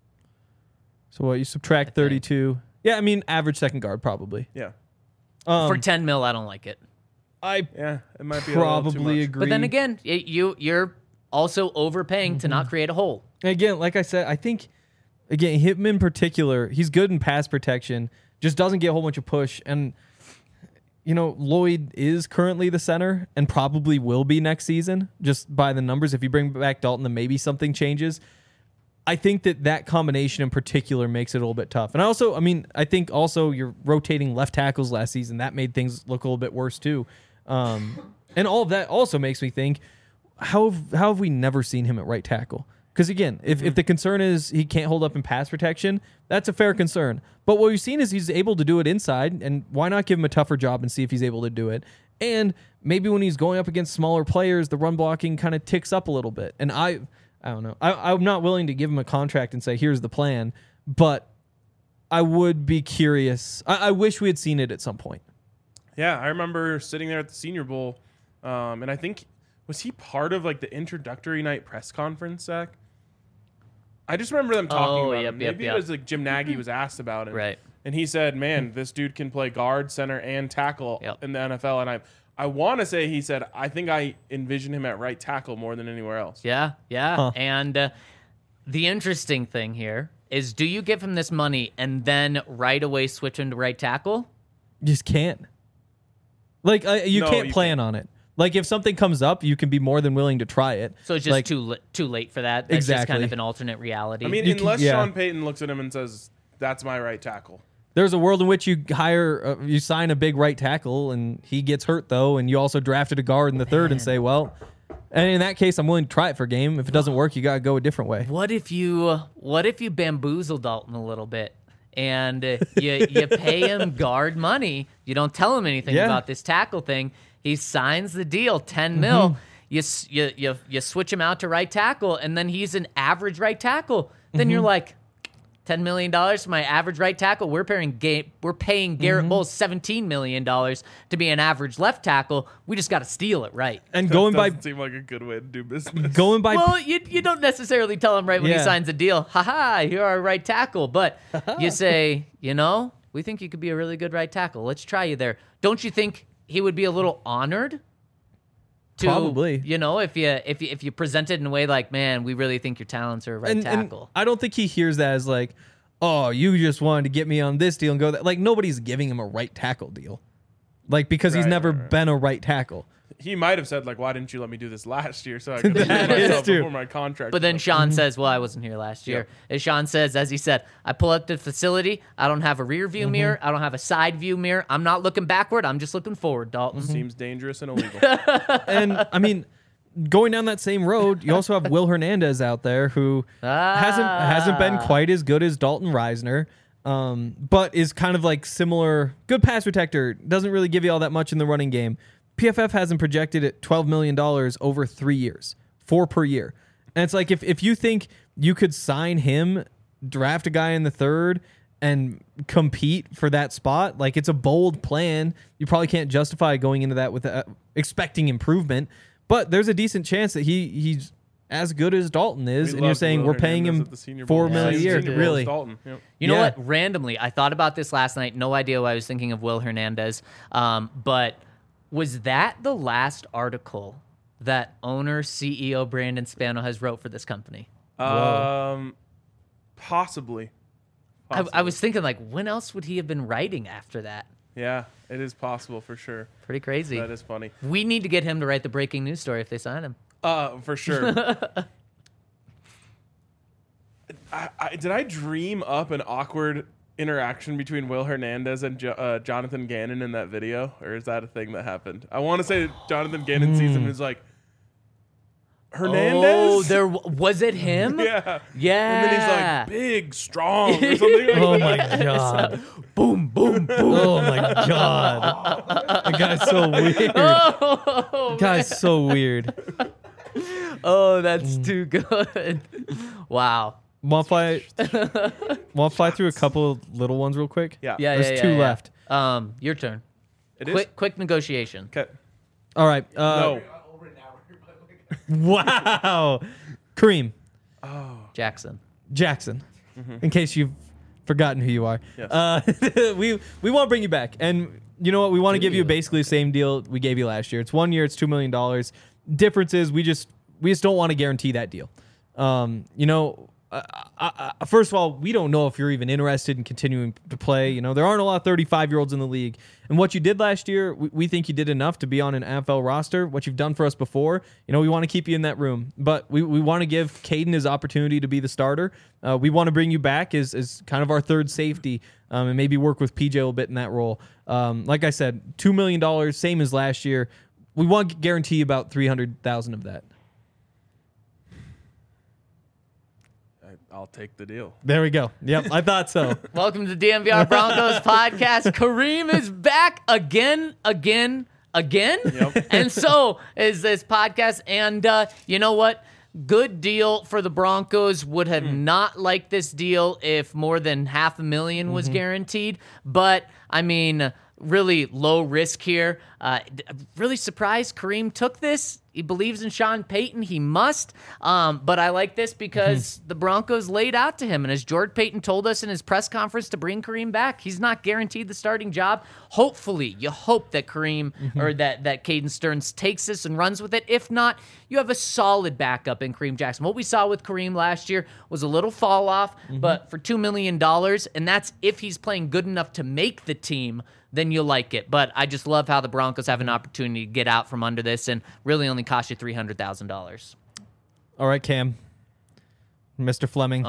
[SPEAKER 4] So what, you subtract thirty-two. Yeah, I mean, average second guard, probably.
[SPEAKER 2] Yeah.
[SPEAKER 4] Um,
[SPEAKER 3] For ten mil, I don't like it.
[SPEAKER 4] I
[SPEAKER 2] Yeah, it might be a little too
[SPEAKER 4] probably
[SPEAKER 2] much.
[SPEAKER 4] agree.
[SPEAKER 3] But then again, it, you you're also overpaying to
[SPEAKER 4] Mm-hmm.
[SPEAKER 3] not create a hole.
[SPEAKER 4] Again, like I said, I think, again, him in particular, he's good in pass protection, just doesn't get a whole bunch of push. And, you know, Lloyd is currently the center and probably will be next season, just by the numbers. If you bring back Dalton, then maybe something changes. I think that that combination in particular makes it a little bit tough. And I also, I mean, I think also you're rotating left tackles last season. That made things look a little bit worse too. Um, and all of that also makes me think, how have, how have we never seen him at right tackle? Because again, if, if the concern is he can't hold up in pass protection, that's a fair concern. But what we've seen is he's able to do it inside, and why not give him a tougher job and see if he's able to do it? And maybe when he's going up against smaller players, the run blocking kind of ticks up a little bit. And I, I don't know. I, I'm not willing to give him a contract and say, here's the plan, but I would be curious. I, I wish we had seen it at some point.
[SPEAKER 2] Yeah, I remember sitting there at the Senior Bowl, um, and I think, was he part of like the introductory night press conference, Zach? I just remember them talking
[SPEAKER 3] Oh,
[SPEAKER 2] about
[SPEAKER 3] yep,
[SPEAKER 2] him.
[SPEAKER 3] yep,
[SPEAKER 2] Maybe
[SPEAKER 3] yep.
[SPEAKER 2] it was like Jim Nagy was asked about it.
[SPEAKER 3] Right.
[SPEAKER 2] And he said, man, this dude can play guard, center, and tackle
[SPEAKER 3] Yep.
[SPEAKER 2] in the N F L. And I I want to say he said, I think I envision him at right tackle more than anywhere else.
[SPEAKER 3] Yeah, yeah.
[SPEAKER 4] Huh.
[SPEAKER 3] And uh, the interesting thing here is, do you give him this money and then right away switch him to right tackle?
[SPEAKER 4] You just can't. Like, uh, you
[SPEAKER 2] No,
[SPEAKER 4] can't
[SPEAKER 2] you
[SPEAKER 4] plan on it. Like, if something comes up, you can be more than willing to try it.
[SPEAKER 3] So it's just
[SPEAKER 4] like,
[SPEAKER 3] too li- too late for that. That's just kind
[SPEAKER 4] Exactly.
[SPEAKER 3] of an alternate reality.
[SPEAKER 2] I mean,
[SPEAKER 4] You can-
[SPEAKER 2] unless
[SPEAKER 4] yeah.
[SPEAKER 2] Sean Payton looks at him and says, that's my right tackle.
[SPEAKER 4] There's a world in which you hire, uh, you sign a big right tackle, and he gets hurt though, and you also drafted a guard in the third, and say, well, and in that case, I'm willing to try it for a game. If it doesn't work, you gotta go a different way.
[SPEAKER 3] what if you what if you bamboozle Dalton a little bit and uh, you you pay him guard money? You don't tell him anything
[SPEAKER 4] Yeah.
[SPEAKER 3] about this tackle thing. He signs the deal, ten mil. You, s- you you you switch him out to right tackle, and then he's an average right tackle. Then you're like, ten million dollars for my average right tackle. We're paying Ga- we're paying Garrett Bowles seventeen million dollars to be an average left tackle. We just got to steal it right.
[SPEAKER 4] And going by
[SPEAKER 2] Doesn't seem like a good way to do business.
[SPEAKER 4] going by
[SPEAKER 3] Well, you you don't necessarily tell him right when he
[SPEAKER 4] Yeah.
[SPEAKER 3] signs a deal. Ha ha, you're our right tackle. But you say, you know, we think you could be a really good right tackle. Let's try you there. Don't you think he would be a little honored? To,
[SPEAKER 4] Probably.
[SPEAKER 3] You know, if you if you if you present it in a way like, man, we really think your talents are a right
[SPEAKER 4] and, and
[SPEAKER 3] tackle.
[SPEAKER 4] I don't think he hears that as like, oh, you just wanted to get me on this deal and go that. Like, nobody's giving him a right tackle deal, like because he's
[SPEAKER 2] Right,
[SPEAKER 4] never
[SPEAKER 2] right, right.
[SPEAKER 4] been a right tackle.
[SPEAKER 2] He might have said, like, why didn't you let me do this last year so I could have
[SPEAKER 4] That is
[SPEAKER 2] myself
[SPEAKER 4] true.
[SPEAKER 2] before my contract?
[SPEAKER 3] But then
[SPEAKER 2] was up?
[SPEAKER 3] Sean says, well, I wasn't here last year. As Sean says, as he said, I pull up to the facility. I don't have a rear view
[SPEAKER 4] Mm-hmm.
[SPEAKER 3] mirror. I don't have a side view mirror. I'm not looking backward. I'm just looking forward, Dalton.
[SPEAKER 2] Seems dangerous and illegal.
[SPEAKER 4] And I mean, going down that same road, you also have Will Hernandez out there who hasn't hasn't been
[SPEAKER 3] Ah.
[SPEAKER 4] quite as good as Dalton Reisner, um, but is kind of like similar. Good pass protector, doesn't really give you all that much in the running game. P F F hasn't projected at twelve million dollars over three years, four per year. And it's like if, if you think you could sign him, draft a guy in the third, and compete for that spot, like it's a bold plan. You probably can't justify going into that with uh, expecting improvement, but there's a decent chance that he he's as good as Dalton is,
[SPEAKER 2] We
[SPEAKER 4] and you're
[SPEAKER 2] loved
[SPEAKER 4] saying
[SPEAKER 2] Will
[SPEAKER 4] we're paying
[SPEAKER 2] Hernandez
[SPEAKER 4] him
[SPEAKER 2] at the Senior
[SPEAKER 4] four
[SPEAKER 2] Bowl.
[SPEAKER 4] million a
[SPEAKER 3] Yes,
[SPEAKER 4] year.
[SPEAKER 3] we did.
[SPEAKER 4] Really?
[SPEAKER 2] Dalton. Yep.
[SPEAKER 3] You know
[SPEAKER 4] Yeah.
[SPEAKER 3] what? Randomly, I thought about this last night. No idea why I was thinking of Will Hernandez. Um, but was that the last article that owner, C E O Brandon Spano has wrote for this company?
[SPEAKER 2] Um, possibly.
[SPEAKER 3] I,
[SPEAKER 2] Possibly.
[SPEAKER 3] I was thinking, like, when else would he have been writing after that?
[SPEAKER 2] Yeah, it is possible for sure.
[SPEAKER 3] Pretty crazy.
[SPEAKER 2] That is funny.
[SPEAKER 3] We need to get him to write the breaking news story if they sign him.
[SPEAKER 2] Uh, for sure. I, I, did I dream up an awkward interaction between Will Hernandez and jo- uh, Jonathan Gannon in that video, or is that a thing that happened? I want to say Jonathan Gannon sees him and is like, Hernandez?
[SPEAKER 3] Oh, there w- was it him?
[SPEAKER 2] Yeah.
[SPEAKER 3] Yeah.
[SPEAKER 2] And then he's like, big, strong, or something like
[SPEAKER 4] Oh
[SPEAKER 2] that.
[SPEAKER 4] my god!
[SPEAKER 3] boom, boom, boom.
[SPEAKER 4] Oh my god! That guy's so weird.
[SPEAKER 3] Oh,
[SPEAKER 4] Guy's so weird.
[SPEAKER 3] Oh, that's too good. Wow.
[SPEAKER 4] Want to fly? Want to fly through a couple of little ones real quick?
[SPEAKER 2] Yeah.
[SPEAKER 3] Yeah,
[SPEAKER 4] There's
[SPEAKER 3] yeah, yeah,
[SPEAKER 4] two
[SPEAKER 3] yeah.
[SPEAKER 4] left.
[SPEAKER 3] Um, your turn.
[SPEAKER 2] It is?
[SPEAKER 3] quick, quick negotiation.
[SPEAKER 2] Okay.
[SPEAKER 4] All right. Uh,
[SPEAKER 2] No.
[SPEAKER 6] Over an hour, by the way.
[SPEAKER 4] Wow. Kareem
[SPEAKER 3] Jackson.
[SPEAKER 4] Jackson. In case you've forgotten who you are.
[SPEAKER 2] Yes.
[SPEAKER 4] Uh, we we want to bring you back, and you know what? We want to give you basically the same deal we gave you last year. It's one year. It's two million dollars. Difference is we just we just don't want to guarantee that deal. Um, you know. Uh, I, I, first of all, we don't know if you're even interested in continuing to play. You know, there aren't a lot of thirty-five-year-olds in the league. And what you did last year, we, we think you did enough to be on an N F L roster. What you've done for us before, you know, we want to keep you in that room. But we, we want to give Caden his opportunity to be the starter. Uh, we want to bring you back as, as kind of our third safety um, and maybe work with P J a little bit in that role. Um, like I said, two million dollars, same as last year. We want to guarantee about three hundred thousand dollars of that.
[SPEAKER 2] I'll take the deal.
[SPEAKER 4] There we go. Yep, I thought so.
[SPEAKER 3] Welcome to D M V R Broncos podcast. Kareem is back again, again, again.
[SPEAKER 2] Yep.
[SPEAKER 3] And so is this podcast. And uh, you know what? Good deal for the Broncos. Would have not liked this deal if more than half a million was guaranteed. But, I mean, really low risk here. Uh, d- really surprised Kareem took this. He believes in Sean Payton. He must. Um, but I like this because the Broncos laid out to him. And as George Payton told us in his press conference to bring Kareem back, he's not guaranteed the starting job. Hopefully, you hope that Kareem or that, that Caden Stearns takes this and runs with it. If not, you have a solid backup in Kareem Jackson. What we saw with Kareem last year was a little fall off, but for two million dollars, and that's if he's playing good enough to make the team, then you'll like it. But I just love how the Broncos have an opportunity to get out from under this and really only cost you three hundred thousand dollars.
[SPEAKER 4] All right, Cam. Mister Fleming.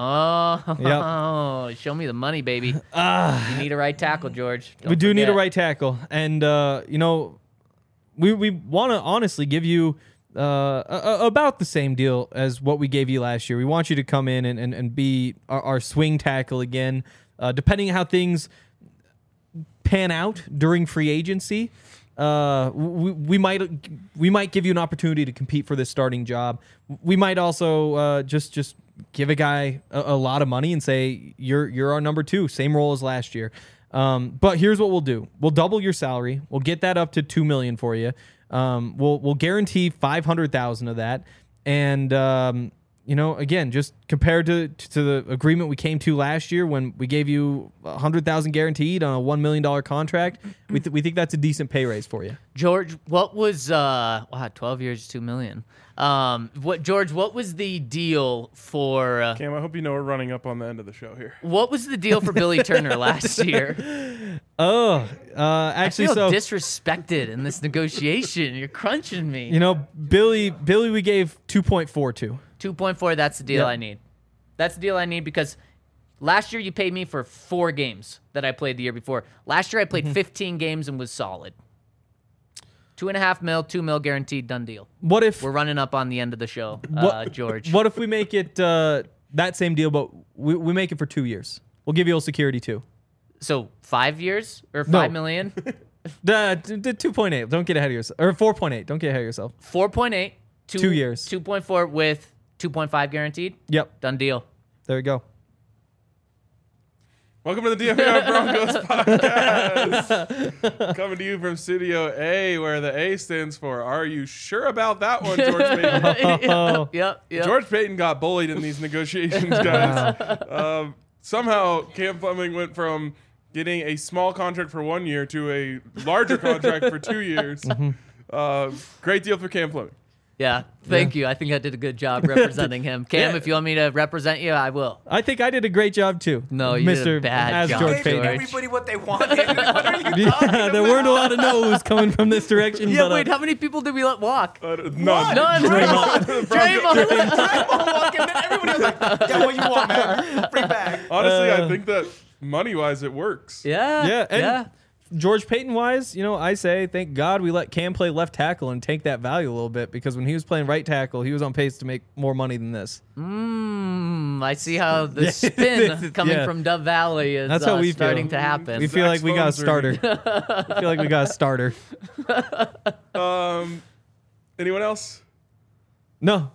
[SPEAKER 3] Oh,
[SPEAKER 4] Yep.
[SPEAKER 3] show me the money, baby. You need a right tackle, George. Don't
[SPEAKER 4] we do need a
[SPEAKER 3] forget.
[SPEAKER 4] right tackle. And, uh, you know, we, we want to honestly give you uh, a, a- about the same deal as what we gave you last year. We want you to come in and, and, and be our, our swing tackle again. Uh, depending on how things pan out during free agency, uh, we, we might we might give you an opportunity to compete for this starting job. We might also uh, just just give a guy a, a lot of money and say you're you're our number two, same role as last year. Um, but here's what we'll do: we'll double your salary. We'll get that up to two million for you. Um, we'll we'll guarantee five hundred thousand of that, and um, you know, again, just compared to to the agreement we came to last year when we gave you a hundred thousand guaranteed on a one million dollar contract, we th- we think that's a decent pay raise for you.
[SPEAKER 3] George, what was uh wow, twelve years, two million. Um, what George? What was the deal for? Uh,
[SPEAKER 2] Cam, I hope you know we're running up on the end of the show here.
[SPEAKER 3] what was the deal for Billy Turner last year?
[SPEAKER 4] Oh, uh,
[SPEAKER 3] I
[SPEAKER 4] actually,
[SPEAKER 3] feel
[SPEAKER 4] so
[SPEAKER 3] disrespected in this negotiation. You're crunching me.
[SPEAKER 4] you know, Billy Billy, we gave two point four two.
[SPEAKER 3] Two point four. That's the deal
[SPEAKER 4] Yep.
[SPEAKER 3] I need. That's the deal I need because last year you paid me for four games that I played the year before. Last year I played fifteen games and was solid. Two and a half mil, two mil guaranteed, done deal.
[SPEAKER 4] What if
[SPEAKER 3] We're running up on the end of the show, uh,
[SPEAKER 4] what,
[SPEAKER 3] George.
[SPEAKER 4] What if we make it uh, that same deal, but we, we make it for two years? We'll give you a security too.
[SPEAKER 3] So five years or
[SPEAKER 4] No.
[SPEAKER 3] five million?
[SPEAKER 4] The, the two point eight. Don't get ahead of yourself. Or four point eight. Don't get ahead of yourself.
[SPEAKER 3] Four point eight. Two,
[SPEAKER 4] Two years.
[SPEAKER 3] Two point four with two point five guaranteed.
[SPEAKER 4] Yep.
[SPEAKER 3] Done deal.
[SPEAKER 4] There you go.
[SPEAKER 2] Welcome to the D M V R Broncos podcast. Coming to you from Studio A, where the A stands for Are You Sure About That One, George Payton?
[SPEAKER 4] Oh.
[SPEAKER 3] Yep. Yep.
[SPEAKER 2] George Payton got bullied in these negotiations, guys. um, somehow, Cam Fleming went from getting a small contract for one year to a larger contract for two years. Uh, great deal for Cam Fleming.
[SPEAKER 3] Yeah. Thank you. I think I did a good job representing him. Cam,
[SPEAKER 4] Yeah.
[SPEAKER 3] if you want me to represent you, I will.
[SPEAKER 4] I think I did a great job too.
[SPEAKER 3] No, you did a
[SPEAKER 4] Mister
[SPEAKER 3] bad
[SPEAKER 4] as
[SPEAKER 3] job,
[SPEAKER 4] George
[SPEAKER 5] Gave
[SPEAKER 4] Payton.
[SPEAKER 3] George.
[SPEAKER 5] everybody what they wanted. What are you talking
[SPEAKER 4] Yeah, there weren't a lot of no's coming from this direction.
[SPEAKER 3] Yeah.
[SPEAKER 4] but, uh,
[SPEAKER 3] Wait. How many people did we let walk?
[SPEAKER 2] Uh, none.
[SPEAKER 3] None. Draymond.
[SPEAKER 5] Draymond walking in, everybody was like, yeah, what you want, man? Free bag.
[SPEAKER 2] Honestly,
[SPEAKER 4] Uh,
[SPEAKER 2] I think that money-wise, it works.
[SPEAKER 3] Yeah.
[SPEAKER 4] Yeah, and
[SPEAKER 3] yeah.
[SPEAKER 4] George Payton wise, you know, I say thank God we let Cam play left tackle and take that value a little bit, because when he was playing right tackle, he was on pace to make more money than this.
[SPEAKER 3] Mm, I see how the
[SPEAKER 4] Yeah.
[SPEAKER 3] spin coming
[SPEAKER 4] Yeah.
[SPEAKER 3] from Dove Valley is
[SPEAKER 4] That's how
[SPEAKER 3] uh,
[SPEAKER 4] we
[SPEAKER 3] starting
[SPEAKER 4] feel.
[SPEAKER 3] to happen.
[SPEAKER 4] We feel like we got a
[SPEAKER 2] Zach's phone's
[SPEAKER 4] starter. I feel like we got a starter.
[SPEAKER 2] Um, anyone else?
[SPEAKER 4] No,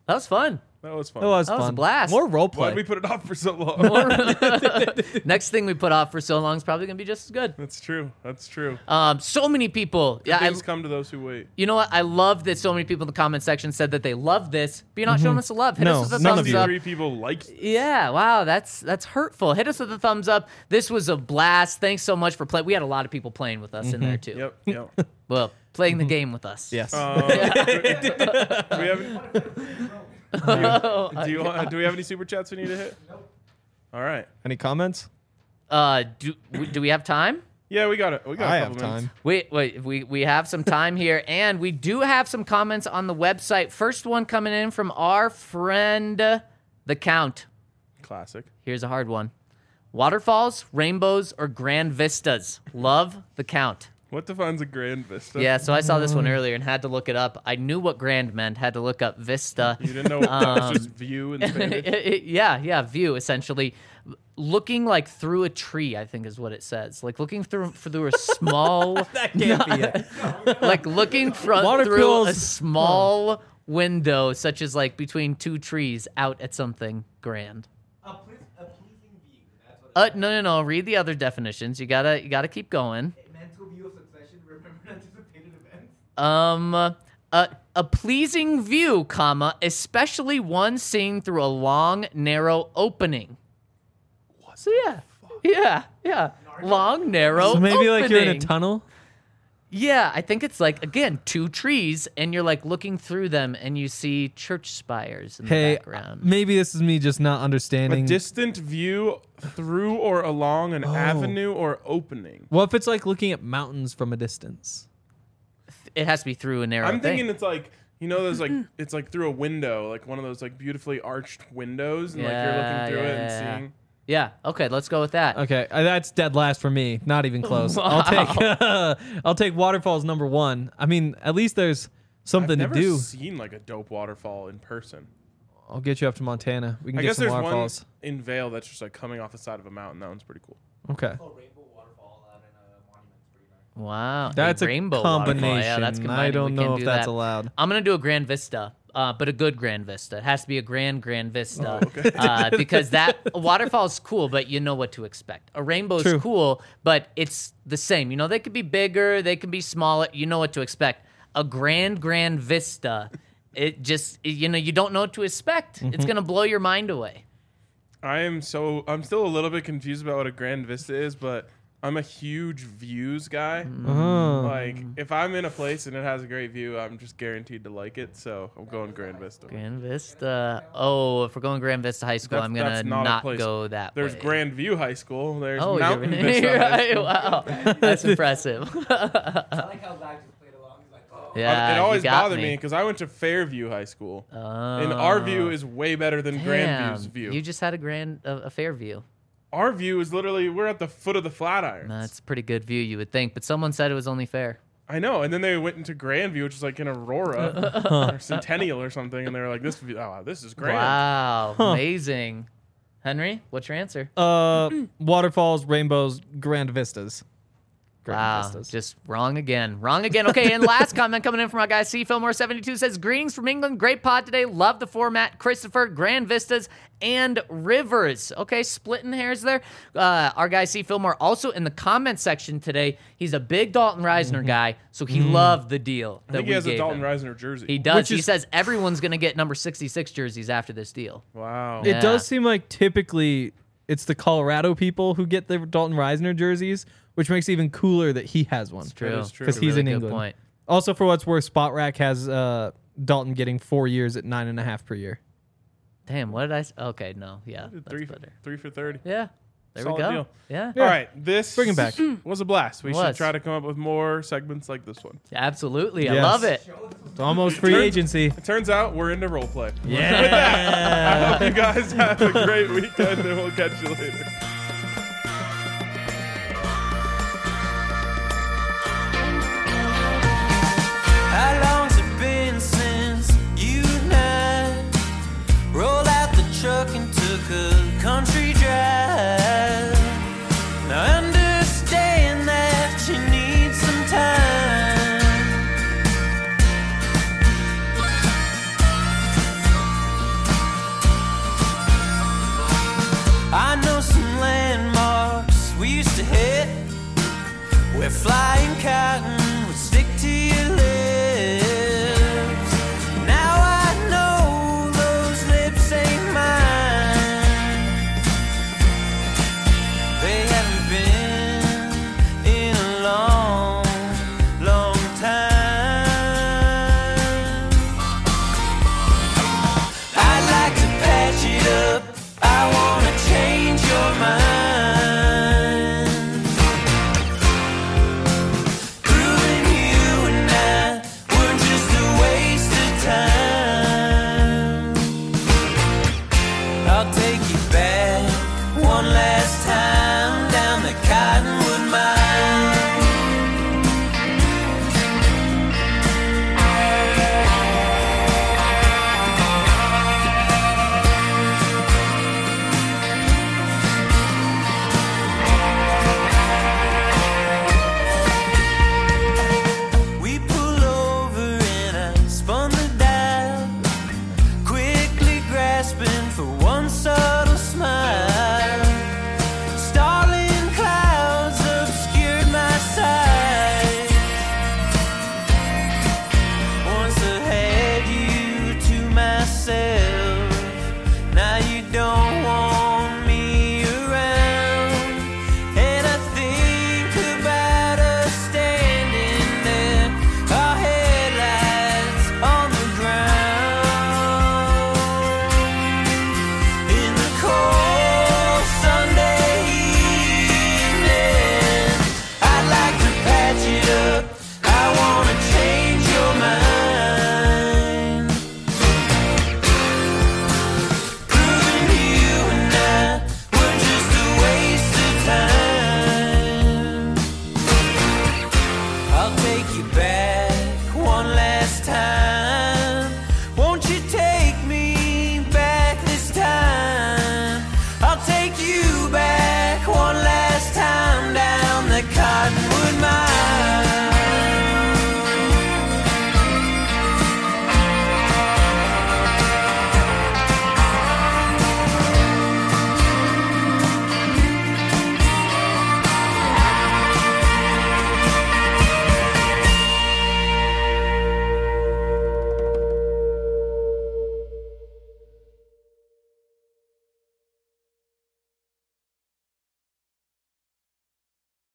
[SPEAKER 3] That was fun.
[SPEAKER 2] That was fun.
[SPEAKER 4] That was
[SPEAKER 3] That was a
[SPEAKER 4] fun.
[SPEAKER 3] blast.
[SPEAKER 4] More role
[SPEAKER 2] Why'd
[SPEAKER 4] play.
[SPEAKER 2] we put it off for so long?
[SPEAKER 3] Next thing we put off for so long is probably gonna be just as good.
[SPEAKER 2] That's true. That's true.
[SPEAKER 3] Um, so many people. Yeah, I,
[SPEAKER 2] Things come to those who wait.
[SPEAKER 3] you know what? I love that so many people in the comment section said that they love this, but you're not showing us the love. Hit
[SPEAKER 4] No,
[SPEAKER 3] us with a
[SPEAKER 4] none of
[SPEAKER 3] thumbs
[SPEAKER 4] you.
[SPEAKER 3] up.
[SPEAKER 2] Three people liked.
[SPEAKER 3] Yeah, wow, that's that's hurtful. Hit us with a thumbs up. This was a blast. Thanks so much for playing. We had a lot of people playing with us in there too.
[SPEAKER 2] Yep. Yep.
[SPEAKER 3] Well, playing the game with us.
[SPEAKER 4] Yes.
[SPEAKER 2] Um, do we have? Do you, do, you want, do we have any super chats we need to hit? Nope. All right.
[SPEAKER 4] Any comments?
[SPEAKER 3] Uh, do we- do we have time?
[SPEAKER 2] Yeah, we got it. We got.
[SPEAKER 4] I
[SPEAKER 2] a
[SPEAKER 4] have
[SPEAKER 2] couple minutes.
[SPEAKER 4] time.
[SPEAKER 3] Wait, wait, we, we have some time here, and we do have some comments on the website. First one coming in from our friend, uh, The Count.
[SPEAKER 2] Classic.
[SPEAKER 3] Here's a hard one. Waterfalls, rainbows, or grand vistas? Love, The Count.
[SPEAKER 2] What defines a grand vista?
[SPEAKER 3] Yeah, so I saw this one earlier and had to look it up. I knew what grand meant, had to look up vista.
[SPEAKER 2] You didn't know that
[SPEAKER 3] Um,
[SPEAKER 2] was just view in Spanish.
[SPEAKER 3] yeah, yeah, view, essentially. Looking like through a tree, I think is what it says. Like looking through through a small...
[SPEAKER 4] That can't be it.
[SPEAKER 3] like looking front
[SPEAKER 4] Water
[SPEAKER 3] through a
[SPEAKER 4] pills.
[SPEAKER 3] small window, such as like between two trees, out at something grand.
[SPEAKER 6] A, ple- a pleasing view. That's what
[SPEAKER 3] Uh, no, no, no. Read the other definitions. You gotta, you gotta keep going.
[SPEAKER 6] a mental view of succession. Remember anticipated events.
[SPEAKER 3] Um, a a pleasing view, comma, especially one seen through a long, narrow opening. So yeah, yeah, yeah. Long, narrow.
[SPEAKER 4] So maybe like you're in a
[SPEAKER 3] opening.
[SPEAKER 4] tunnel.
[SPEAKER 3] Yeah, I think it's like, again, two trees, and you're like looking through them, and you see church spires in the
[SPEAKER 4] Hey,
[SPEAKER 3] background.
[SPEAKER 4] maybe this is me just not
[SPEAKER 2] A
[SPEAKER 4] understanding.
[SPEAKER 2] distant view through or along an
[SPEAKER 4] Oh.
[SPEAKER 2] avenue or opening.
[SPEAKER 4] What if it's like looking at mountains from a distance?
[SPEAKER 3] It has to be through a narrow
[SPEAKER 2] I'm
[SPEAKER 3] thing.
[SPEAKER 2] thinking it's like you know, there's like it's like through a window, like one of those like beautifully arched windows, and like you're
[SPEAKER 3] Yeah,
[SPEAKER 2] looking through it
[SPEAKER 3] yeah,
[SPEAKER 2] and
[SPEAKER 3] yeah.
[SPEAKER 2] seeing.
[SPEAKER 3] Yeah, okay, let's go with that.
[SPEAKER 4] Okay, uh, that's dead last for me. Not even close. I'll take I'll take waterfalls number one. I mean, at least there's something
[SPEAKER 2] I've never
[SPEAKER 4] to do.
[SPEAKER 2] seen like a dope waterfall in person.
[SPEAKER 4] I'll get you up to Montana. We can
[SPEAKER 2] I
[SPEAKER 4] get
[SPEAKER 2] guess
[SPEAKER 4] some
[SPEAKER 2] there's
[SPEAKER 4] waterfalls.
[SPEAKER 2] one in Vail that's just like coming off the side of a mountain. That one's pretty cool.
[SPEAKER 4] Okay.
[SPEAKER 6] Oh, rainbow waterfall out in a monument's pretty nice.
[SPEAKER 3] Wow.
[SPEAKER 4] That's a
[SPEAKER 3] rainbow
[SPEAKER 4] combination.
[SPEAKER 3] waterfall. Yeah, that's
[SPEAKER 4] I
[SPEAKER 3] combining.
[SPEAKER 4] don't
[SPEAKER 3] We
[SPEAKER 4] know
[SPEAKER 3] can
[SPEAKER 4] if
[SPEAKER 3] do
[SPEAKER 4] that's
[SPEAKER 3] that.
[SPEAKER 4] allowed.
[SPEAKER 3] I'm gonna do a Grand Vista, uh, but a good Grand Vista. It has to be a grand Grand Vista,
[SPEAKER 2] Oh, okay.
[SPEAKER 3] uh, because that a waterfall is cool, but you know what to expect. A rainbow is
[SPEAKER 4] True.
[SPEAKER 3] cool, but it's the same. You know, they could be bigger, they can be smaller. You know what to expect. A grand Grand Vista, it just you know you don't know what to expect.
[SPEAKER 4] Mm-hmm.
[SPEAKER 3] It's gonna blow your mind away.
[SPEAKER 2] I am so I'm still a little bit confused about what a grand vista is, but I'm a huge views guy.
[SPEAKER 4] Oh.
[SPEAKER 2] Like if I'm in a place and it has a great view, I'm just guaranteed to like it. So I'm going Grand Vista.
[SPEAKER 3] Grand Vista. Oh, if we're going Grand Vista High School,
[SPEAKER 2] That's-
[SPEAKER 3] I'm gonna
[SPEAKER 2] that's not
[SPEAKER 3] not,
[SPEAKER 2] a place.
[SPEAKER 3] go that
[SPEAKER 2] There's
[SPEAKER 3] way.
[SPEAKER 2] Grandview High School. There's
[SPEAKER 3] Oh,
[SPEAKER 2] Mountain
[SPEAKER 3] you're,
[SPEAKER 2] Vista
[SPEAKER 3] you're
[SPEAKER 2] High
[SPEAKER 3] right.
[SPEAKER 2] School.
[SPEAKER 3] Wow, that's impressive.
[SPEAKER 6] I like how Zach just played along. He's like, oh.
[SPEAKER 3] Yeah,
[SPEAKER 2] it
[SPEAKER 3] you
[SPEAKER 2] always
[SPEAKER 3] got
[SPEAKER 2] bothered
[SPEAKER 3] me
[SPEAKER 2] me because I went to Fairview High School,
[SPEAKER 3] Oh,
[SPEAKER 2] and our view is way better than Grandview's
[SPEAKER 3] damn.
[SPEAKER 2] view.
[SPEAKER 3] You just had a grand, a, a fair view.
[SPEAKER 2] Our view is literally we're at the foot of the Flatirons.
[SPEAKER 3] That's a pretty good view, you would think. But someone said it was only fair.
[SPEAKER 2] I know, and then they went into Grandview, which is like in Aurora or Centennial or something, and they were like, "This, view, oh, this is grand."
[SPEAKER 3] Wow, amazing. Henry, what's your answer?
[SPEAKER 4] Uh, waterfalls, rainbows, grand vistas. Grand
[SPEAKER 3] Wow,
[SPEAKER 4] vistas.
[SPEAKER 3] just wrong again. Wrong again. Okay, and last comment coming in from our guy C Fillmore seventy-two says, "Greetings from England. Great pod today. Love the format. Christopher, Grand Vistas, and Rivers." Okay, splitting hairs there. Uh, our guy C Fillmore also in the comment section today. He's a big Dalton Reisner guy, so he loved the deal
[SPEAKER 2] I
[SPEAKER 3] that
[SPEAKER 2] think
[SPEAKER 3] we
[SPEAKER 2] he has a
[SPEAKER 3] gave
[SPEAKER 2] Dalton
[SPEAKER 3] him.
[SPEAKER 2] Reisner jersey.
[SPEAKER 3] He does.
[SPEAKER 4] Which
[SPEAKER 3] He
[SPEAKER 4] is-
[SPEAKER 3] says everyone's going to get number sixty-six jerseys after this deal.
[SPEAKER 2] wow.
[SPEAKER 3] Yeah.
[SPEAKER 4] It does seem like typically it's the Colorado people who get the Dalton Reisner jerseys, which makes it even cooler that he has one.
[SPEAKER 3] True.
[SPEAKER 2] is true.
[SPEAKER 4] Because he's
[SPEAKER 3] Really
[SPEAKER 4] in
[SPEAKER 3] good
[SPEAKER 4] England.
[SPEAKER 3] point.
[SPEAKER 4] Also, for what's worth, Spot Rack has uh, Dalton getting four years at nine and a half per year.
[SPEAKER 3] Damn, what did I? s- Okay, no, yeah, that's
[SPEAKER 2] three, for,
[SPEAKER 3] better.
[SPEAKER 2] three for thirty.
[SPEAKER 3] Yeah, there
[SPEAKER 2] Solid
[SPEAKER 3] we go.
[SPEAKER 2] deal.
[SPEAKER 3] Yeah,
[SPEAKER 2] All right, this
[SPEAKER 4] Bring him back.
[SPEAKER 2] was a blast. We should
[SPEAKER 3] Was.
[SPEAKER 2] try to come up with more segments like this one.
[SPEAKER 3] absolutely. I
[SPEAKER 4] Yes.
[SPEAKER 3] love it.
[SPEAKER 4] It's almost free
[SPEAKER 2] Turns-
[SPEAKER 4] agency.
[SPEAKER 2] It turns out we're into role play.
[SPEAKER 4] Yeah.
[SPEAKER 2] I hope you guys have a great weekend, and we'll catch you later.